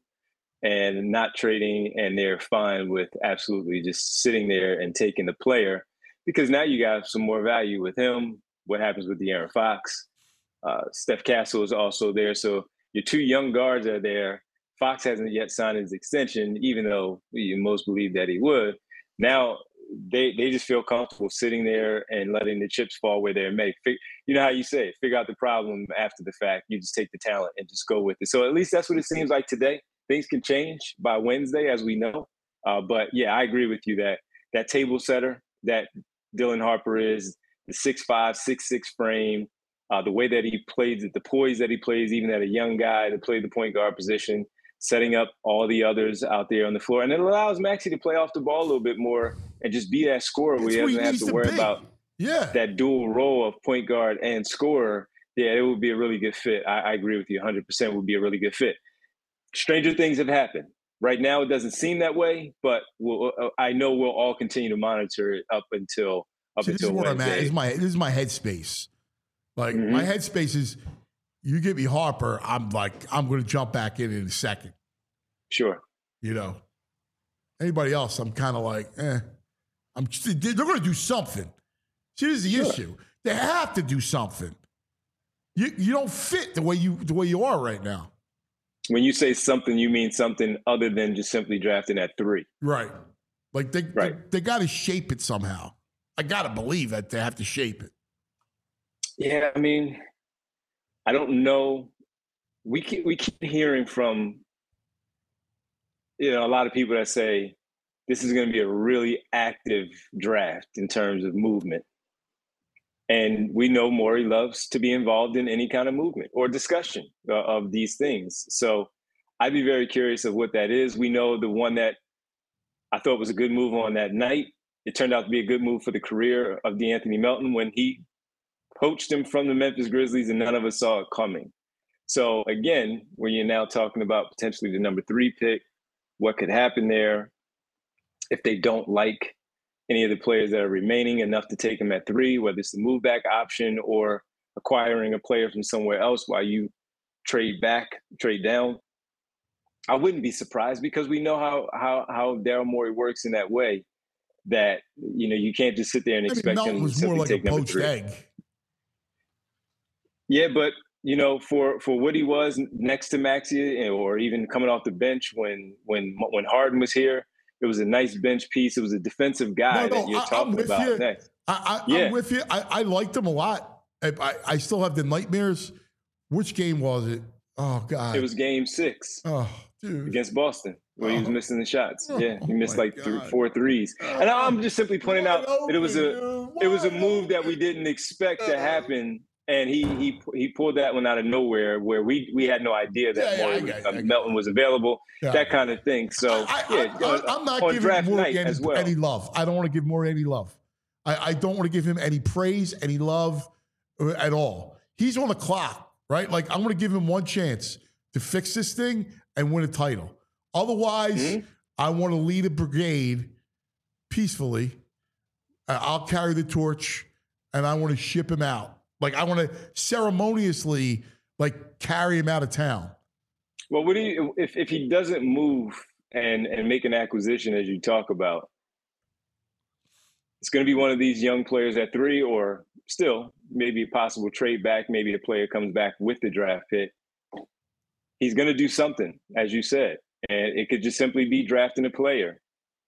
H: and not trading, and they're fine with absolutely just sitting there and taking the player, because now you got some more value with him. What happens with De'Aaron Fox? Uh, Steph Castle is also there. So your two young guards are there. Fox hasn't yet signed his extension, even though you most believe that he would. Now, They they just feel comfortable sitting there and letting the chips fall where they're made. You know how you say it, figure out the problem after the fact. You just take the talent and just go with it. So at least that's what it seems like today. Things can change by Wednesday, as we know. Uh, but, yeah, I agree with you that that table setter that Dylan Harper is, the six five, six six frame, uh, the way that he plays it, the poise that he plays, even at a young guy to play the point guard position, setting up all the others out there on the floor. And it allows Maxey to play off the ball a little bit more and just be that scorer where he doesn't have to, to worry be. about
B: yeah.
H: that dual role of point guard and scorer. Yeah, it would be a really good fit. I, I agree with you one hundred percent would be a really good fit. Stranger things have happened. Right now it doesn't seem that way, but we'll, uh, I know we'll all continue to monitor it up until up
B: See,
H: until
B: this is where
H: Wednesday.
B: I'm at. This is my, this is my headspace. Like,
H: mm-hmm.
B: my headspace is, you give me Harper, I'm like, I'm going to jump back in in a second.
H: Sure.
B: You know, anybody else, I'm kind of like, eh. I'm. They're going to do something. See, this is the
H: sure.
B: issue. They have to do something. You you don't fit the way you the way you are right now.
H: When you say something, you mean something other than just simply drafting at three.
B: Right. Like they
H: right.
B: they, they got to shape it somehow. I got to believe that they have to shape it.
H: Yeah, I mean, I don't know. We keep we keep hearing from, you know, a lot of people that say this is going to be a really active draft in terms of movement. And we know Morey loves to be involved in any kind of movement or discussion uh, of these things. So I'd be very curious of what that is. We know the one that I thought was a good move on that night. It turned out to be a good move for the career of DeAnthony Melton when he poached him from the Memphis Grizzlies, and none of us saw it coming. So again, when you're now talking about potentially the number three pick, what could happen there if they don't like any of the players that are remaining enough to take them at three, whether it's the move back option or acquiring a player from somewhere else while you trade back, trade down. I wouldn't be surprised because we know how how how Daryl Morey works in that way, that, you know, you can't just sit there and expect
B: I mean,
H: him
B: was
H: to
B: more
H: simply
B: like
H: take
B: a
H: number
B: poached
H: three.
B: egg.
H: Yeah, but you know, for for what he was next to Maxey, or even coming off the bench when when when Harden was here, it was a nice bench piece. It was a defensive guy
B: no, no,
H: that you're
B: I,
H: talking about
B: you.
H: next.
B: I, I,
H: yeah.
B: I'm with you. I, I liked him a lot. I, I, I still have the nightmares. Which game was it? Oh, God.
H: It was game six.
B: Oh, dude.
H: Against Boston, where oh. he was missing the shots.
B: Oh,
H: yeah, he missed like three,
B: God.
H: four threes.
B: Oh,
H: and I'm just simply pointing out
B: open,
H: that it was a
B: dude.
H: it was a
B: Wide
H: move
B: open.
H: that we didn't expect to happen. And he he he pulled that one out of nowhere, where we we had no idea that
B: yeah, yeah,
H: Morey,
B: I got,
H: uh,
B: I got
H: Melton was available,
B: yeah.
H: that kind of thing. So
B: I,
H: yeah,
B: I,
H: on,
B: I, I'm not
H: on
B: giving
H: draft
B: Morey
H: night
B: any,
H: as well.
B: any love. I don't want to give Morey any love. I, I don't want to give him any praise, any love at all. He's on the clock, right? Like, I'm going to give him one chance to fix this thing and win a title. Otherwise, mm-hmm. I want to lead a brigade peacefully. Uh, I'll carry the torch, and I want to ship him out Like I want to ceremoniously like carry him out of town.
H: Well, what do you if if he doesn't move and and make an acquisition as you talk about? It's going to be one of these young players at three, or still maybe a possible trade back. Maybe a player comes back with the draft pick. He's going to do something, as you said, and it could just simply be drafting a player.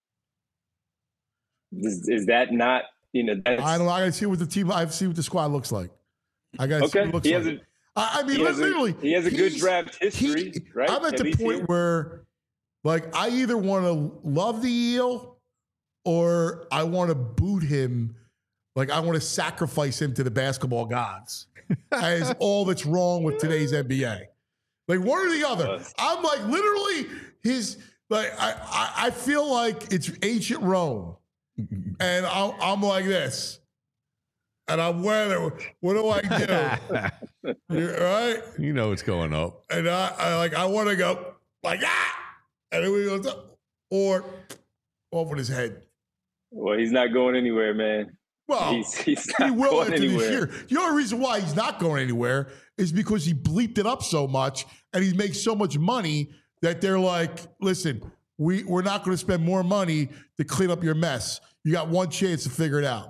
H: Is, is that not, you know? That's,
B: I don't know. I got to see what the team. I see what the squad looks like. I got to see
H: okay.
B: what it looks
H: He
B: like.
H: has a,
B: I, I mean,
H: he has
B: literally,
H: a, he has a good
B: he's-
H: draft history,
B: he-
H: right?
B: I'm at,
H: At
B: the
H: least
B: point
H: here.
B: where, like, I either want to love the eel or I want to boot him. Like, I want to sacrifice him to the basketball gods. That is all that's wrong with today's N B A. Like, one or the other. I'm like, literally, his, like, I, I, I feel like it's ancient Rome. And I'm, I'm like this. And I'm wearing it. What do I do? You're- right?
C: You know what's going up.
B: And I, I like, I want to go like, ah! And then we go, or off with his head.
H: Well, he's not going anywhere, man.
B: Well,
H: he's, he's
B: he
H: not
B: will
H: going
B: after
H: anywhere.
B: this year. The only reason why he's not going anywhere is because he bleeped it up so much and he makes so much money that they're like, listen, we, we're not going to spend more money to clean up your mess. You got one chance to figure it out.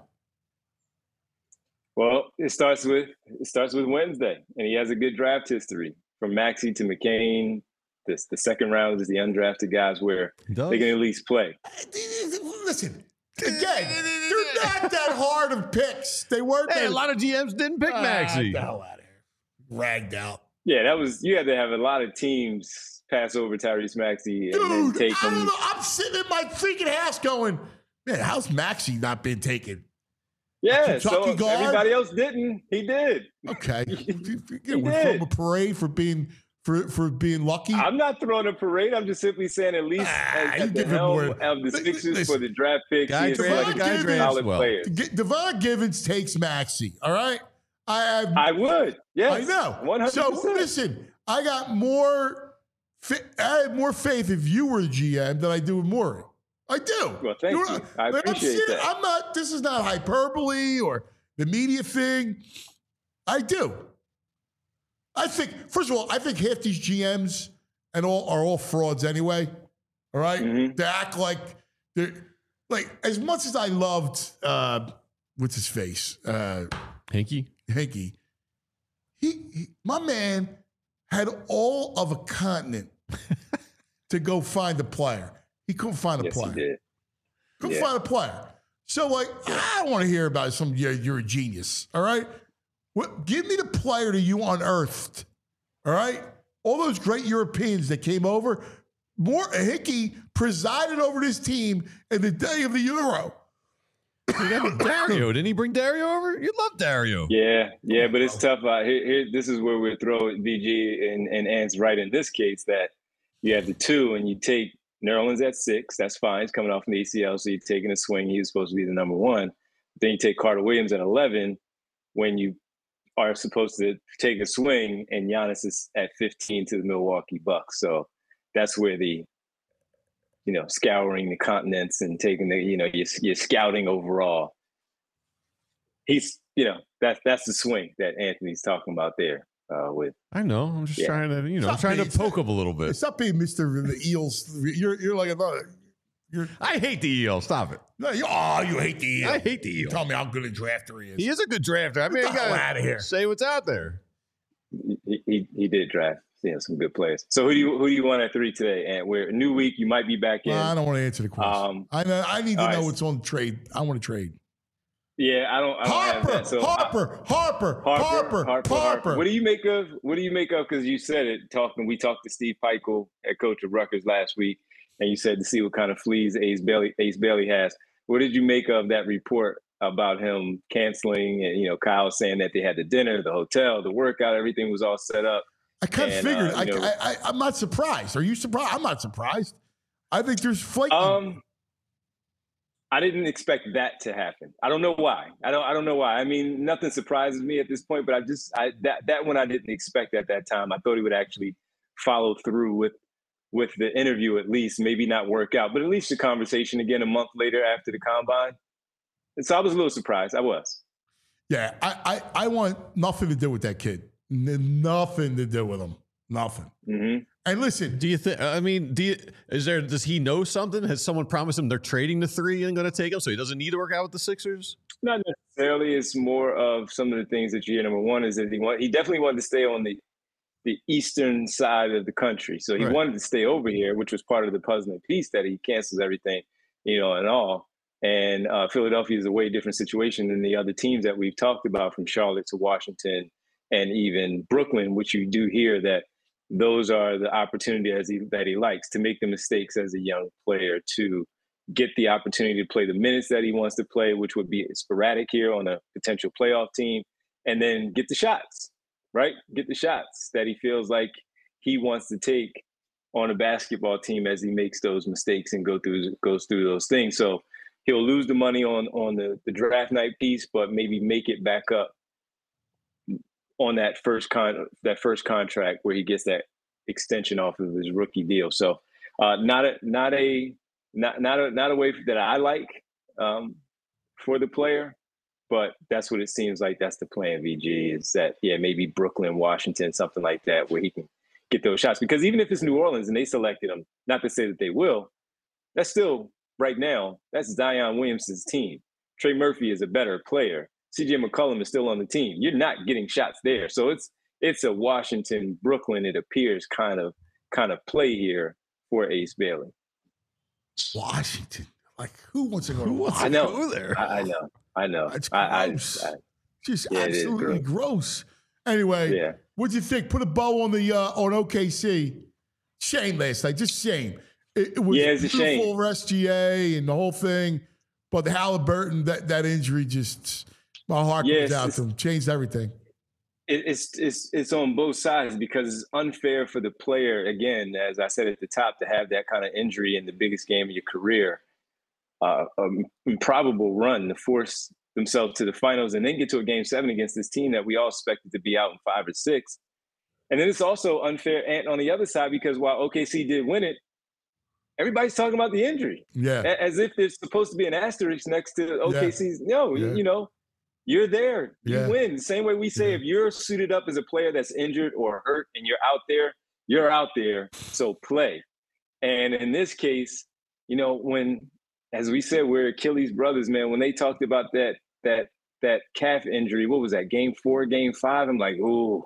H: Well, it starts with it starts with Wednesday, and he has a good draft history from Maxey to McCain. This the second round is the undrafted guys where
C: Does?
H: they can at least play.
B: Listen, again, they're not that hard of picks. They weren't.
C: Hey,
B: that,
C: a lot of G Ms didn't pick
B: Ah,
C: Maxey.
B: get the hell out of here. Ragged out.
H: Yeah, that was you had to have a lot of teams pass over Tyrese Maxey and then
B: Dude,
H: take
B: I don't
H: him.
B: know. I'm sitting in my freaking house going, man, how's Maxey not been taken?
H: Yeah,
B: Kentucky
H: so
B: guard?
H: everybody else didn't. He did.
B: Okay.
H: He
B: Yeah, we
H: did.
B: film a parade for being for, for being lucky.
H: I'm not throwing a parade. I'm just simply saying at least
B: Ah,
H: at,
B: you
H: at the
B: give him
H: helm
B: more-
H: of the
B: Li-
H: Sixers
B: listen.
H: for the draft picks.
C: Guy
H: he is
C: drafted-
H: like
B: guy
H: a
B: drafted
H: solid
C: well.
H: player.
B: G- Devon Givens takes Maxey. All right. I have
H: I would. Yes.
B: I know.
H: one hundred
B: So
H: percent.
B: listen, I got more fa- I had more faith if you were the G M than I do with Maury. I do.
H: Well, thank
B: know
H: you.
B: what
H: I
B: like, I'm
H: appreciate
B: serious.
H: that.
B: I'm not, this is not hyperbole or the media thing. I do. I think, first of all, I think half these G Ms and all are all frauds anyway. All right?
H: Mhm.
B: They act like they're like as much as I loved uh what's his face? Uh
C: Hinky?
B: Hanky. He, he my man had all of a continent to go find a player. He couldn't find a
H: Yes,
B: player.
H: he did.
B: Couldn't
H: Yeah.
B: find a player. So, like, I don't want to hear about some, yeah, you're a genius. All right? What, give me the player that you unearthed. All right? All those great Europeans that came over, more Hickey presided over this team in the day of the Euro.
C: You got Dario. Didn't he bring Dario over? You love Dario.
H: Yeah, yeah, but it's tough. Uh, here, here, this is where we throw V G and, and Ant's right in this case that you have the two and you take Nerlens at six. That's fine. He's coming off an A C L, so you're taking a swing. He's supposed to be the number one. Then you take Carter Williams at eleven when you are supposed to take a swing, and Giannis is at fifteen to the Milwaukee Bucks. So that's where the, you know, scouring the continents and taking the, you know, you're, you're scouting overall. He's, you know, that's that's the swing that Anthony's talking about there uh, with.
C: I know. I'm just
H: Yeah.
C: trying to, you know, I'm
B: Stop
C: trying
B: being-
C: to poke him a little bit.
B: Stop being Mister the Eels. You're, you're like another. You're,
C: I hate the E L. Stop it.
B: no, you, oh, you hate the Eels.
C: I hate the E L.
B: Tell me how good a drafter he is.
C: He is a good drafter. I mean,
B: the
C: you
B: hell
C: gotta
B: outta here.
C: say what's out there.
H: He, he, he did draft, you know, some good players. So who do you who do you want at three today? And we're a new week. You might be back in.
B: Well, I don't want to answer the question.
H: Um,
B: I know. I need to
H: all
B: know
H: right.
B: what's on trade. I want to trade.
H: yeah, I don't. I don't have
B: Harper,
H: that. So
B: Harper, Harper,
H: Harper,
B: Harper,
H: Harper,
B: Harper.
H: What do you make of? What do you make of? Because you said it. Talking, we talked to Steve Peichel, head coach of Rutgers, last week, and you said to see what kind of fleas Ace Bailey, Ace Bailey has. What did you make of that report about him canceling? And you know, Kyle saying that they had the dinner, the hotel, the workout, everything was all set up.
B: I kind of
H: and,
B: figured.
H: uh,
B: I,
H: you know-
B: I, I, I'm not surprised. Are you surprised? I'm not surprised. I think there's flaking.
H: Um, I didn't expect that to happen. I don't know why. I don't. I don't know why. I mean, nothing surprises me at this point. But I just I, that that one I didn't expect at that time. I thought he would actually follow through with with the interview at least. Maybe not work out, but at least the conversation again a month later after the combine. And so I was a little surprised. I was.
B: Yeah, I, I, I want nothing to do with that kid. N- nothing to do with him. Nothing.
H: Mm-hmm.
B: And listen,
C: Do you think? I mean, do you, is there? Does he know something? Has someone promised him they're trading the three and going to take him, so he doesn't need to work out with the Sixers?
H: Not necessarily. It's more of some of the things that you hear. Number one is that he want, he definitely wanted to stay on the the eastern side of the country. So he
C: Right.
H: wanted to stay over here, which was part of the puzzling piece that he cancels everything, you know, and all. And uh, Philadelphia is a way different situation than the other teams that we've talked about, from Charlotte to Washington and even Brooklyn, which you do hear that those are the opportunities he, that he likes to make the mistakes as a young player, to get the opportunity to play the minutes that he wants to play, which would be sporadic here on a potential playoff team, and then get the shots, right? Get the shots that he feels like he wants to take on a basketball team as he makes those mistakes and go through goes through those things. So he'll lose the money on on the, the draft night piece, but maybe make it back up on that first con that first contract where he gets that extension off of his rookie deal. So uh, not a not a not not a not a way that I like um, for the player, but that's what it seems like. That's the plan. V G is that yeah maybe Brooklyn, Washington, something like that, where he can get those shots. Because even if it's New Orleans and they selected him, not to say that they will, that's still right now that's Zion Williamson's team. Trey Murphy is a better player. C J McCollum is still on the team. You're not getting shots there. So it's it's a Washington, Brooklyn, it appears, kind of kind of play here for Ace Bailey.
B: Washington. Like, who wants to go
C: Who
B: to
C: wants
B: Washington?
C: to
H: I know.
C: go there?
H: I, I know. I know.
B: That's
H: I,
B: gross.
H: I, I,
B: Just
H: Yeah, it is
B: absolutely gross. Anyway,
H: yeah.
B: what'd you think? Put a bow on the uh, on O K C. Shame last night. Just shame. It, it was
H: Yeah, it's a
B: beautiful
H: shame.
B: for S G A and the whole thing. But the Halliburton, that, that injury just, my heart
H: Yeah,
B: goes
H: it's
B: out
H: just-
B: to him. Changed everything.
H: It, it's it's it's on both sides, because it's unfair for the player, again, as I said at the top, to have that kind of injury in the biggest game of your career, uh, um, improbable run to force themselves to the finals and then get to a game seven against this team that we all expected to be out in five or six. And then it's also unfair and on the other side, because while O K C did win it, everybody's talking about the injury
B: Yeah.
H: A- as if there's supposed to be an asterisk next to O K C's. No,
B: Yeah.
H: you know, you're there. You
B: Yeah.
H: win. The same way we say,
B: Yeah.
H: if you're suited up as a player that's injured or hurt and you're out there, you're out there. So play. And in this case, you know, when, as we said, we're Achilles brothers, man, when they talked about that, that, that calf injury, what was that, game four, game five? I'm like, ooh,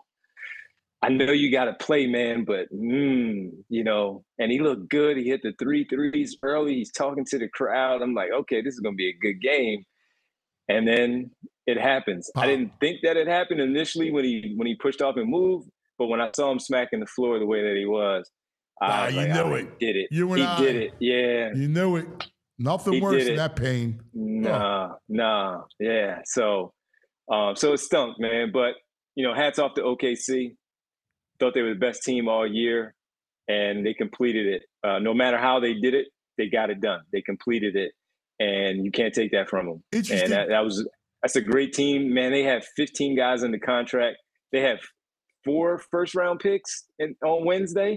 H: I know you got to play, man, but, mm, you know, and he looked good. He hit the three threes early. He's talking to the crowd. I'm like, okay, this is going to be a good game. And then it happens.
B: Huh.
H: I didn't think that it happened initially when he when he pushed off and moved, but when I saw him smacking the floor the way that he was, I
B: Ah,
H: was
B: you
H: like,
B: knew
H: oh,
B: it.
H: he did it.
B: You and
H: he
B: I.
H: did it. Yeah.
B: You knew it. Nothing
H: He
B: worse
H: did
B: than
H: it.
B: that pain.
H: Nah, nah, yeah. So, um, so it stunk, man. But you know, hats off to O K C. Thought they were the best team all year, and they completed it. Uh, no matter how they did it, they got it done. They completed it, and you can't take that from them.
B: Interesting.
H: And that, that was that's a great team, man. They have fifteen guys in the contract. They have four first round picks in, on Wednesday,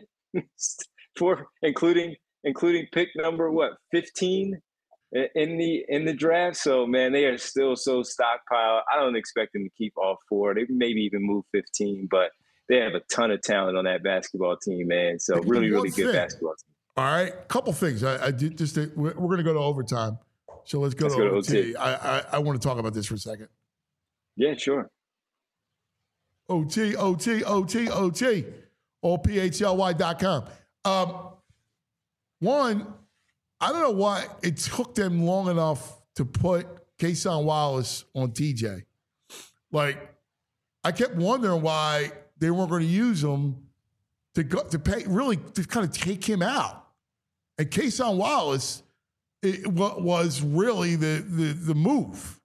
H: four, including including pick number what fifteen in the in the draft. So man, they are still so stockpiled. I don't expect them to keep all four. They maybe even move fifteen, but they have a ton of talent on that basketball team, man. So
B: Hey,
H: really,
B: one
H: really good
B: thing.
H: basketball team.
B: All right, couple things. I, I did just we're, we're going to go to overtime, so let's go
H: Let's
B: to
H: go to
B: O T.
H: O T.
B: I, I I want to talk about this for a second.
H: Yeah, sure.
B: O T, O T, O T, O T, O P H L Y dot com. Um, one, I don't know why it took them long enough to put Kason Wallace on T J. Like, I kept wondering why they weren't going to use him to go to pay, really to kind of take him out. And Kason Wallace it, wa- was really the, the the move.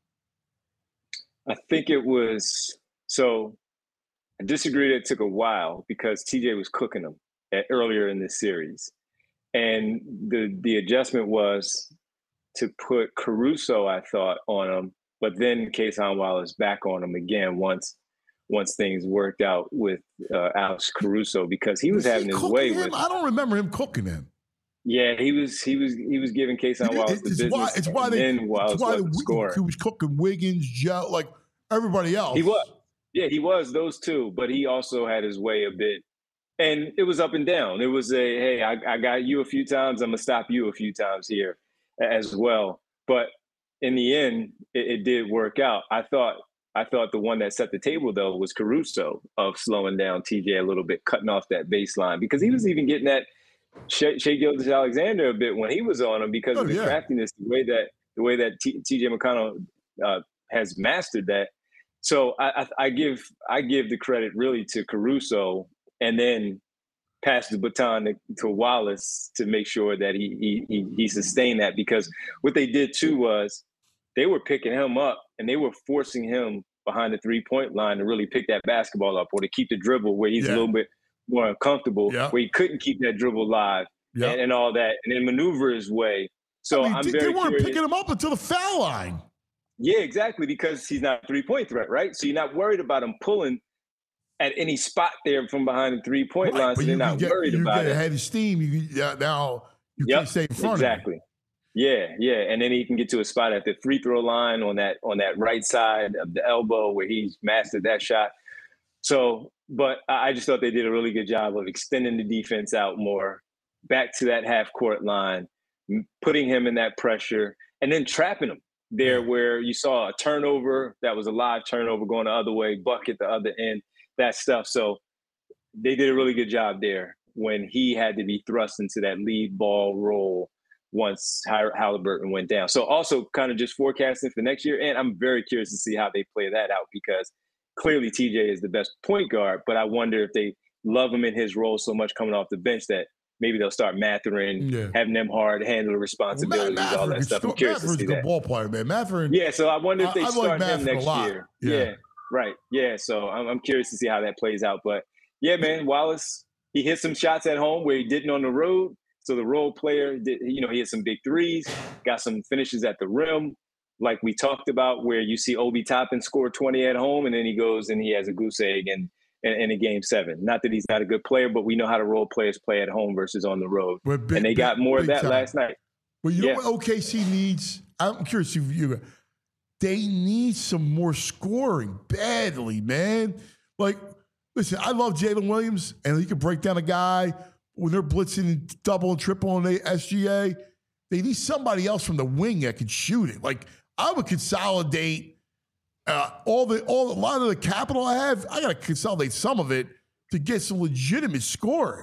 H: I think it was so. I disagree that it took a while because T J was cooking them at, earlier in this series, and the the adjustment was to put Caruso, I thought, on him, but then Kason Wallace back on him again once once things worked out with uh, Alex Caruso, because he was,
B: Was he
H: having his
B: cooking
H: way
B: him?
H: with.
B: I don't remember him cooking him.
H: Yeah, he was he was he was giving Kason Wallace the
B: It's
H: business,
B: why it's why
H: and
B: they
H: then Wallace
B: it's why
H: wasn't
B: the,
H: scoring.
B: he was cooking Wiggins, Joe. Like Everybody else.
H: He was. Yeah, he was those two, but he also had his way a bit. And it was up and down. It was a, hey, I, I got you a few times. I'm going to stop you a few times here as well. But in the end, it, it did work out. I thought I thought the one that set the table, though, was Caruso of slowing down T J a little bit, cutting off that baseline, because he was even getting at Shea, Shea Gilgeous-Alexander a bit when he was on him because
B: oh,
H: of the
B: yeah.
H: craftiness, the way that the way that T J McConnell uh, has mastered that. So I, I, I give I give the credit really to Caruso, and then pass the baton to, to Wallace to make sure that he, he he sustained that, because what they did too was they were picking him up and they were forcing him behind the three-point line to really pick that basketball up, or to keep the dribble where he's
B: yeah.
H: a little bit more uncomfortable,
B: yeah.
H: where he couldn't keep that dribble live
B: yeah.
H: and, and all that, and then maneuver his way. So
B: I mean,
H: I'm
B: they,
H: very
B: they weren't
H: curious.
B: picking him up until the foul line.
H: Yeah, exactly, because he's not a three-point threat, right? So you're not worried about him pulling at any spot there from behind the three-point
B: right,
H: line, so they're not
B: get,
H: worried
B: you
H: about
B: get
H: it.
B: ahead of steam. You uh, now you
H: yep,
B: can't stay in front
H: exactly.
B: of him.
H: Yeah, yeah, and then he can get to a spot at the free throw line on that on that right side of the elbow where he's mastered that shot. So, but I just thought they did a really good job of extending the defense out more, back to that half court line, putting him in that pressure, and then trapping him there where you saw a turnover that was a live turnover going the other way, bucket the other end, that stuff. So they did a really good job there when he had to be thrust into that lead ball role once Halliburton went down. So also kind of just forecasting for next year. And I'm very curious to see how they play that out, because clearly T J is the best point guard, but I wonder if they love him in his role so much coming off the bench that maybe they'll start Mathurin, yeah. having them hard, handle the responsibilities, well, all that stuff. I'm curious
B: Matherin's
H: to see
B: a good
H: that.
B: ball player, man. Mathurin.
H: Yeah, so I wonder if they
B: I,
H: start
B: I like
H: him next year.
B: Yeah.
H: yeah, right. Yeah, so I'm, I'm curious to see how that plays out. But yeah, man, Wallace, he hit some shots at home where he didn't on the road. So the role player, did, you know, he hit some big threes, got some finishes at the rim, like we talked about, where you see Obi Toppin score twenty at home, and then he goes and he has a goose egg and in, in a game seven. Not that he's not a good player, but we know how the role players play at home versus on the road.
B: Big,
H: and they got
B: big,
H: more of that
B: time.
H: last night.
B: Well, you
H: yeah.
B: know what O K C needs? I'm curious if you they need some more scoring badly, man. Like, listen, I love Jalen Williams, and he can break down a guy when they're blitzing double and triple on the S G A. They need somebody else from the wing that can shoot it. Like, I would consolidate uh, all the all a lot of the capital I have. I got to consolidate some of it to get some legitimate scoring.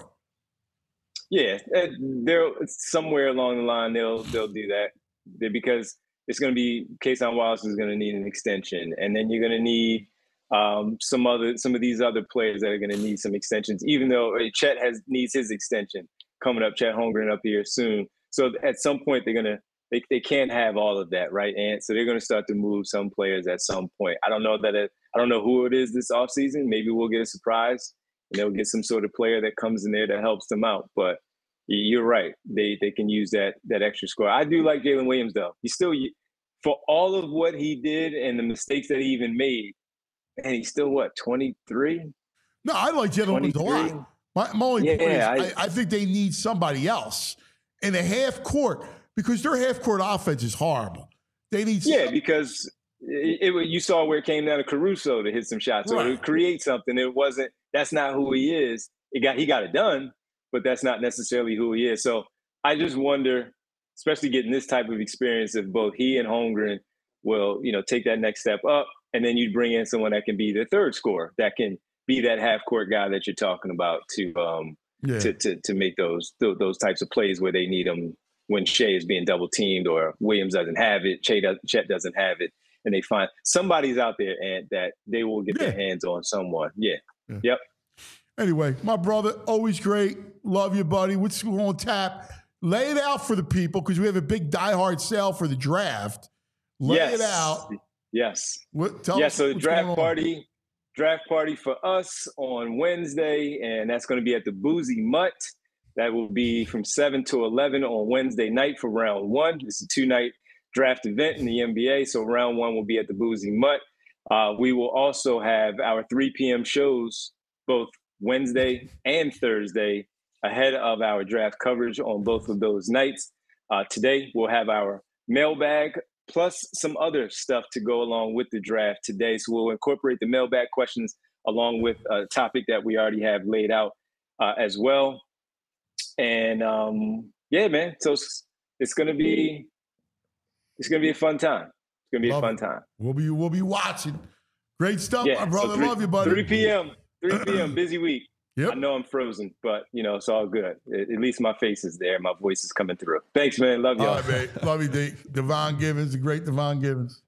H: Yeah, they're somewhere along the line they'll they'll do that because it's going to be Kason Wallace is going to need an extension, and then you're going to need um, some other some of these other players that are going to need some extensions. Even though Chet has needs his extension coming up, Chet Holmgren up here soon. So at some point they're going to they they can't have all of that, right? And so they're going to start to move some players at some point. I don't know that it, I don't know who it is this offseason. Maybe we'll get a surprise. And they'll get some sort of player that comes in there that helps them out. But you're right. They they can use that that extra score. I do like Jalen Williams, though. He's still, for all of what he did and the mistakes that he even made, and he's still, what, twenty-three?
B: No, I like Jalen Williams a lot. My, my only
H: yeah,
B: point is
H: I,
B: I, I think they need somebody else in the half court because their half court offense is horrible. They need
H: Yeah,
B: some,
H: because it, it, you saw where it came down to Caruso to hit some shots. So
B: right.
H: to create something, it wasn't – that's not who he is. It got He got it done, but that's not necessarily who he is. So I just wonder, especially getting this type of experience, if both he and Holmgren will, you know, take that next step up, and then you bring in someone that can be the third scorer, that can be that half-court guy that you're talking about to um yeah. to, to to make those those types of plays where they need them when Shea is being double-teamed or Williams doesn't have it, Chet doesn't have it. And they find somebody's out there and that they will get yeah. their hands on someone. Yeah. yeah. Yep.
B: Anyway, my brother, always great. Love you, buddy. What's on tap? Lay it out for the people because we have a big diehard sale for the draft. Lay
H: yes.
B: it out.
H: Yes.
B: What, tell
H: yeah,
B: us
H: so the draft
B: on.
H: party, draft party for us on Wednesday, and that's going to be at the Boozy Mutt. That will be from seven to eleven on Wednesday night for round one. It's a two-night draft event in the N B A, so round one will be at the Boozy Mutt. Uh, we will also have our three p.m. shows both Wednesday and Thursday ahead of our draft coverage on both of those nights. Uh, today, we'll have our mailbag plus some other stuff to go along with the draft today. So we'll incorporate the mailbag questions along with a topic that we already have laid out uh, as well. And um, yeah, man. So it's, it's gonna be it's gonna be a fun time. It's gonna be
B: Love
H: a fun
B: it.
H: time.
B: We'll be we'll be watching. Great stuff,
H: Yeah,
B: my brother.
H: so three,
B: Love you, buddy.
H: three p.m. three p.m. busy week.
B: Yep.
H: I know I'm frozen, but you know it's all good. At, at least my face is there. My voice is coming through. Thanks, man. Love y'all.
B: All right, mate. Love you, D. Devon Givens, the great Devon Givens.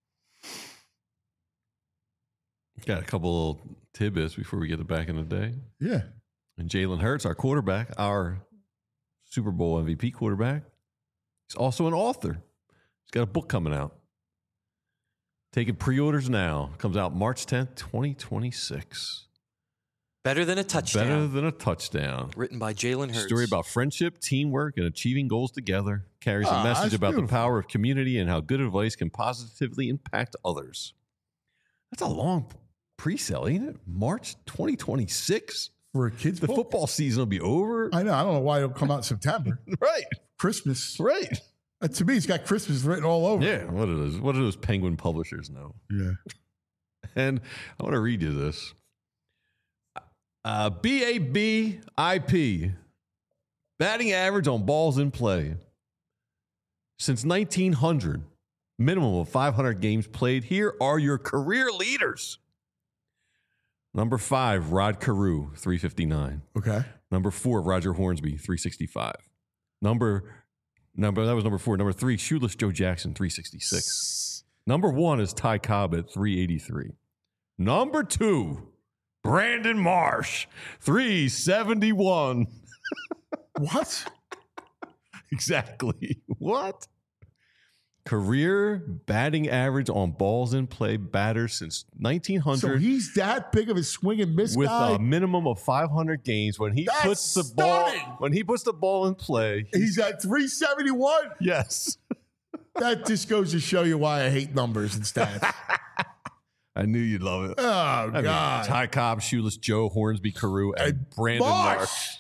C: Got a couple little tidbits before we get to back in the day.
B: Yeah.
C: And Jalen Hurts, our quarterback, our Super Bowl M V P quarterback, he's also an author. He's got a book coming out. Taking pre-orders now. Comes out March tenth, twenty twenty-six.
D: Better than a touchdown.
C: Better than a touchdown.
D: Written by Jalen Hurts.
C: Story about friendship, teamwork, and achieving goals together. Carries a
B: Ah,
C: message
B: that's
C: about
B: beautiful.
C: the power of community and how good advice can positively impact others. That's a long pre-sale, ain't it? March twenty twenty-six?
B: For a kid's
C: The
B: book?
C: football season will be over.
B: I know. I don't know why it'll come out in September.
C: Right.
B: Christmas.
C: Right.
B: Uh, to me, it's got Christmas written all over.
C: Yeah. What do those, what do those Penguin publishers know?
B: Yeah.
C: And I want to read you this. Uh, B A B I P, batting average on balls in play. Since nineteen hundred, minimum of five hundred games played. Here are your career leaders. Number five, Rod Carew, three fifty-nine.
B: Okay.
C: Number four, Roger Hornsby, three sixty-five. Number, number that was number four. Number three, Shoeless Joe Jackson, three sixty-six. Number one is Ty Cobb at three eighty-three. Number two, Brandon Marsh, three seventy-one.
B: What?
C: Exactly. What? Career batting average on balls in play batters since nineteen hundred.
B: So he's that big of a swing and miss
C: with
B: guy?
C: a minimum of five hundred games. When he
B: That's
C: puts the
B: stunning.
C: ball, when he puts the ball in play,
B: He's at three seventy-one?
C: yes.
B: That just goes to show you why I hate numbers and stats.
C: I knew you'd love it.
B: Oh,
C: I mean,
B: God.
C: Ty Cobb, Shoeless Joe, Hornsby, Carew, and
B: And
C: Brandon
B: Marsh.
C: Marsh.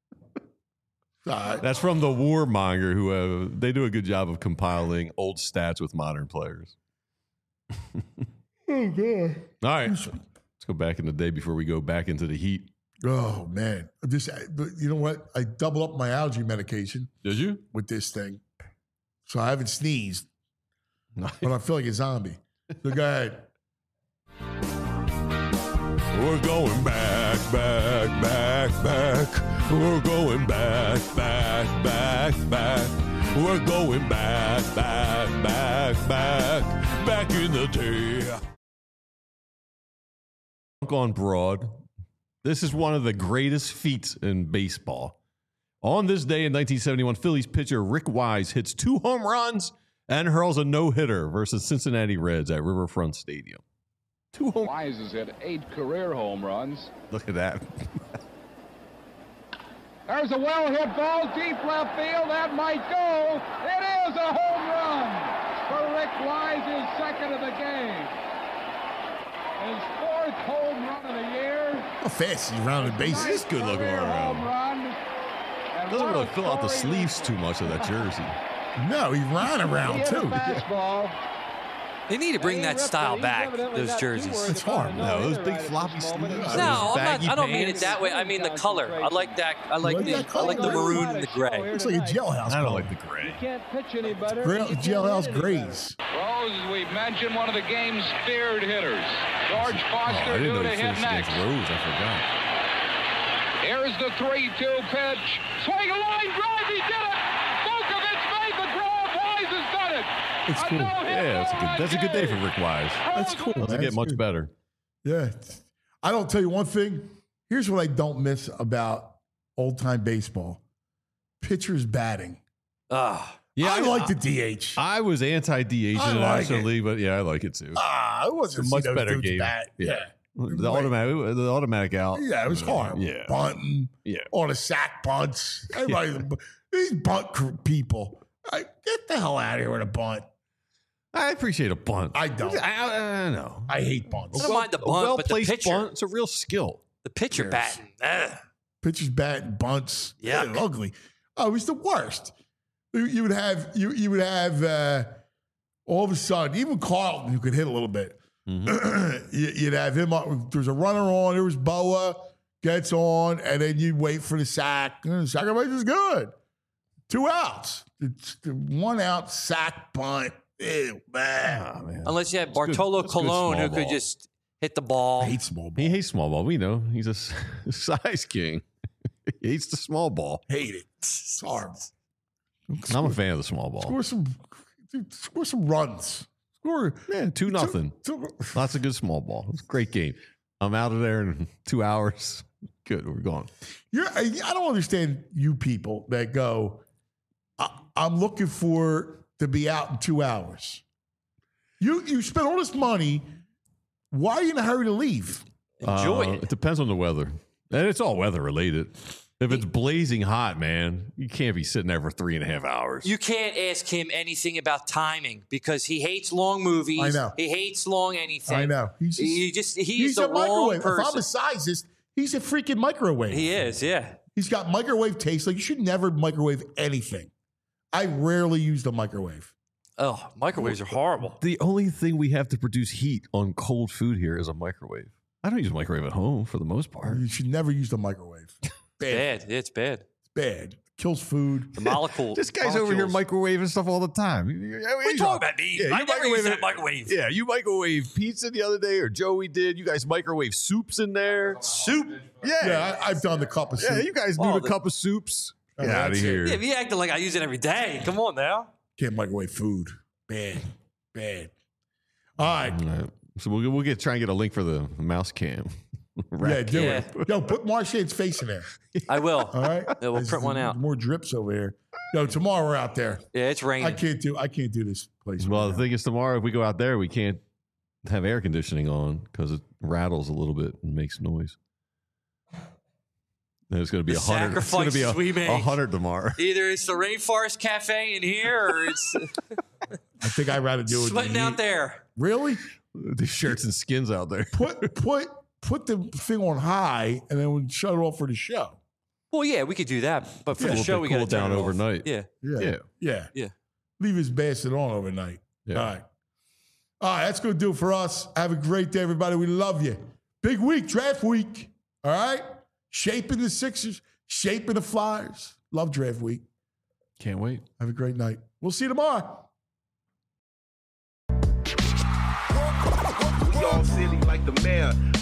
B: Uh,
C: That's from the Warmonger, who uh, they do a good job of compiling old stats with modern players.
B: oh, God.
C: All right, let's go back in the day before we go back into the heat.
B: Oh, man. This, you know what? I doubled up my allergy medication
C: Did you?
B: with this thing. So I haven't sneezed, but I feel like a zombie. So go ahead.
C: We're going back, back, back, back. We're going back, back, back, back. We're going back, back, back, back. Back in the day. On Broad. This is one of the greatest feats in baseball. On this day in nineteen seventy-one, Phillies pitcher Rick Wise hits two home runs and hurls a no-hitter versus Cincinnati Reds at Riverfront Stadium. Two home.
I: Wise has hit eight career home runs.
C: Look at that.
I: There's a well-hit ball, deep left field. That might go. It is a home run for Rick Wise, his second of the game. His fourth home run of the year.
B: How fast he's rounded bases.
C: He's good looking
I: Career
C: around.
I: home run. And
C: Doesn't
I: what
C: really
I: a
C: fill out the
I: story
C: sleeves too much of that jersey.
B: No, he ran
I: He
B: around,
I: hit a
B: too.
I: fastball.
D: They need to bring that style back, those jerseys.
B: It's hard.
C: No, those big floppy sleeves.
D: No,
C: those
D: I'm not,
C: baggy
D: I don't mean it
C: pants.
D: that way. I mean the color. I like that. I like
B: like
D: the
B: that
D: I like the
B: color?
D: maroon and the gray.
B: Looks like a jailhouse.
C: I don't
B: color.
C: like the gray.
I: Can't pitch any better.
B: Gra- jailhouse grays.
I: Rose, as we've mentioned, one of the game's feared hitters. George
C: Oh,
I: Foster
C: I didn't
I: due
C: know
I: to
C: he
I: hit
C: finished against
I: next.
C: Rose. I forgot.
I: Here's the three two pitch. Swing a line drive. He did it. Vukovich made the grab. Wise has done it.
B: It's
I: A
B: cool.
I: no-hit
C: Yeah, that's a good. That's a good day for Rick Wise.
B: That's cool.
C: Doesn't
B: man.
C: get
B: That's
C: much
B: good.
C: better.
B: Yeah. I don't tell you one thing. Here's what I don't miss about old time baseball pitchers batting.
D: Ah,
C: Yeah,
B: I like the D H.
C: I was anti-D H
B: I
C: in the
B: like
C: National
B: it.
C: League, but yeah, I like it too.
B: Ah, it
C: It's
B: wasn't
C: a
B: see
C: much
B: those
C: better
B: dudes
C: game.
B: bat.
C: Yeah.
B: Yeah.
C: The automatic, the automatic out.
B: Yeah, it was hard.
C: Yeah,
B: Bunting,
C: yeah.
B: all the sack bunts. Everybody, these bunt cr- people. I, get the hell out of here with a bunt.
C: I appreciate a bunt.
B: I don't.
C: I, I, I know.
B: I hate bunts.
D: I don't mind the
C: A
D: bunt, but the
C: well-placed
D: pitcher,
C: bunt, it's a real skill.
D: the pitcher
B: Yes.
D: batting. Ugh.
B: Pitchers batting bunts. Yeah,
D: Yuck.
B: ugly. Oh, it was the worst. You, you would have you you would have uh, all of a sudden, even Carlton, who could hit a little bit, mm-hmm. you'd have him up. There's a runner on. There was Boa, gets on, and then you'd wait for the sack. Sacrifice is good. Two outs. It's the one out sack bunt. Ew, man.
C: Oh, man.
D: Unless you had
C: That's
D: Bartolo
C: good. That's good
D: Colon,
C: small
D: who could
C: ball.
D: just hit the ball.
B: I hate small ball.
C: He hates small ball. We know. He's a s- size king. He hates the small ball.
B: Hate it. It's horrible.
C: I'm a fan of the small ball.
B: Score some, dude, score some runs. Score.
C: Man, two nothing.
B: Two-
C: Lots of good small ball. It's a great game. I'm out of there in two hours. Good. We're gone.
B: You're, I I don't understand you people that go, I, I'm looking for to be out in two hours. You you spend all this money. Why are you in a hurry to leave?
D: Enjoy
C: Uh,
D: it.
C: It depends on the weather. And it's all weather related. If it's blazing hot, man, you can't be sitting there for three and a half hours.
D: You can't ask him anything about timing because he hates long movies.
B: I know.
D: He hates long anything.
B: I know. He's just,
D: He just he's,
B: he's
D: the
B: a
D: wrong
B: microwave.
D: person.
B: If I'm a sizist, he's a freaking microwave.
D: He is, yeah.
B: He's got microwave taste. Like you should never microwave anything. I rarely use the microwave.
D: Oh, microwaves are horrible.
C: The only thing we have to produce heat on cold food here is a microwave. I don't use a microwave at home for the most part.
B: You should never use the microwave. Bad.
D: Bad. It's bad.
B: It's bad. Kills food.
D: The molecule.
C: This guy's over here
D: molecules.
C: microwaving stuff all the time.
D: What you talking about, me?
C: Yeah,
D: I
C: you
D: never
C: microwave
D: use that
C: it-
D: microwave.
C: Yeah, you microwave pizza the other day, or Joey did. You guys microwave soups in there.
D: Soup.
C: Yeah,
B: Yeah, I, I've done the cup of soup.
C: yeah. You guys do
D: Oh,
C: the,
D: the-
C: cup of soups.
B: Oh,
C: Get out of
B: that's it.
C: here.
D: Yeah, if you acting like I use it every day. Come on now.
B: Can't microwave food. Bad. Bad. All right.
C: All right. So we'll we'll get try and get a link for the mouse cam.
B: Yeah, do
D: Yeah.
B: it. Yo, put Marshane's face in there.
D: I will.
B: All right.
D: Yeah, we'll
B: There's
D: print one out.
B: More drips over here. Yo, tomorrow we're out there.
D: Yeah, it's
B: I
D: raining.
B: can't do. I can't do this place.
C: Well,
B: right
C: the
B: now.
C: thing is, tomorrow if we go out there, we can't have air conditioning on because it rattles a little bit and makes noise. And it's going to be
D: The
C: a hundred. It's going to be
D: sacrifices we
C: a,
D: make.
C: a hundred tomorrow.
D: Either it's the Rainforest Cafe in here or it's
B: I think I'd rather do it.
D: sweating
B: than
D: out
B: heat.
D: there.
B: Really?
C: The shirts and skins out there.
B: Put put put the thing on high and then we'll shut it off for the show.
D: Well, yeah, we could do that. But for
B: Yeah.
D: the
C: We'll
D: show,
C: be
D: we got to
C: cooled down overnight.
D: Yeah.
B: Yeah.
C: Yeah.
B: Yeah.
D: Yeah.
B: Leave his bastard on overnight.
C: Yeah.
B: All right. All right. That's going to do it for us. Have a great day, everybody. We love you. Big week, draft week. All right. Shaping the Sixers, shaping the Flyers. Love draft week.
C: Can't wait.
B: Have a great night. We'll see you tomorrow.
J: We all silly like the mayor.